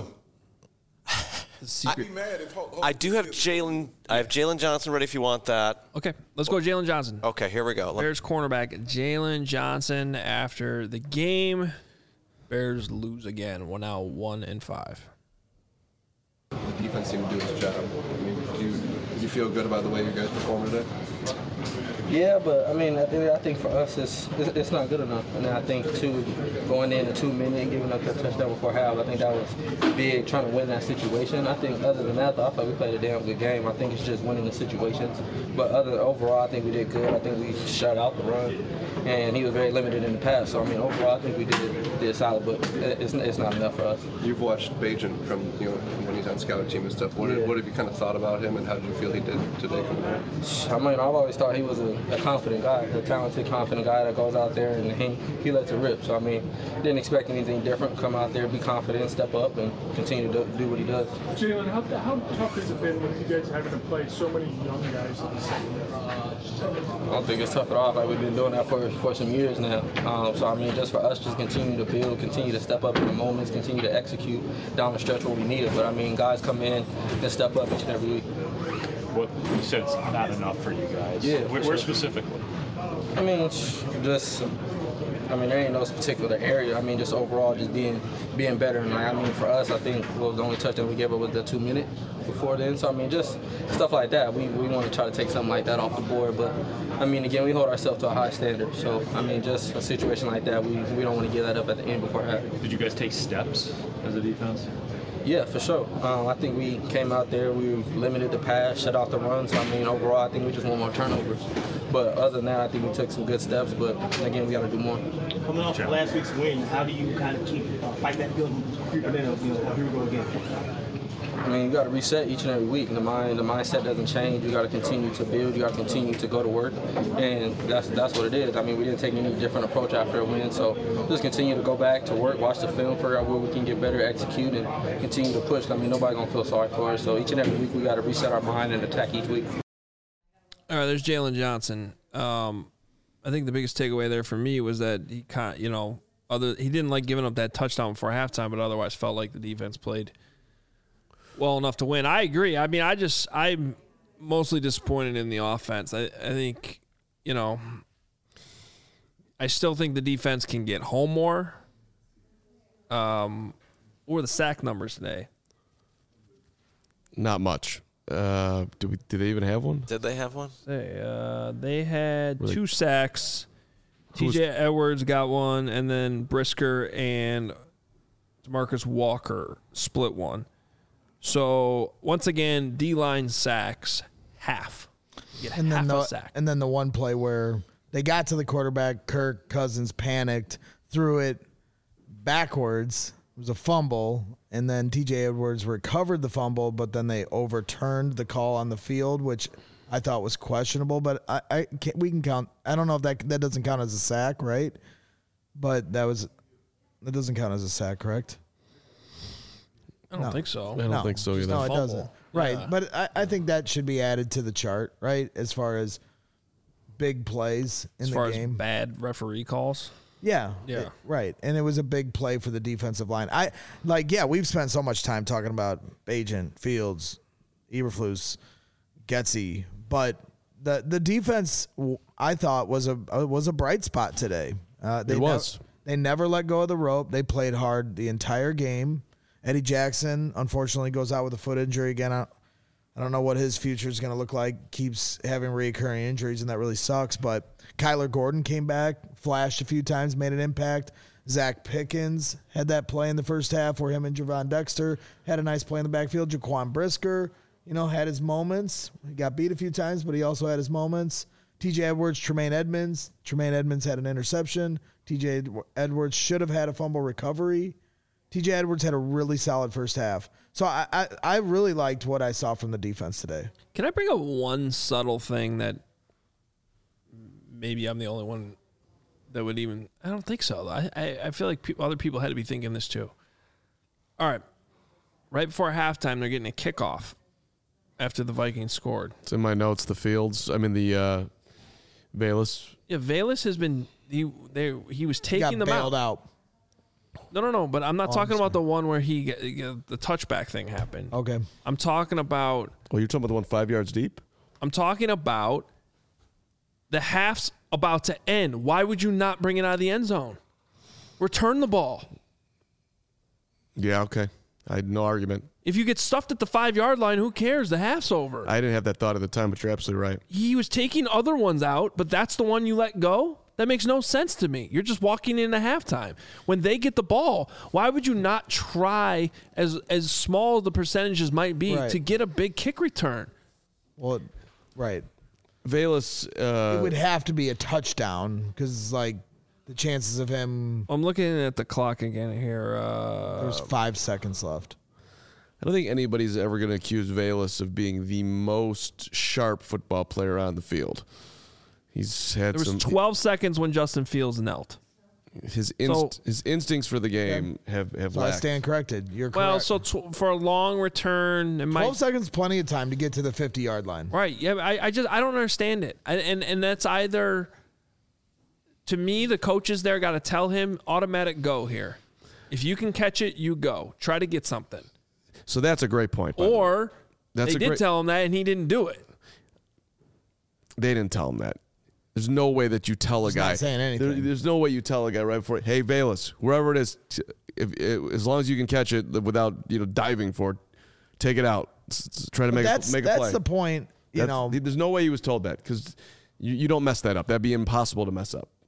The I'd secret. be mad if Hogue. I do have Jalen. I have Jalen Johnson ready if you want that. Okay, let's go Jalen Johnson. Okay, here we go. Let- Bears cornerback Jalen Johnson after the game. Bears lose again. We're now one and five. The defense seemed to do its job. I mean, do you, do you feel good about the way you guys performed today? Yeah, but I mean, I think, I think for us, it's, it's it's not good enough. And I think too, going in a two minute and giving up that touchdown before half, I think that was big, trying to win that situation. I think other than that, though, I thought we played a damn good game. I think it's just winning the situations. But other overall, I think we did good. I think we shut out the run, and he was very limited in the pass. So I mean, overall, I think we did did solid, but it's it's not enough for us. You've watched Bajent from you know when he's on scouting team and stuff. What, Yeah. what have you kind of thought about him, and how did you feel he did today coming out? I mean, I've always thought he was a, a confident guy, a talented, confident guy that goes out there and he, he lets it rip. So, I mean, didn't expect anything different. Come out there, be confident, step up, and continue to do, do what he does. Jalen, how, how tough has it been with you guys having to play so many young guys in the second I don't think it's tough at all. Like, we've been doing that for, for some years now. Um, so, I mean, just for us, just continue to build, continue to step up in the moments, continue to execute down the stretch where we need it. But, I mean, guys come in and step up each and every week. What you said it's not enough for you guys. Yeah, Where, for where sure. specifically? I mean, just, I mean, there ain't no particular area. I mean, just overall, just being being better. And like, I mean, for us, I think what was the only touchdown we gave up was the two minute before then. So I mean, just stuff like that. We we want to try to take something like that off the board. But I mean, again, we hold ourselves to a high standard. So I mean, just a situation like that, we we don't want to give that up at the end before half. Did you guys take steps as a defense? Yeah, for sure. Um, I think we came out there, we limited the pass, shut off the run. So, I mean, overall, I think we just want more turnovers. But other than that, I think we took some good steps. But, again, we got to do more. Coming off of last week's win, how do you kind of keep uh, fight that feeling creeping in of, you know, here we go again? I mean, you got to reset each and every week. The mind, the mindset doesn't change. You got to continue to build. You got to continue to go to work, and that's that's what it is. I mean, we didn't take any different approach after a win, so just continue to go back to work, watch the film, figure out where we can get better, execute, and continue to push. I mean, nobody's gonna feel sorry for us. So each and every week, we got to reset our mind and attack each week. All right, there's Jalen Johnson. Um, I think the biggest takeaway there for me was that he kind, you know, other he didn't like giving up that touchdown before halftime, but otherwise felt like the defense played well enough to win. I agree. I mean, I just I'm mostly disappointed in the offense. I, I think, you know, I still think the defense can get home more. Um, what were the sack numbers today? Not much. Uh, do we? Did they even have one? Did they have one? They uh, they had Really? two sacks. Who's- T J Edwards got one, and then Brisker and DeMarcus Walker split one. So once again, D-line sacks half. You get And half then the a sack. and then the one play where they got to the quarterback, Kirk Cousins panicked, threw it backwards. It was a fumble, and then T J Edwards recovered the fumble, but then they overturned the call on the field, which I thought was questionable. But I, I can't, we can count. I don't know if that that doesn't count as a sack, right? But that was that doesn't count as a sack, correct? I don't No. think so. I don't No, think so just- either. No, it Fumble. doesn't. Right, Yeah. but I, I think that should be added to the chart, right? As far as big plays in As the far game. as bad referee calls. Yeah. Yeah. it- right. And it was a big play for the defensive line. I like, yeah, we've spent so much time talking about Agent, Fields, Eberflus, Getsy, but the the defense w- I thought was a uh, was a bright spot today. Uh, they It was. nev- they never let go of the rope. They played hard the entire game. Eddie Jackson unfortunately goes out with a foot injury again. I, I don't know what his future is going to look like. Keeps having recurring injuries, and that really sucks. But Kyler Gordon came back, flashed a few times, made an impact. Zach Pickens had that play in the first half where him and Javon Dexter had a nice play in the backfield. Jaquan Brisker, you know, had his moments. He got beat a few times, but he also had his moments. T J Edwards, Tremaine Edmonds. Tremaine Edmonds had an interception. T J Edwards should have had a fumble recovery. T J Edwards had a really solid first half. So I, I, I really liked what I saw from the defense today. Can I bring up one subtle thing that maybe I'm the only one that would even... I don't think so. I, I, I feel like pe- other people had to be thinking this too. All right. Right before halftime, they're getting a kickoff after the Vikings scored. It's in my notes. The Fields. I mean the uh, Bayless. Yeah, Valus has been... He, they, he was He taking got them bailed out. out. No, no, no. But I'm not Oh, talking I'm about the one where he get, get- the touchback thing happened. Okay. I'm talking about... Oh, you're talking about the one five yards deep? I'm talking about the half's about to end. Why would you not bring it out of the end zone? Return the ball. Yeah, okay. I had no argument. If you get stuffed at the five-yard line, who cares? The half's over. I didn't have that thought at the time, but you're absolutely right. He was taking other ones out, but that's the one you let go? That makes no sense to me. You're just walking into halftime. When they get the ball, why would you not try, as as small as the percentages might be, Right. to get a big kick return? Well, right. Valus. Uh, It would have to be a touchdown because, like, the chances of him. I'm looking at the clock again here. Uh, There's five seconds left. I don't think anybody's ever going to accuse Valus of being the most sharp football player on the field. He's had there was some. twelve seconds when Justin Fields knelt. His inst- So- his instincts for the game have have So I lacked. stand corrected. You're Well, correct. so tw- for a long return, it might twelve seconds, plenty of time to get to the fifty-yard line. right. Yeah, I, I just I don't understand it, I, and and that's either. To me, the coaches there got to tell him automatic go here. If you can catch it, you go. Try to get something. So that's a great point. by the way. Or That's they a did great- tell him that, and he didn't do it. They didn't tell him that. There's no way that you tell a He's guy. not saying anything. There- there's no way you tell a guy right before. Hey, Valus, wherever it is, t- if, if, as long as you can catch it without you know diving for it, take it out. S- s- Try to But make that's a, make a that's play. the point. You That's- know, there's no way he was told that because you, you don't mess that up. That'd be impossible to mess up.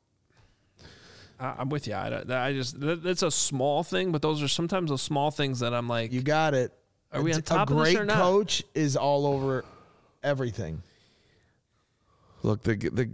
I, I'm with you. I, don't- I just that, that's a small thing, but those are sometimes those small things that I'm like, you got it. are we A- on top a of this great or not? coach is all over everything. Look, the the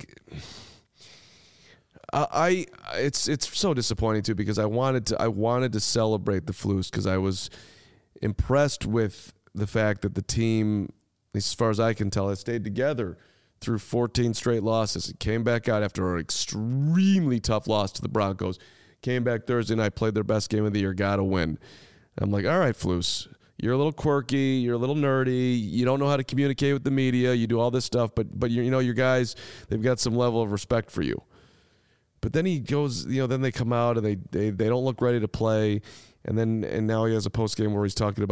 I, I it's it's so disappointing too because I wanted to I wanted to celebrate the Flus because I was impressed with the fact that the team, as far as I can tell, has stayed together through fourteen straight losses. It came back out after an extremely tough loss to the Broncos. Came back Thursday night, played their best game of the year, got to win. I'm like, all right, Flus, you're a little quirky, you're a little nerdy, you don't know how to communicate with the media, you do all this stuff, but but you, you know your guys, they've got some level of respect for you. But then he goes, you know, then they come out and they they, they don't look ready to play, and then and now he has a post game where he's talking about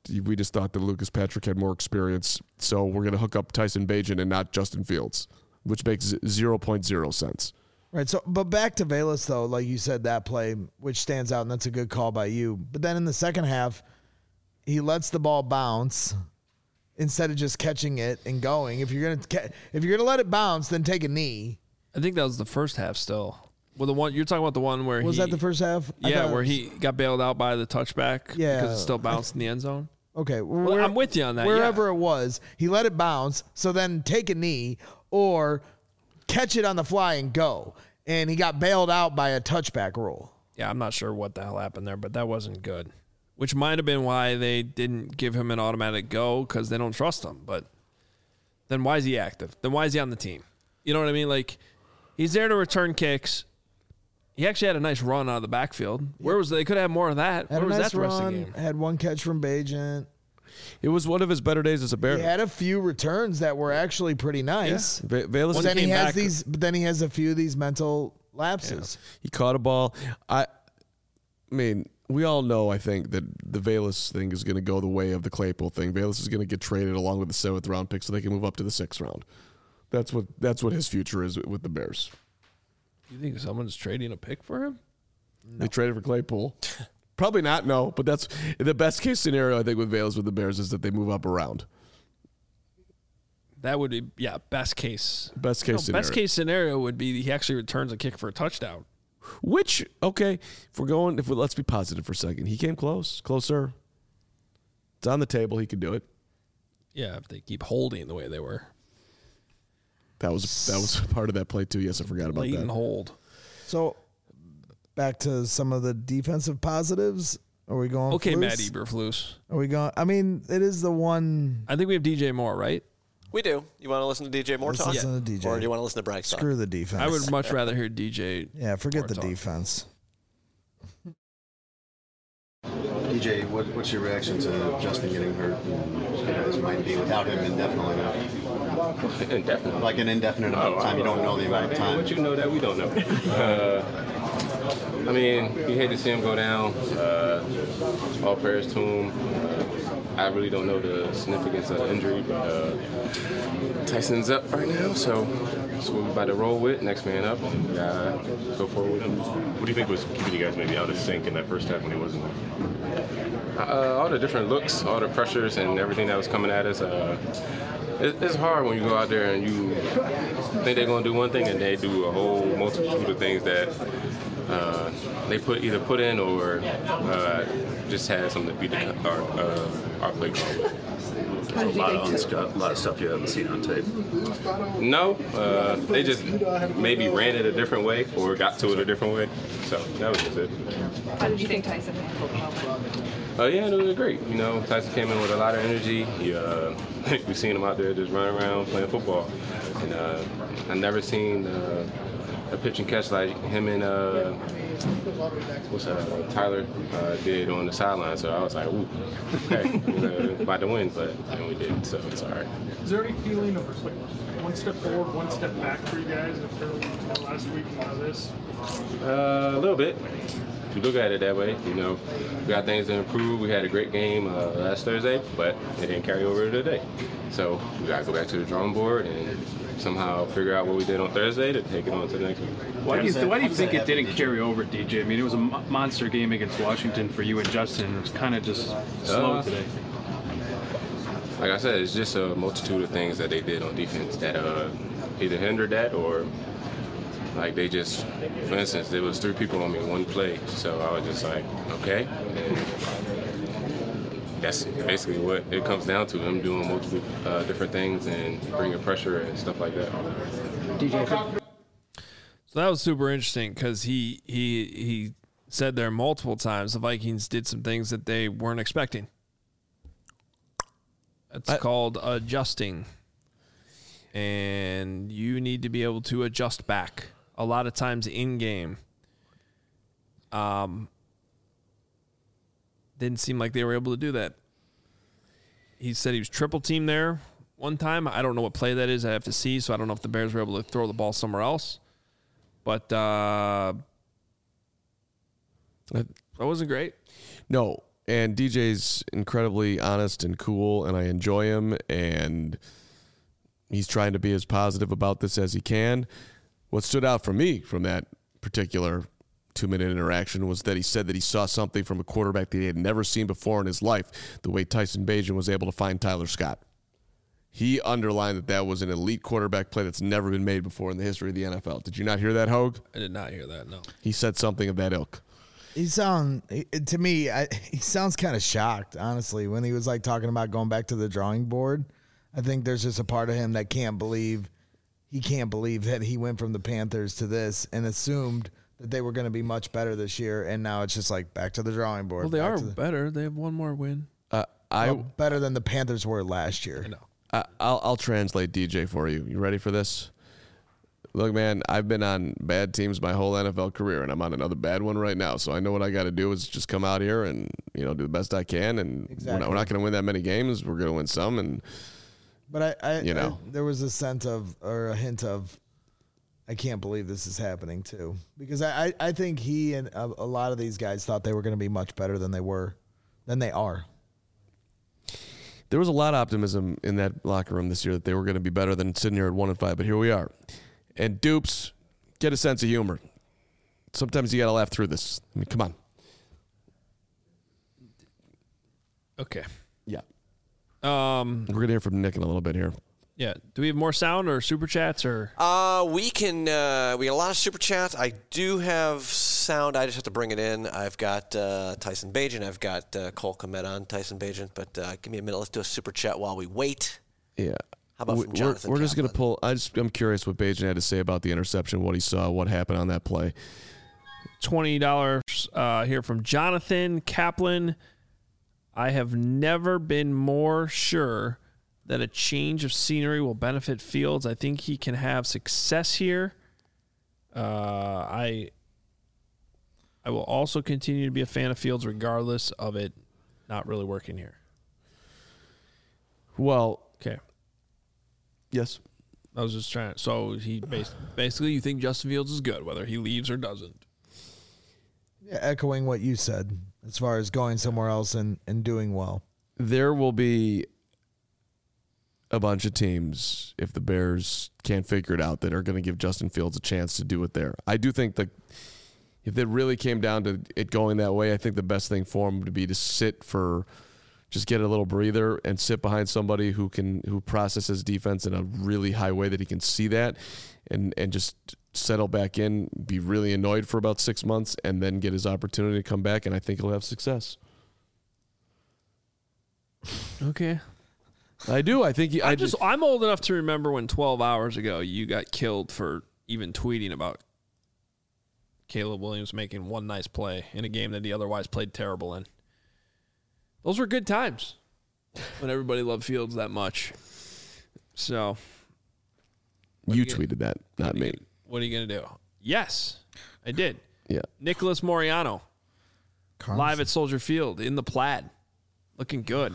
we just thought that Lucas Patrick had more experience, so we're going to hook up Tyson Bagent and not Justin Fields, which makes zero point zero sense. Right. So, but back to Velus though, like you said, that play which stands out, and that's a good call by you. But then in the second half, he lets the ball bounce instead of just catching it and going. If you're gonna if you're gonna let it bounce, then take a knee. I think that was the first half still. Well, the one you're talking about, the one where was he, that the first half? I Yeah, thought it where was- he got bailed out by the touchback. Yeah. because it still bounced in the end zone. Okay, Well, where- I'm with you on that. Wherever yeah. it was, he let it bounce. So then take a knee or catch it on the fly and go. And he got bailed out by a touchback rule. Yeah, I'm not sure what the hell happened there, but that wasn't good. Which might have been why they didn't give him an automatic go, because they don't trust him. But then why is he active? Then why is he on the team? You know what I mean? Like, he's there to return kicks. He actually had a nice run out of the backfield. Where was they? Could have more of that. Had Where a was nice that the rest of run, the game? had one catch from Bagent. It was one of his better days as a Bear. He had a few returns that were actually pretty nice. Va- Velus But then he came has back- these. But then he has a few of these mental lapses. He caught a ball. I, I mean, we all know, I think, that the Velus thing is going to go the way of the Claypool thing. Velus is going to get traded along with the seventh round pick so they can move up to the sixth round. That's what that's what his future is with the Bears. You think someone's trading a pick for him? They traded for Claypool. Probably not, no. But that's the best case scenario, I think, with Velus with the Bears is that they move up around. That would be, yeah, best case. Best case No, scenario. Best case scenario would be he actually returns a kick for a touchdown. Which, okay, if we're going, if we, let's be positive for a second. He came close, closer. It's on the table. He could do it. Yeah, if they keep holding the way they were. That was that was part of that play too. Yes, I forgot about Blatant that. hold. So back to some of the defensive positives. Are we going? Okay, Flus? Matt Eberflus. Are we going? I mean, it is the one. I think we have D J Moore, right? We do. You want to listen to D J Moore Let's talk? listen to D J. Or do you want to listen to Bragg talk? Screw the defense. I would much rather hear D J. Yeah, forget Moore the talk. defense. D J, what, what's your reaction to Justin getting hurt? And, you know, as you might be without him indefinitely now. Indefinitely. Like an indefinite amount of time. You don't know the amount of time. But you know that we don't know. Uh, I mean, you hate to see him go down. Uh, all prayers to him. Uh, I really don't know the significance of the injury, but uh, Tyson's up right now, so that's what we're about to roll with. Next man up, and we gotta go forward with him. What do you think was keeping you guys maybe out of sync in that first half when he wasn't? Uh, all the different looks, all the pressures, and everything that was coming at us. Uh, it, it's hard when you go out there and you think they're going to do one thing and they do a whole multitude of things that uh, they put either put in or uh, just had something to beat the, our, uh, our play call. A lot of unstuff, a lot of stuff you haven't seen on tape. No, uh, they just maybe ran it a different way or got to it a different way. So that was just it. How did you think Tyson handled the moment? Oh, yeah, it was great. You know, Tyson came in with a lot of energy. He, uh, we've seen him out there just running around playing football. And uh, I've never seen uh, a pitch and catch like him and uh, what's that, uh, Tyler uh, did on the sideline. So I was like, ooh, okay, we're about to win, but and we did, so it's all right. Is there any feeling of like one step forward, one step back for you guys after last week and now this? Uh, a little bit. If you look at it that way, you know, we got things to improve. We had a great game uh, last Thursday, but it didn't carry over to today. So we got to go back to the drawing board and somehow figure out what we did on Thursday to take it on to the next week. Why do you, th- why do you think it didn't carry over, D J? I mean, it was a mo- monster game against Washington for you and Justin. It was kind of just slow Uh, today. Like I said, it's just a multitude of things that they did on defense that uh, either hindered that or like they just, for instance, there was three people on me in one play. So I was just like, okay. And that's basically what it comes down to, them doing multiple uh, different things and bringing pressure and stuff like that. D J. So that was super interesting because he he he said there multiple times the Vikings did some things that they weren't expecting. It's I, called adjusting, and you need to be able to adjust back. A lot of times in game, um, didn't seem like they were able to do that. He said he was triple teamed there one time. I don't know what play that is. I have to see, so I don't know if the Bears were able to throw the ball somewhere else. But uh, that wasn't great. No, And D J's incredibly honest and cool, and I enjoy him, and he's trying to be as positive about this as he can. What stood out for me from that particular two-minute interaction was that he said that he saw something from a quarterback that he had never seen before in his life, the way Tyson Bagent was able to find Tyler Scott. He underlined that that was an elite quarterback play that's never been made before in the history of the N F L. Did you not hear that, Hogue? I did not hear that, no. He said something of that ilk. He sound to me. I, he sounds kind of shocked, honestly, when he was like talking about going back to the drawing board. I think there's just a part of him that can't believe he can't believe that he went from the Panthers to this and assumed that they were going to be much better this year, and now it's just like back to the drawing board. Well, they back are to the, better. They have one more win. Uh, I well, better than the Panthers were last year. I know. I, I'll I'll translate D J for you. You ready for this? Look, man, I've been on bad teams my whole N F L career, and I'm on another bad one right now. So I know what I got to do is just come out here and, you know, do the best I can. And Exactly. we're not, we're not going to win that many games. We're going to win some. And But I, I you know, I, there was a sense of, or a hint of, I can't believe this is happening too, because I, I, I think he and a, a lot of these guys thought they were going to be much better than they were, than they are. there was a lot of optimism in that locker room this year that they were going to be better than sitting here at one and five. But here we are. And Dupes, get a sense of humor. Sometimes you got to laugh through this. I mean, come on. Okay. Yeah. Um, We're going to hear from Nick in a little bit here. Yeah. Do we have more sound or super chats or? Uh, we can. Uh, we got a lot of super chats. I do have sound. I just have to bring it in. I've got uh, Tyson Bagent. I've got uh, Cole Kmet on Tyson Bagent. But uh, give me a minute. Let's do a super chat while we wait. Yeah. How about we, from Jonathan? We're, we're just going to pull. I just, I'm curious what Bagent had to say about the interception, what he saw, what happened on that play. twenty dollars uh, here from Jonathan Kaplan. I have never been more sure that a change of scenery will benefit Fields. I think he can have success here. Uh, I I will also continue to be a fan of Fields regardless of it not really working here. Well, okay. Yes. I was just trying to, so he bas- basically you think Justin Fields is good whether he leaves or doesn't. Yeah, echoing what you said as far as going somewhere else and, and doing well. There will be a bunch of teams, if the Bears can't figure it out, that are going to give Justin Fields a chance to do it there. I do think that if it really came down to it going that way, I think the best thing for him would be to sit for, just get a little breather and sit behind somebody who can who processes defense in a really high way that he can see that, and and just settle back in, be really annoyed for about six months, and then get his opportunity to come back, and I think he'll have success. Okay. I do. I think he, I I'm just I'm old enough to remember when twelve hours ago you got killed for even tweeting about Caleb Williams making one nice play in a game that he otherwise played terrible in. Those were good times when everybody loved Fields that much. So you, you tweeted that, not me. Gonna, what are you going to do? Yes, I did. Yeah. Nicholas Moriano, Carson. live at Soldier Field in the plaid, looking good.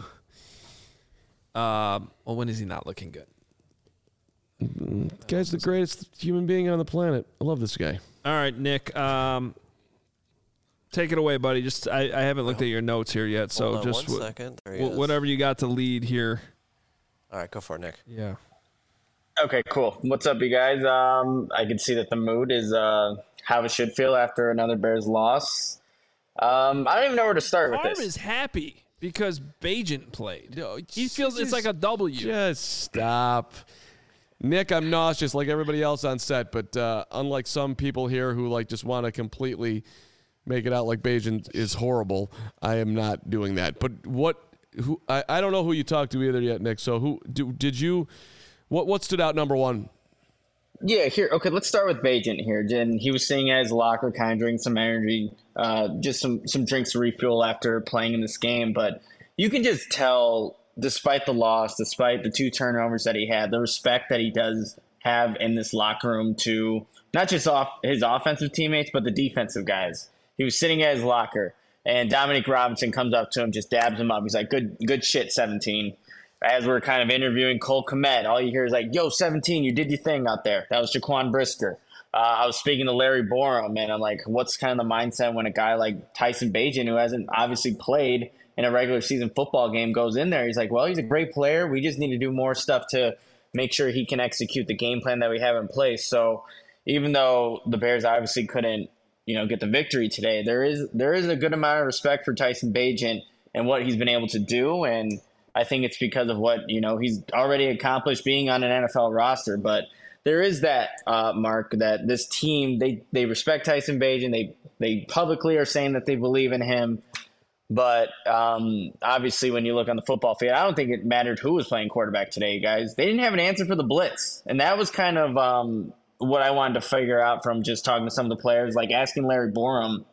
Um, well, when is he not looking good? The guy's the greatest human being on the planet. I love this guy. All right, Nick. Um, take it away, buddy. Just I, I haven't looked at your notes here yet, so Hold on just one wh- second. There he wh- is. whatever you got to lead here. All right, go for it, Nick. Yeah. Okay, cool. What's up, you guys? Um, I can see that the mood is uh, how it should feel after another Bears loss. Um, I don't even know where to start with Arm this. is happy because Bagent played. He feels it's like a W. Just stop. Nick, I'm nauseous like everybody else on set, but uh, unlike some people here who like just want to completely make it out like Bagent is horrible, I am not doing that. But what? Who? I, I don't know who you talked to either yet, Nick. So who do, did you? What what stood out number one? Yeah, here. Okay, let's start with Bagent here. And he was sitting at his locker, kind of drinking some energy, uh, just some some drinks to refuel after playing in this game. But you can just tell, despite the loss, despite the two turnovers that he had, the respect that he does have in this locker room to not just off his offensive teammates, but the defensive guys. He was sitting at his locker, and Dominic Robinson comes up to him, just dabs him up. He's like, "Good, good shit, seventeen." As we're kind of interviewing Cole Kmet, all you hear is like, "Yo, seventeen, you did your thing out there." That was Jaquan Brisker. Uh, I was speaking to Larry Borum, and I'm like, what's kind of the mindset when a guy like Tyson Bagent, who hasn't obviously played in a regular season football game goes in there. He's like, well, he's a great player. We just need to do more stuff to make sure he can execute the game plan that we have in place. So even though the Bears obviously couldn't, you know, get the victory today, there is there is a good amount of respect for Tyson Bagent and what he's been able to do. And I think it's because of what, you know, he's already accomplished being on an N F L roster. But there is that, uh, Mark, that this team, they, they respect Tyson Bagent. They, they publicly are saying that they believe in him. But um, obviously, when you look on the football field, I don't think it mattered who was playing quarterback today, guys. They didn't have an answer for the blitz. And that was kind of um, what I wanted to figure out from just talking to some of the players, like asking Larry Borum.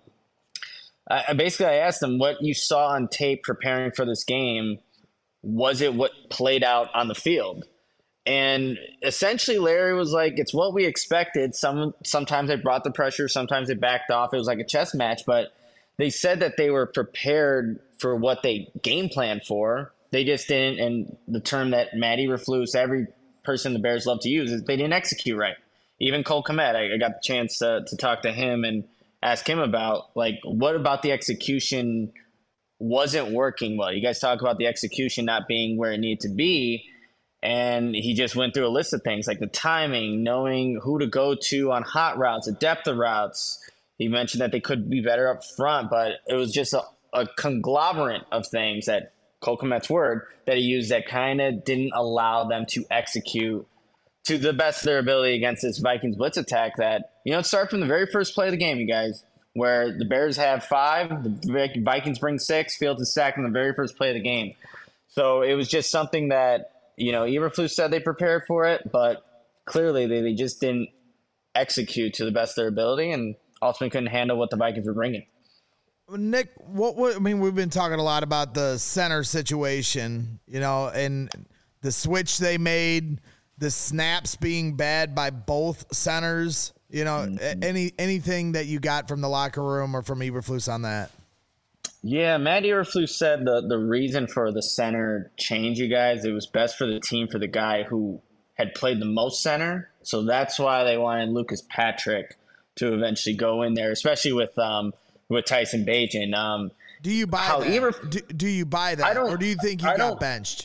I, basically, I asked him what you saw on tape preparing for this game. Was it what played out on the field? And essentially, Larry was like, it's what we expected. Some Sometimes they brought the pressure. Sometimes they backed off. It was like a chess match, but they said that they were prepared for what they game planned for. They just didn't, and the term that Matt Eberflus, every person the Bears love to use, is they didn't execute right. Even Cole Kmet, I, I got the chance to, to talk to him and ask him about, like, what about the execution wasn't working well? You guys talk about the execution not being where it needed to be, and he just went through a list of things, like the timing, knowing who to go to on hot routes, the depth of routes. He mentioned that they could be better up front, but it was just a, a conglomerate of things, that Cole Kmet's word, that he used that kind of didn't allow them to execute to the best of their ability against this Vikings blitz attack that, you know, it started from the very first play of the game, you guys, where the Bears have five, the Vikings bring six, Fields is sacked in the very first play of the game. So it was just something that, you know, Eberflus said they prepared for it, but clearly they, they just didn't execute to the best of their ability, and ultimately couldn't handle what the Vikings were bringing. Nick, what, what I mean, we've been talking a lot about the center situation, you know, and the switch they made, the snaps being bad by both centers. You know, mm-hmm. any anything that you got from the locker room or from Eberflus on that? Yeah, Matt Eberflus said the the reason for the center change, you guys, it was best for the team for the guy who had played the most center. So that's why they wanted Lucas Patrick to eventually go in there, especially with um with Tyson Bagent. Um, do you buy how that? Eberf- do, do you buy that, or do you think he I got benched?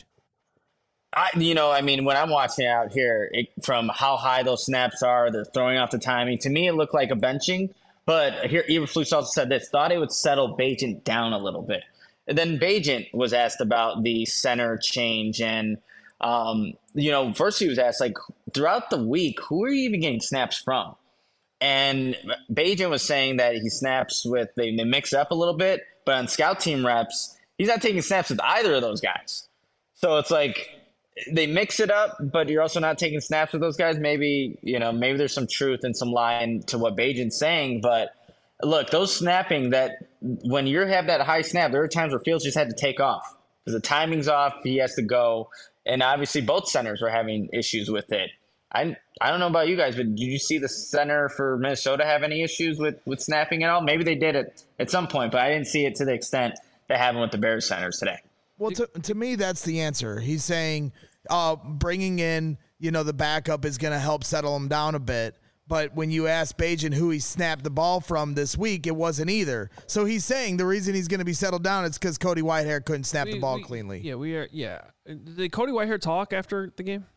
I, you know, I mean, when I'm watching out here, it, from how high those snaps are, they're throwing off the timing. To me, it looked like a benching. But here, Eberflus also said this: thought it would settle Bagent down a little bit. And then Bagent was asked about the center change, and um, you know, first he was asked, like, throughout the week, who are you even getting snaps from? And Bagent was saying that he snaps with, they, they mix up a little bit, but on scout team reps, he's not taking snaps with either of those guys. So it's like they mix it up, but you're also not taking snaps with those guys. Maybe, you know, maybe there's some truth and some lie to what Bagent's saying. But look, those snapping, that when you have that high snap, there are times where Fields just had to take off because the timing's off. He has to go. And obviously both centers were having issues with it. I I don't know about you guys, but did you see the center for Minnesota have any issues with, with snapping at all? Maybe they did it at some point, but I didn't see it to the extent that happened with the Bears centers today. Well, to, to me, that's the answer. He's saying uh, bringing in, you know, the backup is going to help settle him down a bit. But when you ask Bagent who he snapped the ball from this week, it wasn't either. So he's saying the reason he's going to be settled down is because Cody Whitehair couldn't snap we, the ball we, cleanly. Yeah, we are. Yeah. Did Cody Whitehair talk after the game?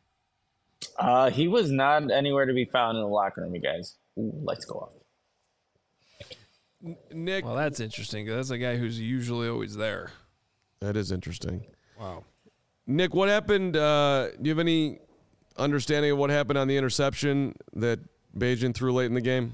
Uh, he was not anywhere to be found in the locker room, you guys. Ooh, lights go off. Nick. Well, that's interesting. That's a guy who's usually always there. That is interesting. Wow. Nick, what happened? Uh, do you have any understanding of what happened on the interception that Bagent threw late in the game?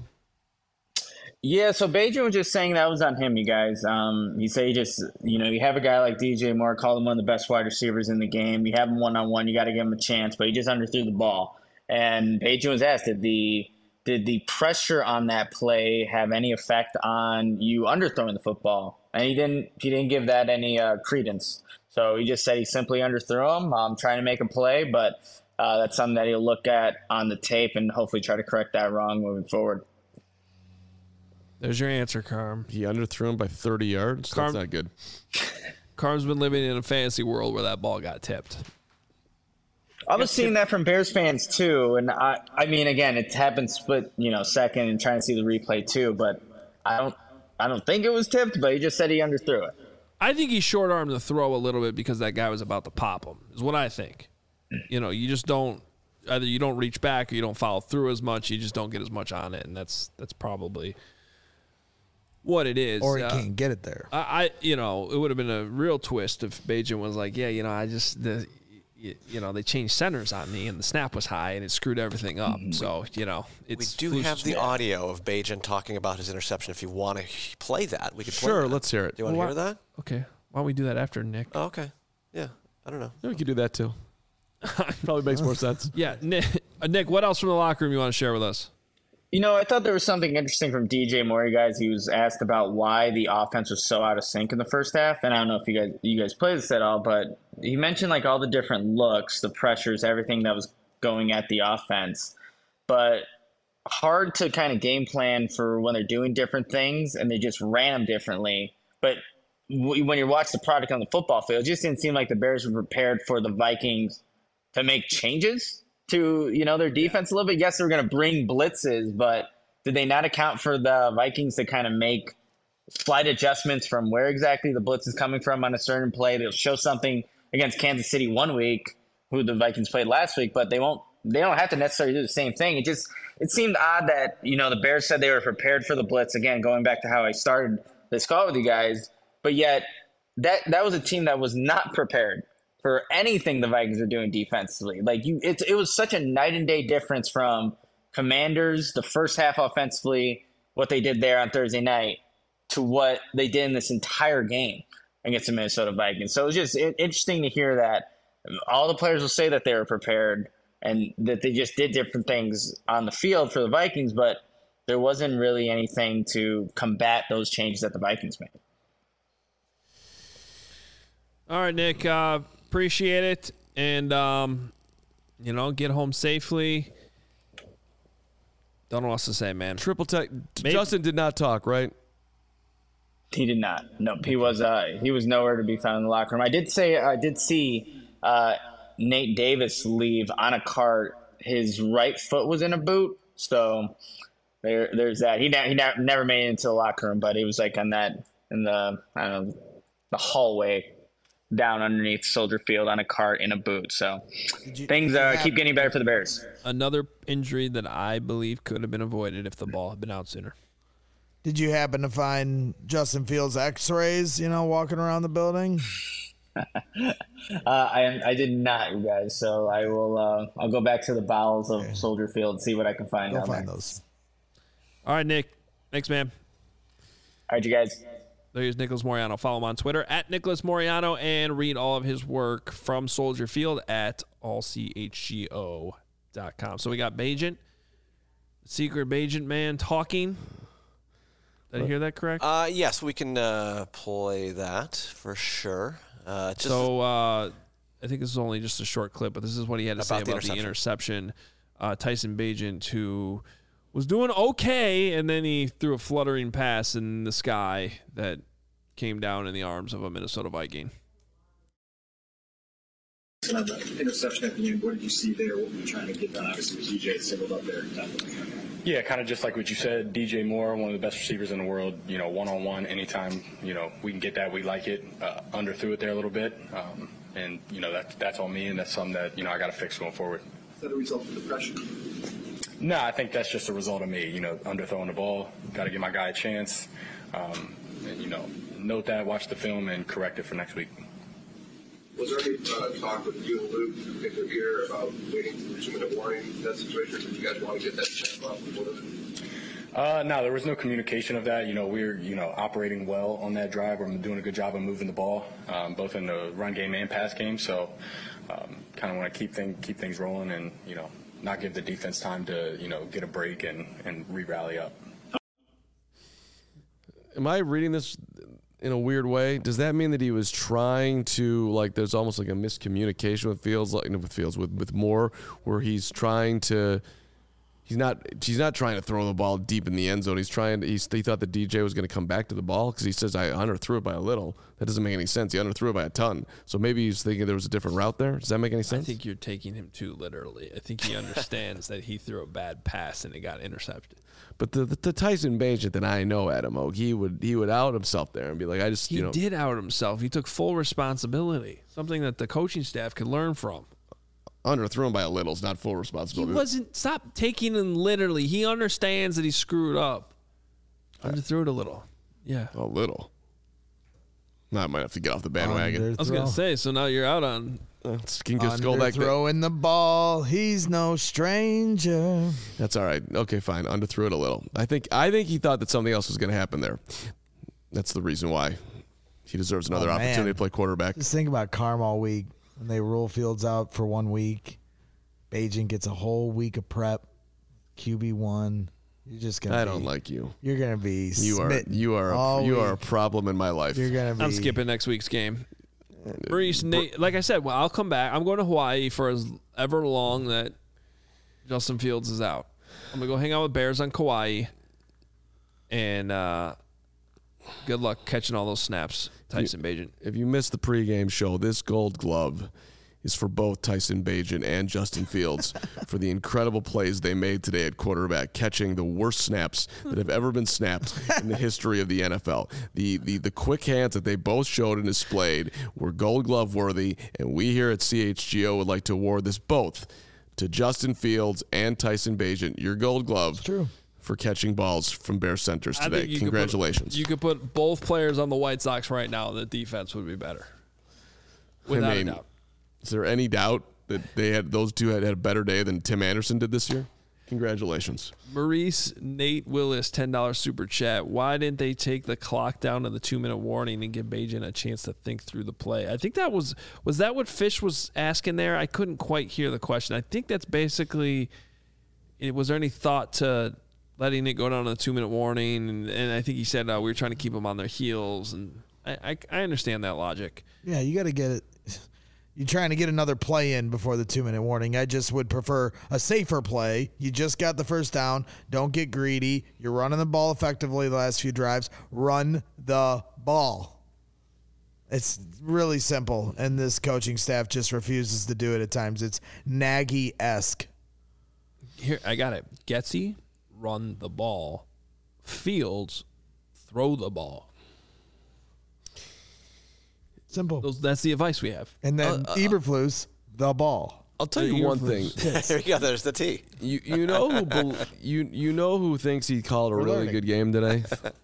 Yeah, so Bagent was just saying that was on him, you guys. Um, he said he just, you know, you have a guy like D J Moore, called him one of the best wide receivers in the game. You have him one-on-one, you got to give him a chance, but he just underthrew the ball. And Bagent was asked, did the did the pressure on that play have any effect on you underthrowing the football? And he didn't he didn't give that any uh, credence. So he just said he simply underthrew him, um, trying to make a play, but uh, that's something that he'll look at on the tape and hopefully try to correct that wrong moving forward. There's your answer, Carm. He underthrew him by thirty yards. Carm, That's not good. Carm's been living in a fantasy world where that ball got tipped. I was seeing that from Bears fans too, and I, I mean, again, it happened split, you know, second, and trying to see the replay too. But I don't, I don't think it was tipped. But he just said he underthrew it. I think he short armed the throw a little bit because that guy was about to pop him. Is what I think. You know, you just don't either you don't reach back or you don't follow through as much. You just don't get as much on it, and that's that's probably what it is. Or he uh, can't get it there. I, I you know, it would have been a real twist if Bajan was like, yeah, you know, I just the. You, you know, they changed centers on me, and the snap was high, and it screwed everything up. Mm-hmm. So, you know, it's we do have the audio of Bajan talking about his interception. If you want to play that, we could play Sure, that. let's hear it. Do you want to well, hear that? Okay. Why don't we do that after, Nick? Oh, okay. Yeah, I don't know. Yeah, we could do that, too. Probably makes more sense. Yeah. Nick, uh, Nick, what else from the locker room you want to share with us? You know, I thought there was something interesting from D J Moore, guys. He was asked about why the offense was so out of sync in the first half, and I don't know if you guys you guys played this at all, but he mentioned like all the different looks, the pressures, everything that was going at the offense, but hard to kind of game plan for when they're doing different things, and they just ran them differently. But w- when you watch the product on the football field, it just didn't seem like the Bears were prepared for the Vikings to make changes to, you know, their defense a little bit. Yes, they're going to bring blitzes, but did they not account for the Vikings to kind of make slight adjustments from where exactly the blitz is coming from on a certain play? They'll show something against Kansas City one week, who the Vikings played last week, but they won't, they don't have to necessarily do the same thing. It just, it seemed odd that, you know, the Bears said they were prepared for the blitz. Again, going back to how I started this call with you guys, but yet that, that was a team that was not prepared for anything the Vikings are doing defensively. Like you, it, it was such a night and day difference from Commanders, the first half offensively, what they did there on Thursday night, to what they did in this entire game against the Minnesota Vikings. So it was just it, interesting to hear that all the players will say that they were prepared and that they just did different things on the field for the Vikings, but there wasn't really anything to combat those changes that the Vikings made. All right, Nick. Uh, appreciate it. And, um, you know, get home safely. Don't know what else to say, man. Triple tech. Justin did not talk, right? He did not. Nope. He was uh, he was nowhere to be found in the locker room. I did say I did see uh, Nate Davis leave on a cart. His right foot was in a boot, so there there's that. He ne- he ne- never made it into the locker room, but he was like on that in the I don't know the hallway down underneath Soldier Field on a cart in a boot. So you, things uh, keep getting better for the Bears. Another injury that I believe could have been avoided if the ball had been out sooner. Did you happen to find Justin Fields' X-rays, you know, walking around the building? uh, I I did not, you guys. So I will. Uh, I'll go back to the bowels of okay. Soldier Field and see what I can find. Go down find there. those. All right, Nick. Thanks, man. All right, you guys. There's Nicholas Moreano. Follow him on Twitter at Nicholas Moreano and read all of his work from Soldier Field at all c h g o dot com. So we got Bajan, secret Bajan man talking. Did I hear that correct? Uh, yes, we can uh, play that for sure. Uh, just so uh, I think this is only just a short clip, but this is what he had to about say the about interception. the interception. Uh, Tyson Bagent, who was doing okay, and then he threw a fluttering pass in the sky that came down in the arms of a Minnesota Viking. On the interception at the end, what did you see there? What were you trying to get done? Obviously, D J singled up there. Yeah, kind of just like what you said. D J Moore, one of the best receivers in the world. You know, one on one, anytime you know we can get that, we like it. Uh, underthrew it there a little bit, um, and you know that that's on me, and that's something that you know I got to fix going forward. Is that a result of the pressure? No, I think that's just a result of me. You know, underthrowing the ball. Got to give my guy a chance, um, and you know, note that, watch the film, and correct it for next week. Was there any uh, talk with you and Luke in their ear about waiting for two-minute warning in that situation? Did you guys want to get that checked off before the Uh, no, there was no communication of that. You know, we we're, you know, operating well on that drive. We're doing a good job of moving the ball, um, both in the run game and pass game. So um, kind of want to keep, thing, keep things rolling and, you know, not give the defense time to, you know, get a break and, and re-rally up. Am I reading this in a weird way? Does that mean that he was trying to, like, there's almost like a miscommunication with Fields, like with Fields, with, with Moore, where he's trying to, He's not. He's not trying to throw the ball deep in the end zone. He's trying. To, he's, he thought the D J was going to come back to the ball because he says I underthrew it by a little. That doesn't make any sense. He underthrew it by a ton. So maybe he's thinking there was a different route there. Does that make any sense? I think you're taking him too literally. I think he understands that he threw a bad pass and it got intercepted. But the, the, the Tyson Bagent that I know, Adam Oak, he would he would out himself there and be like, I just He you know did out himself. He took full responsibility. Something that the coaching staff could learn from. underthrew him by a little. It's not full responsibility. He wasn't. Stop taking him literally. He understands that he screwed up. Underthrew it a little. Yeah. A little. Now I might have to get off the bandwagon. I was going to say, so now you're out on. Uh, can just go back there. Throwing the ball, he's no stranger. That's all right. Okay, fine. Underthrew it a little. I think I think he thought that something else was going to happen there. That's the reason why he deserves another Oh, opportunity man. to play quarterback. Just think about Carm all week. When they rule Fields out for one week, Bagent gets a whole week of prep. Q B one. You're just gonna. I be, don't like you. You're gonna be. You are smitten you are a, all you are a week. problem in my life. You're gonna be. I'm skipping next week's game. Maurice, Nate, like I said, well, I'll come back. I'm going to Hawaii for as ever long that Justin Fields is out. I'm gonna go hang out with Bears on Kauai, and uh, good luck catching all those snaps, Tyson Bagent. If you missed the pregame show, this Gold Glove is for both Tyson Bagent and Justin Fields for the incredible plays they made today at quarterback, catching the worst snaps that have ever been snapped in the history of the N F L. The, the the quick hands that they both showed and displayed were Gold Glove worthy, and we here at C H G O would like to award this both to Justin Fields and Tyson Bagent, your Gold Glove. True. For catching balls from Bear centers I today. think you could put- Congratulations. you could put both players on the White Sox right now. The defense would be better, without I mean, a doubt. Is there any doubt that they had those two had, had a better day than Tim Anderson did this year? Congratulations. Maurice Nate Willis, ten dollars super chat. Why didn't they take the clock down to the two minute warning and give Bagent a chance to think through the play? I think that was was that what Fish was asking there. I couldn't quite hear the question. I think that's basically. It, was there any thought to letting it go down to the two minute warning? And, and I think he said uh, we were trying to keep them on their heels. And I I, I understand that logic. Yeah, you got to get it. You're trying to get another play in before the two-minute warning. I just would prefer a safer play. You just got the first down. Don't get greedy. You're running the ball effectively the last few drives. Run the ball. It's really simple, and this coaching staff just refuses to do it at times. It's Nagy-esque. Here, I got it. Getsy, run the ball. Fields, throw the ball. Simple. Those, that's the advice we have. And then Uh, uh, Eberflus, the ball. I'll tell you one thing. There you go. There's the T. You you know who bel you you know who thinks he called a We're really learning. good game today?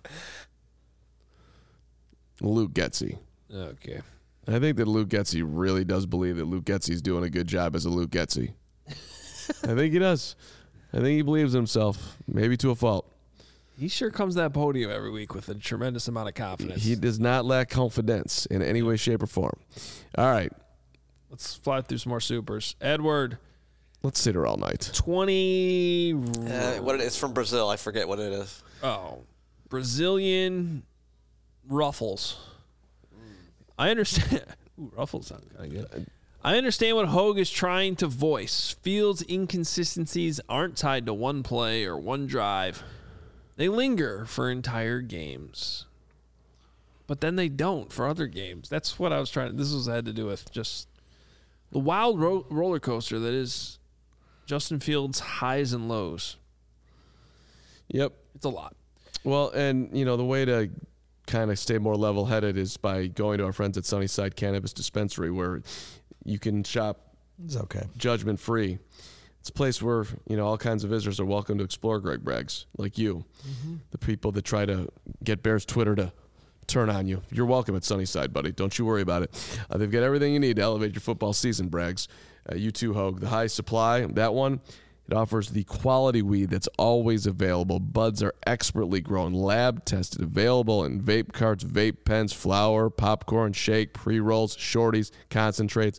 Luke Getsy. Okay. I think that Luke Getsy really does believe that Luke Getsy's doing a good job as a Luke Getsy. I think he does. I think he believes in himself, maybe to a fault. He sure comes to that podium every week with a tremendous amount of confidence. He does not lack confidence in any way, shape, or form. All right. Let's fly through some more supers. Edward. Let's sit here all night. twenty. Uh, what it is from Brazil. I forget what it is. Oh, Brazilian ruffles. I understand. Ooh, ruffles sound kind of good. I understand what Hogue is trying to voice. Fields' inconsistencies aren't tied to one play or one drive. They linger for entire games. But then they don't for other games. That's what I was trying to... This was had to do with just the wild ro- roller coaster that is Justin Fields' highs and lows. Yep. It's a lot. Well, and, you know, the way to kind of stay more level-headed is by going to our friends at Sunnyside Cannabis Dispensary, where you can shop It's okay. judgment-free. It's a place where, you know, all kinds of visitors are welcome to explore Greg Braggs, like you. Mm-hmm. The people that try to get Bears Twitter to turn on you. You're welcome at Sunnyside, buddy. Don't you worry about it. Uh, they've got everything you need to elevate your football season, Braggs. Uh, you too, Hogue. The high supply, that one, it offers the quality weed that's always available. Buds are expertly grown, lab-tested, available in vape carts, vape pens, flour, popcorn, shake, pre-rolls, shorties, concentrates.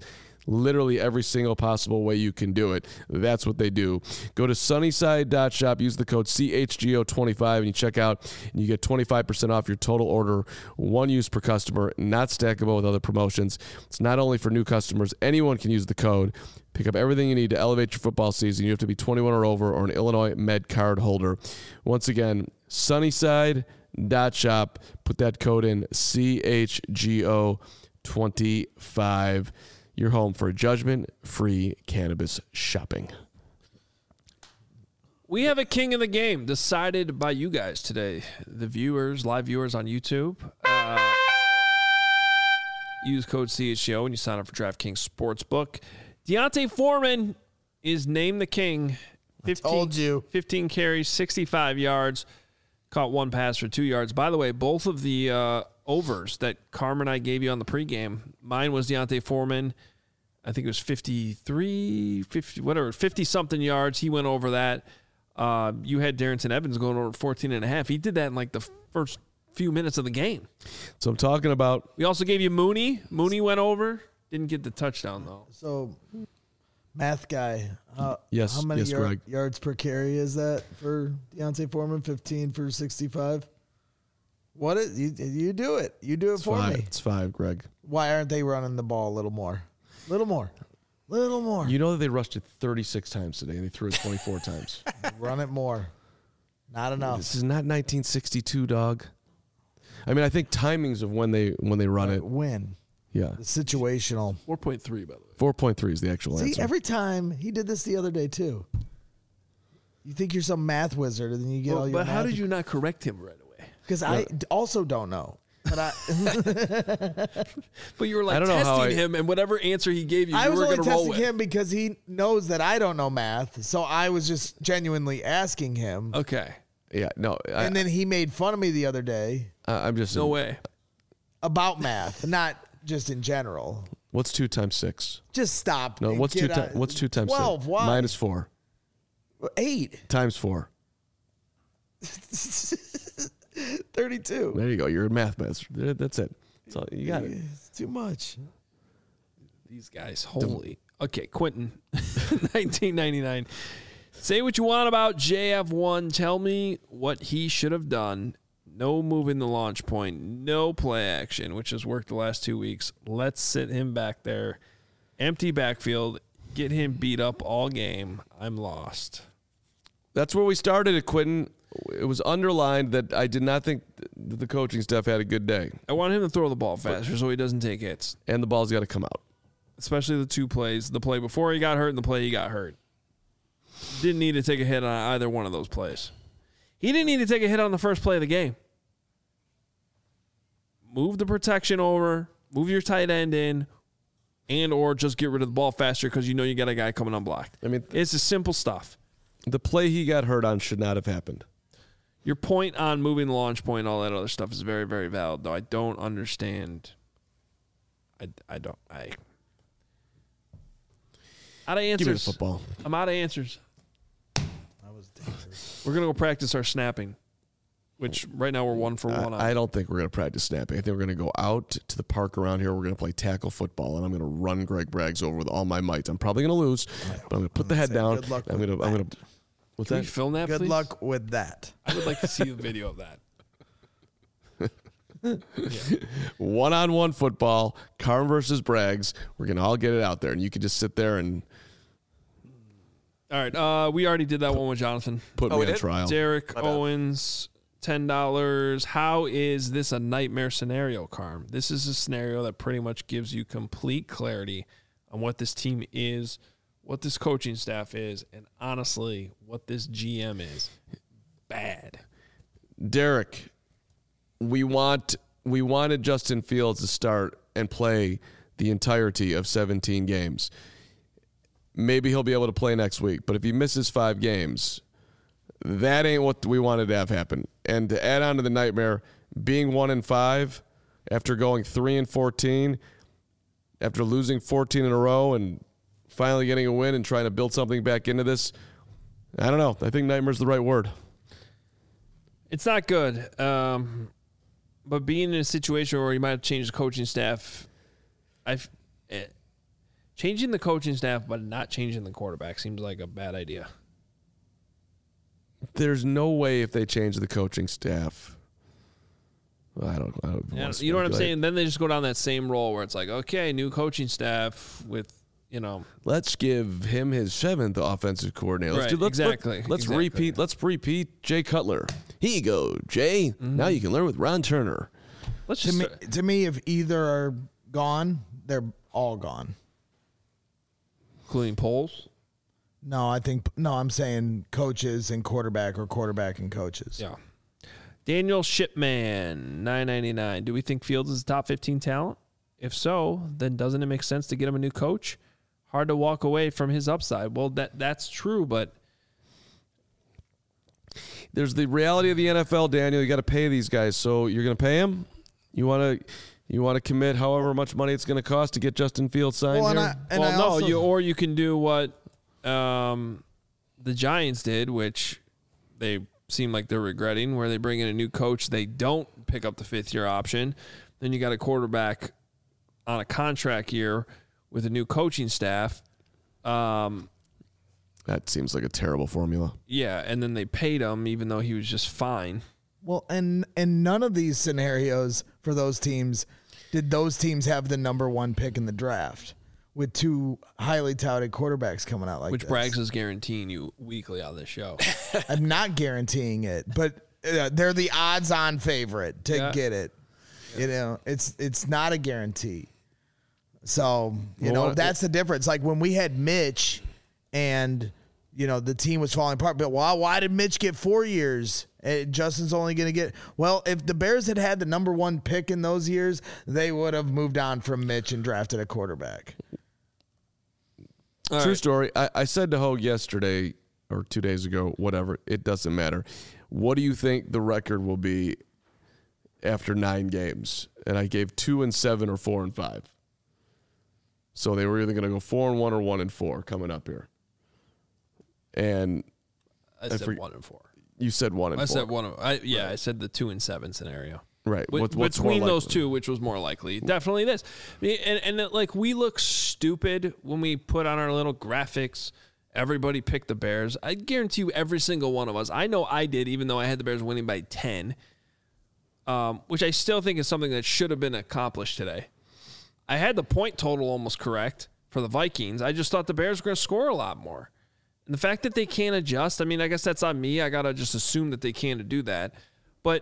literally every single possible way you can do it. That's what they do. Go to sunnyside dot shop, use the code C H G O twenty-five, and you check out, and you get twenty-five percent off your total order, one use per customer, not stackable with other promotions. It's not only for new customers. Anyone can use the code. Pick up everything you need to elevate your football season. You have to be twenty-one or over or an Illinois Med card holder. Once again, sunnyside dot shop. Put that code in, C H G O twenty-five. Your home for judgment-free cannabis shopping. We have a king of the game decided by you guys today, the viewers, live viewers on YouTube. Uh, use code C H G O when you sign up for DraftKings Sportsbook. D'Onta Foreman is named the king. fifteen, told you. fifteen carries, sixty-five yards. Caught one pass for two yards. By the way, both of the uh, overs that Carmen and I gave you on the pregame, mine was D'Onta Foreman. I think it was fifty-three, fifty, whatever, fifty-something yards. He went over that. Uh, you had Darrington Evans going over fourteen and a half. He did that in like the first few minutes of the game. So I'm talking about. We also gave you Mooney. Mooney went over. Didn't get the touchdown, though. So, math guy. Uh, Yes, How many yes, yard- Greg. yards per carry is that for D'Onta Foreman? fifteen for sixty-five? What is you? You do it. You do it It's for five. me. It's five, Greg. Why aren't they running the ball a little more? Little more. Little more. You know that they rushed it thirty-six times today, and they threw it twenty-four times. Run it more. Not enough. This is not nineteen sixty-two, dog. I mean, I think timings of when they when they run it. When. Yeah. The situational. four point three, by the way. four point three is the actual See, answer. every time he did this the other day too. You think you're some math wizard, and then you get Well, all your. but how math- did you not correct him right away? Because I d- also don't know. But I. But you were like I don't know testing how I- him, and whatever answer he gave you, I you was were only going to roll testing with. him because he knows that I don't know math, so I was just genuinely asking him. Okay. Yeah, no. I, And then he made fun of me the other day I, I'm just No way. about math, not just in general. What's two times six? Just stop. No, and what's two get times? on- What's two times Twelve. six? Why? Minus four Eight. times four. Thirty-two. There you go. You're a math master. There- That's it. That's all, you got it. It's too much. These guys, holy. Okay, Quentin, nineteen ninety-nine. Say what you want about J F one. Tell me what he should have done. No moving the launch point. No play action, which has worked the last two weeks. Let's sit him back there. Empty backfield. Get him beat up all game. I'm lost. That's where we started at, Quentin. It was underlined that I did not think that the coaching staff had a good day. I want him to throw the ball faster so he doesn't take hits. And the ball's got to come out. Especially the two plays. The play before he got hurt and the play he got hurt. Didn't need to take a hit on either one of those plays. He didn't need to take a hit on the first play of the game. Move the protection over. Move your tight end in. And or just get rid of the ball faster because you know you got a guy coming unblocked. I mean, it's the simple stuff. The play he got hurt on should not have happened. Your point on moving the launch point, all that other stuff is very, very valid, though. I don't understand. I, I don't. I. Out of answers. Give me the football. I'm out of answers. We're going to go practice our snapping, which right now we're one for one on. I, I don't think we're going to practice snapping. I think we're going to go out to the park around here. We're going to play tackle football, and I'm going to run Greg Braggs over with all my might. I'm probably going to lose, but I'm going to put the head down. good luck I'm with going to. I'm going to. What's Can that? we film that, Good please? luck with that. I would like to see the video of that. One-on-one football, Carm versus Braggs. We're going to all get it out there, and you can just sit there and All right. Uh, we already did that one with Jonathan. put me on trial. Derek Owens, ten dollars. How is this a nightmare scenario, Carm? This is a scenario that pretty much gives you complete clarity on what this team is, what this coaching staff is, and honestly, what this G M is. Bad. Derek, we want we wanted Justin Fields to start and play the entirety of seventeen games. Maybe he'll be able to play next week, but if he misses five games, that ain't what we wanted to have happen. And to add on to the nightmare, being one and five after going three and fourteen, after losing fourteen in a row and finally getting a win and trying to build something back into this, I don't know. I think nightmare's the right word. It's not good. Um, but being in a situation where you might have changed the coaching staff, I've, eh, Changing the coaching staff but not changing the quarterback seems like a bad idea. There's no way if they change the coaching staff. Well, I don't. I don't Yeah, want to you know what I'm speculate. saying? Then they just go down that same role where it's like, okay, new coaching staff with, you know. Let's give him his seventh offensive coordinator. Let's Right, do, let's, exactly, Let, let's exactly. repeat. Let's repeat Jay Cutler. Here you go, Jay. Mm-hmm. Now you can learn with Ron Turner. Let's To just me, to me, if either are gone, they're all gone. including polls. No, I think no. I'm saying coaches and quarterback, or quarterback and coaches. Yeah. Daniel Shipman, nine ninety-nine. Do we think Fields is a top fifteen talent? If so, then doesn't it make sense to get him a new coach? Hard to walk away from his upside. Well, that that's true, but There's the reality of the N F L, Daniel. You got to pay these guys, so you're going to pay him. You want to, you want to commit however much money it's going to cost to get Justin Fields signed Well, and here. I- and well, I no, also- you or you can do what um, the Giants did, which they seem like they're regretting, where they bring in a new coach. They don't pick up the fifth year option. Then you got a quarterback on a contract year with a new coaching staff. Um, that seems like a terrible formula. yeah, and then they paid him even though he was just fine. Well, and and none of these scenarios for those teams did those teams have the number one pick in the draft with two highly touted quarterbacks coming out like Which this. Braggs is guaranteeing you weekly on this show. I'm not guaranteeing it, but uh, they're the odds-on favorite to Yeah. get it. You know, it's it's not a guarantee. So you Well, know what- that's the difference. Like when we had Mitch, and you know the team was falling apart. But why why did Mitch get four years? And Justin's only going to get well. If the Bears had had the number one pick in those years, they would have moved on from Mitch and drafted a quarterback. All True right. story. I, I said to Hogue yesterday or two days ago, whatever. It doesn't matter. What do you think the record will be after nine games? And I gave two and seven or four and five. So they were either going to go four and one or one and four coming up here. And I I said forg- one and four. you said one and I four. said one. Of, I, yeah, I said the two and seven scenario. Right. Wi- What- what's more between those likely? two, which was more likely? Definitely this. I mean, And, and it, like we look stupid when we put on our little graphics. Everybody picked the Bears. I guarantee you, every single one of us. I know I did, even though I had the Bears winning by ten, um, which I still think is something that should have been accomplished today. I had the point total almost correct for the Vikings. I just thought the Bears were going to score a lot more. And the fact that they can't adjust, I mean, I guess that's on me. I got to just assume that they can't do that. But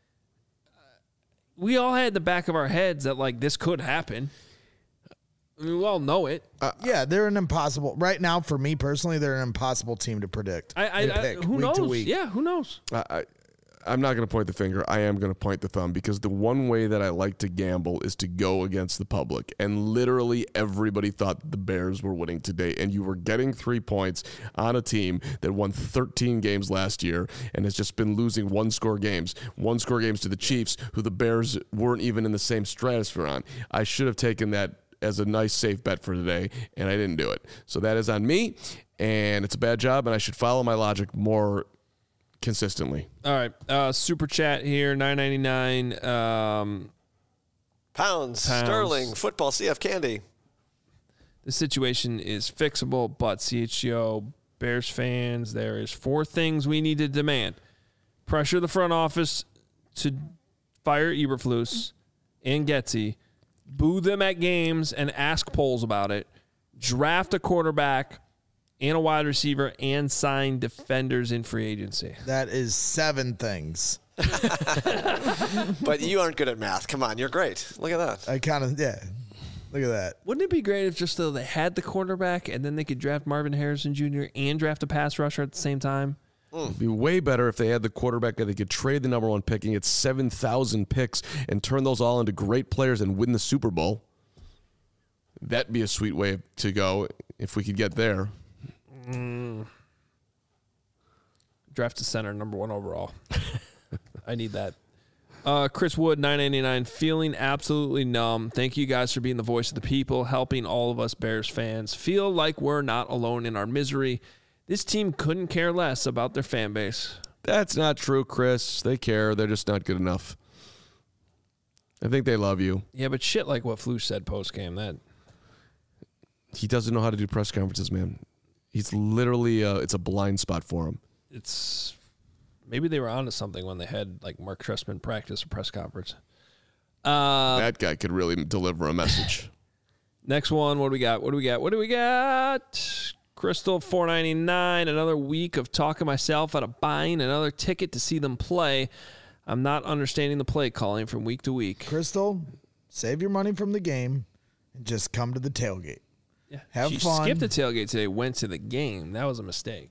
we all had in the back of our heads that, like, this could happen. I mean, we all know it. yeah, they're an impossible right now. For me personally, they're an impossible team to predict. I, I, and I pick who week knows? to week. Yeah, who knows? I, I, I'm not going to point the finger. I am going to point the thumb because the one way that I like to gamble is to go against the public. And literally everybody thought the Bears were winning today. And you were getting three points on a team that won thirteen games last year and has just been losing one-score games. One-score games to the Chiefs, who the Bears weren't even in the same stratosphere on. I should have taken that as a nice, safe bet for today, and I didn't do it. So that is on me, and it's a bad job, and I should follow my logic more consistently. All right. Uh, super chat here, nine ninety-nine. Um, Pounds, Pounds. Sterling, football, C F Candy. The situation is fixable, but C H G O, Bears fans, there is four things we need to demand. Pressure the front office to fire Eberflus and Getsy. Boo them at games and ask polls about it. Draft a quarterback and a wide receiver and sign defenders in free agency. That is seven things. But you aren't good at math. Come on, you're great. Look at that. I kind of yeah. Look at that. Wouldn't it be great if just though they had the quarterback and then they could draft Marvin Harrison Junior and draft a pass rusher at the same time? It'd be way better if they had the quarterback that they could trade the number one pick and get seven thousand picks and turn those all into great players and win the Super Bowl. That'd be a sweet way to go if we could get there. Mm. Draft a center, number one overall. I need that. Uh, Chris Wood, nine ninety-nine, feeling absolutely numb. Thank you guys for being the voice of the people, helping all of us Bears fans feel like we're not alone in our misery. This team couldn't care less about their fan base. That's not true, Chris. They care. They're just not good enough. I think they love you. Yeah, but shit like what Flus said post-game, that... He doesn't know how to do press conferences, man. He's literally, uh, it's a blind spot for him. It's maybe they were onto something when they had like Mark Trestman practice or press conference. Uh, that guy could really deliver a message. Next one, what do we got? What do we got? What do we got? Crystal four ninety-nine. Another week of talking myself out of buying another ticket to see them play. I'm not understanding the play calling from week to week. Crystal, save your money from the game and just come to the tailgate. Yeah, have she fun. skipped the tailgate today, went to the game. That was a mistake.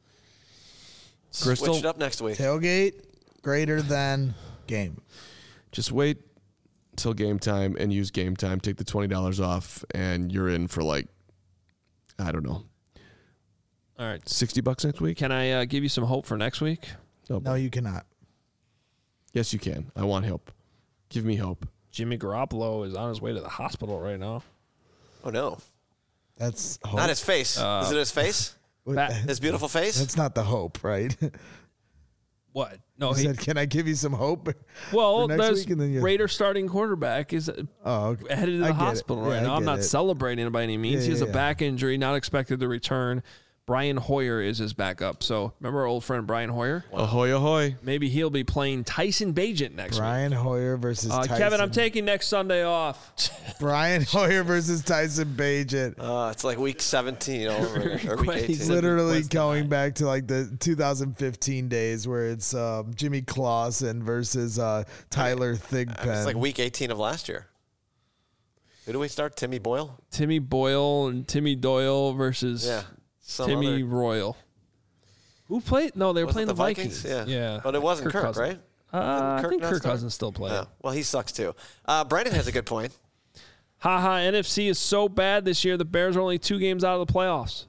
Crystal, Switch it up next week. Tailgate greater than game. Just wait till game time and use game time. Take the twenty dollars off, and you're in for like, I don't know. All right. sixty bucks next week? Can I uh, give you some hope for next week? No, no, you cannot. Yes, you can. I want hope. Give me hope. Jimmy Garoppolo is on his way to the hospital right now. Oh, no. That's hope. Not his face. Uh, Is it his face? His beautiful face? That's not the hope, right? What? No, he he said, "Can I give you some hope?" Well, for next there's week? And then you- Raider starting quarterback is oh, okay. headed to I the get it. hospital right Yeah, I now. I'm get not it. celebrating it by any means. Yeah, he has yeah, a yeah. back injury, not expected to return. Brian Hoyer is his backup. So remember our old friend Brian Hoyer? Ahoy, ahoy. Maybe he'll be playing Tyson Bagent next Brian week. Hoyer versus Uh, Tyson. Kevin, I'm taking next Sunday off. Brian Hoyer versus Tyson Bagent. Uh, it's like week seventeen over, or week eighteen. He's literally going back to like the two thousand fifteen days where it's um, Jimmy Clausen versus uh, Tyler Thigpen. It's like week eighteen of last year. Who do we start? Timmy Boyle? Timmy Boyle and Timmy Doyle versus Yeah. Some Timmy other- Royal. Who played? No, they were Was it playing the, Vikings? Vikings. Yeah. But it wasn't Kirk, Cousins. right? Uh, I Didn't think not Kirk start? Cousins still playing. Yeah. Well, he sucks too. Uh, Brandon has a good point. Haha, N F C is so bad this year. The Bears are only two games out of the playoffs.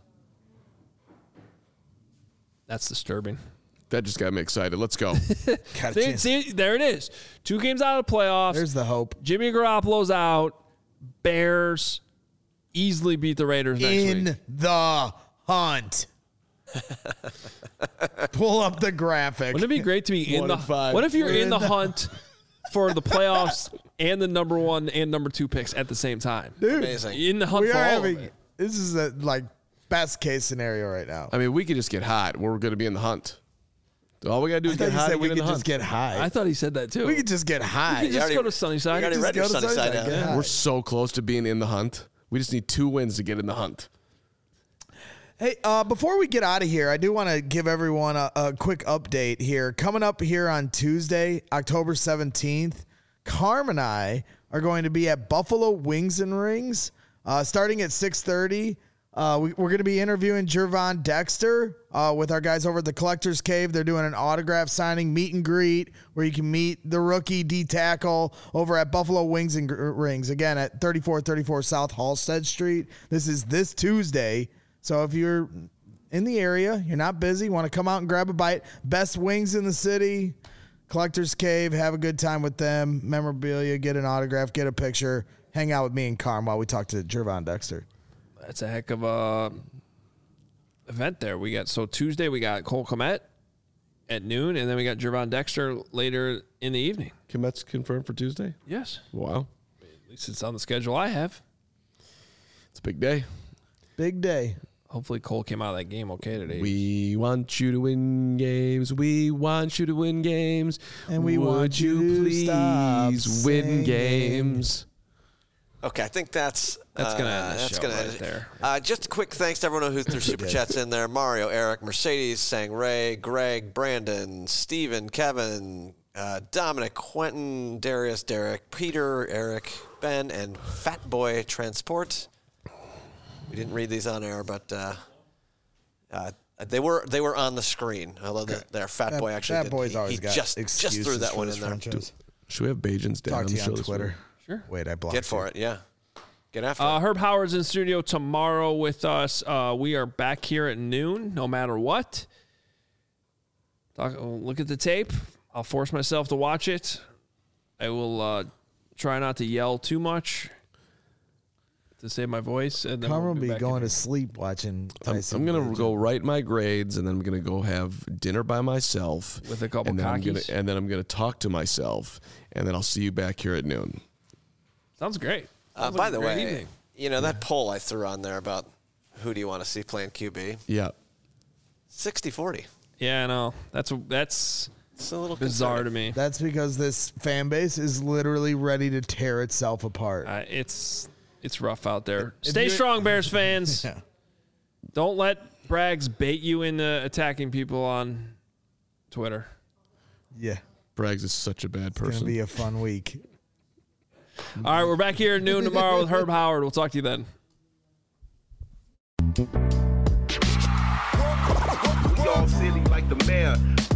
That's disturbing. That just got me excited. Let's go. See, see, there it is. Two games out of the playoffs. There's the hope. Jimmy Garoppolo's out. Bears easily beat the Raiders next in week. the hunt. Pull up the graphic. Wouldn't it be great to be in One the and five. What if you're We're in in the the- hunt for the playoffs and the number one and number two picks at the same time? Dude, In the hunt we for are all having, of it. This is a like best case scenario right now. I mean, we could just get hot. We're going to be in the hunt. All we got to do I is thought get you hot. said and we get in could the just hunt. get high. I thought he said that too. We could just get high. We could just go to Sunnyside. already Just read go your to Sunnyside Sunnyside, down. yeah. We're so close to being in the hunt. We just need two wins to get in the hunt. Hey, uh, before we get out of here, I do want to give everyone a, a quick update here. Coming up here on Tuesday, October seventeenth, Carm and I are going to be at Buffalo Wings and Rings uh, starting at six thirty. Uh, we, we're going to be interviewing Jervon Dexter uh, with our guys over at the Collector's Cave. They're doing an autograph signing meet and greet where you can meet the rookie D-tackle over at Buffalo Wings and Gr- Rings, again at thirty-four thirty-four South Halstead Street. This is this Tuesday. So if you're in the area, you're not busy, want to come out and grab a bite, best wings in the city, Collector's Cave, have a good time with them, memorabilia, get an autograph, get a picture, hang out with me and Carm while we talk to Jervon Dexter. That's a heck of a event there. We got so Tuesday we got Cole Kmet at noon, and then we got Jervon Dexter later in the evening. Komet's confirmed for Tuesday? Yes. Wow. At least it's on the schedule I have. It's a big day. Big day. Hopefully Cole came out of that game okay today. We want you to win games. We want you to win games. And we Would want you to stop please win singing. games? Okay, I think that's That's gonna end uh, the that's show gonna right end it. there. Uh, just a quick thanks to everyone who threw super chats in there: Mario, Eric, Mercedes, Sang Ray, Greg, Brandon, Steven, Kevin, uh, Dominic, Quentin, Darius, Derek, Peter, Eric, Ben, and Fat Boy Transport. We didn't read these on air, but uh, uh, they were they were on the screen. I love that their Fat That- Boy actually. that did. boy's he, always he got just just threw excuses that for one this in there. franchise. Should we have Bajan's dad Talk on to the you show on this Twitter. week? Sure. Wait, I blocked Get for you. it, yeah. Get after Uh, it. Herb Howard's in studio tomorrow with us. Uh, we are back here at noon, no matter what. Talk, look at the tape. I'll force myself to watch it. I will uh, try not to yell too much to save my voice. And then Carm we'll will be back going in. to sleep watching I'm, Tyson. I'm gonna Bagent. go write my grades, and then I'm gonna go have dinner by myself With a couple and then I'm gonna, cockies? and then I'm gonna talk to myself, and then I'll see you back here at noon. Sounds great. Uh, Sounds by like the a great way, evening. You know, that poll I threw on there about who do you want to see playing Q B? Yeah. sixty forty. Yeah, I know. That's that's it's a little bizarre concerning. to me. That's because this fan base is literally ready to tear itself apart. Uh, it's it's rough out there. If Stay you- strong, Bears fans. Yeah. Don't let Braggs bait you into attacking people on Twitter. Yeah. Braggs is such a bad It's going person. to be a fun week. All right, we're back here at noon tomorrow with Herb Howard. We'll talk to you then. We all silly like the mayor.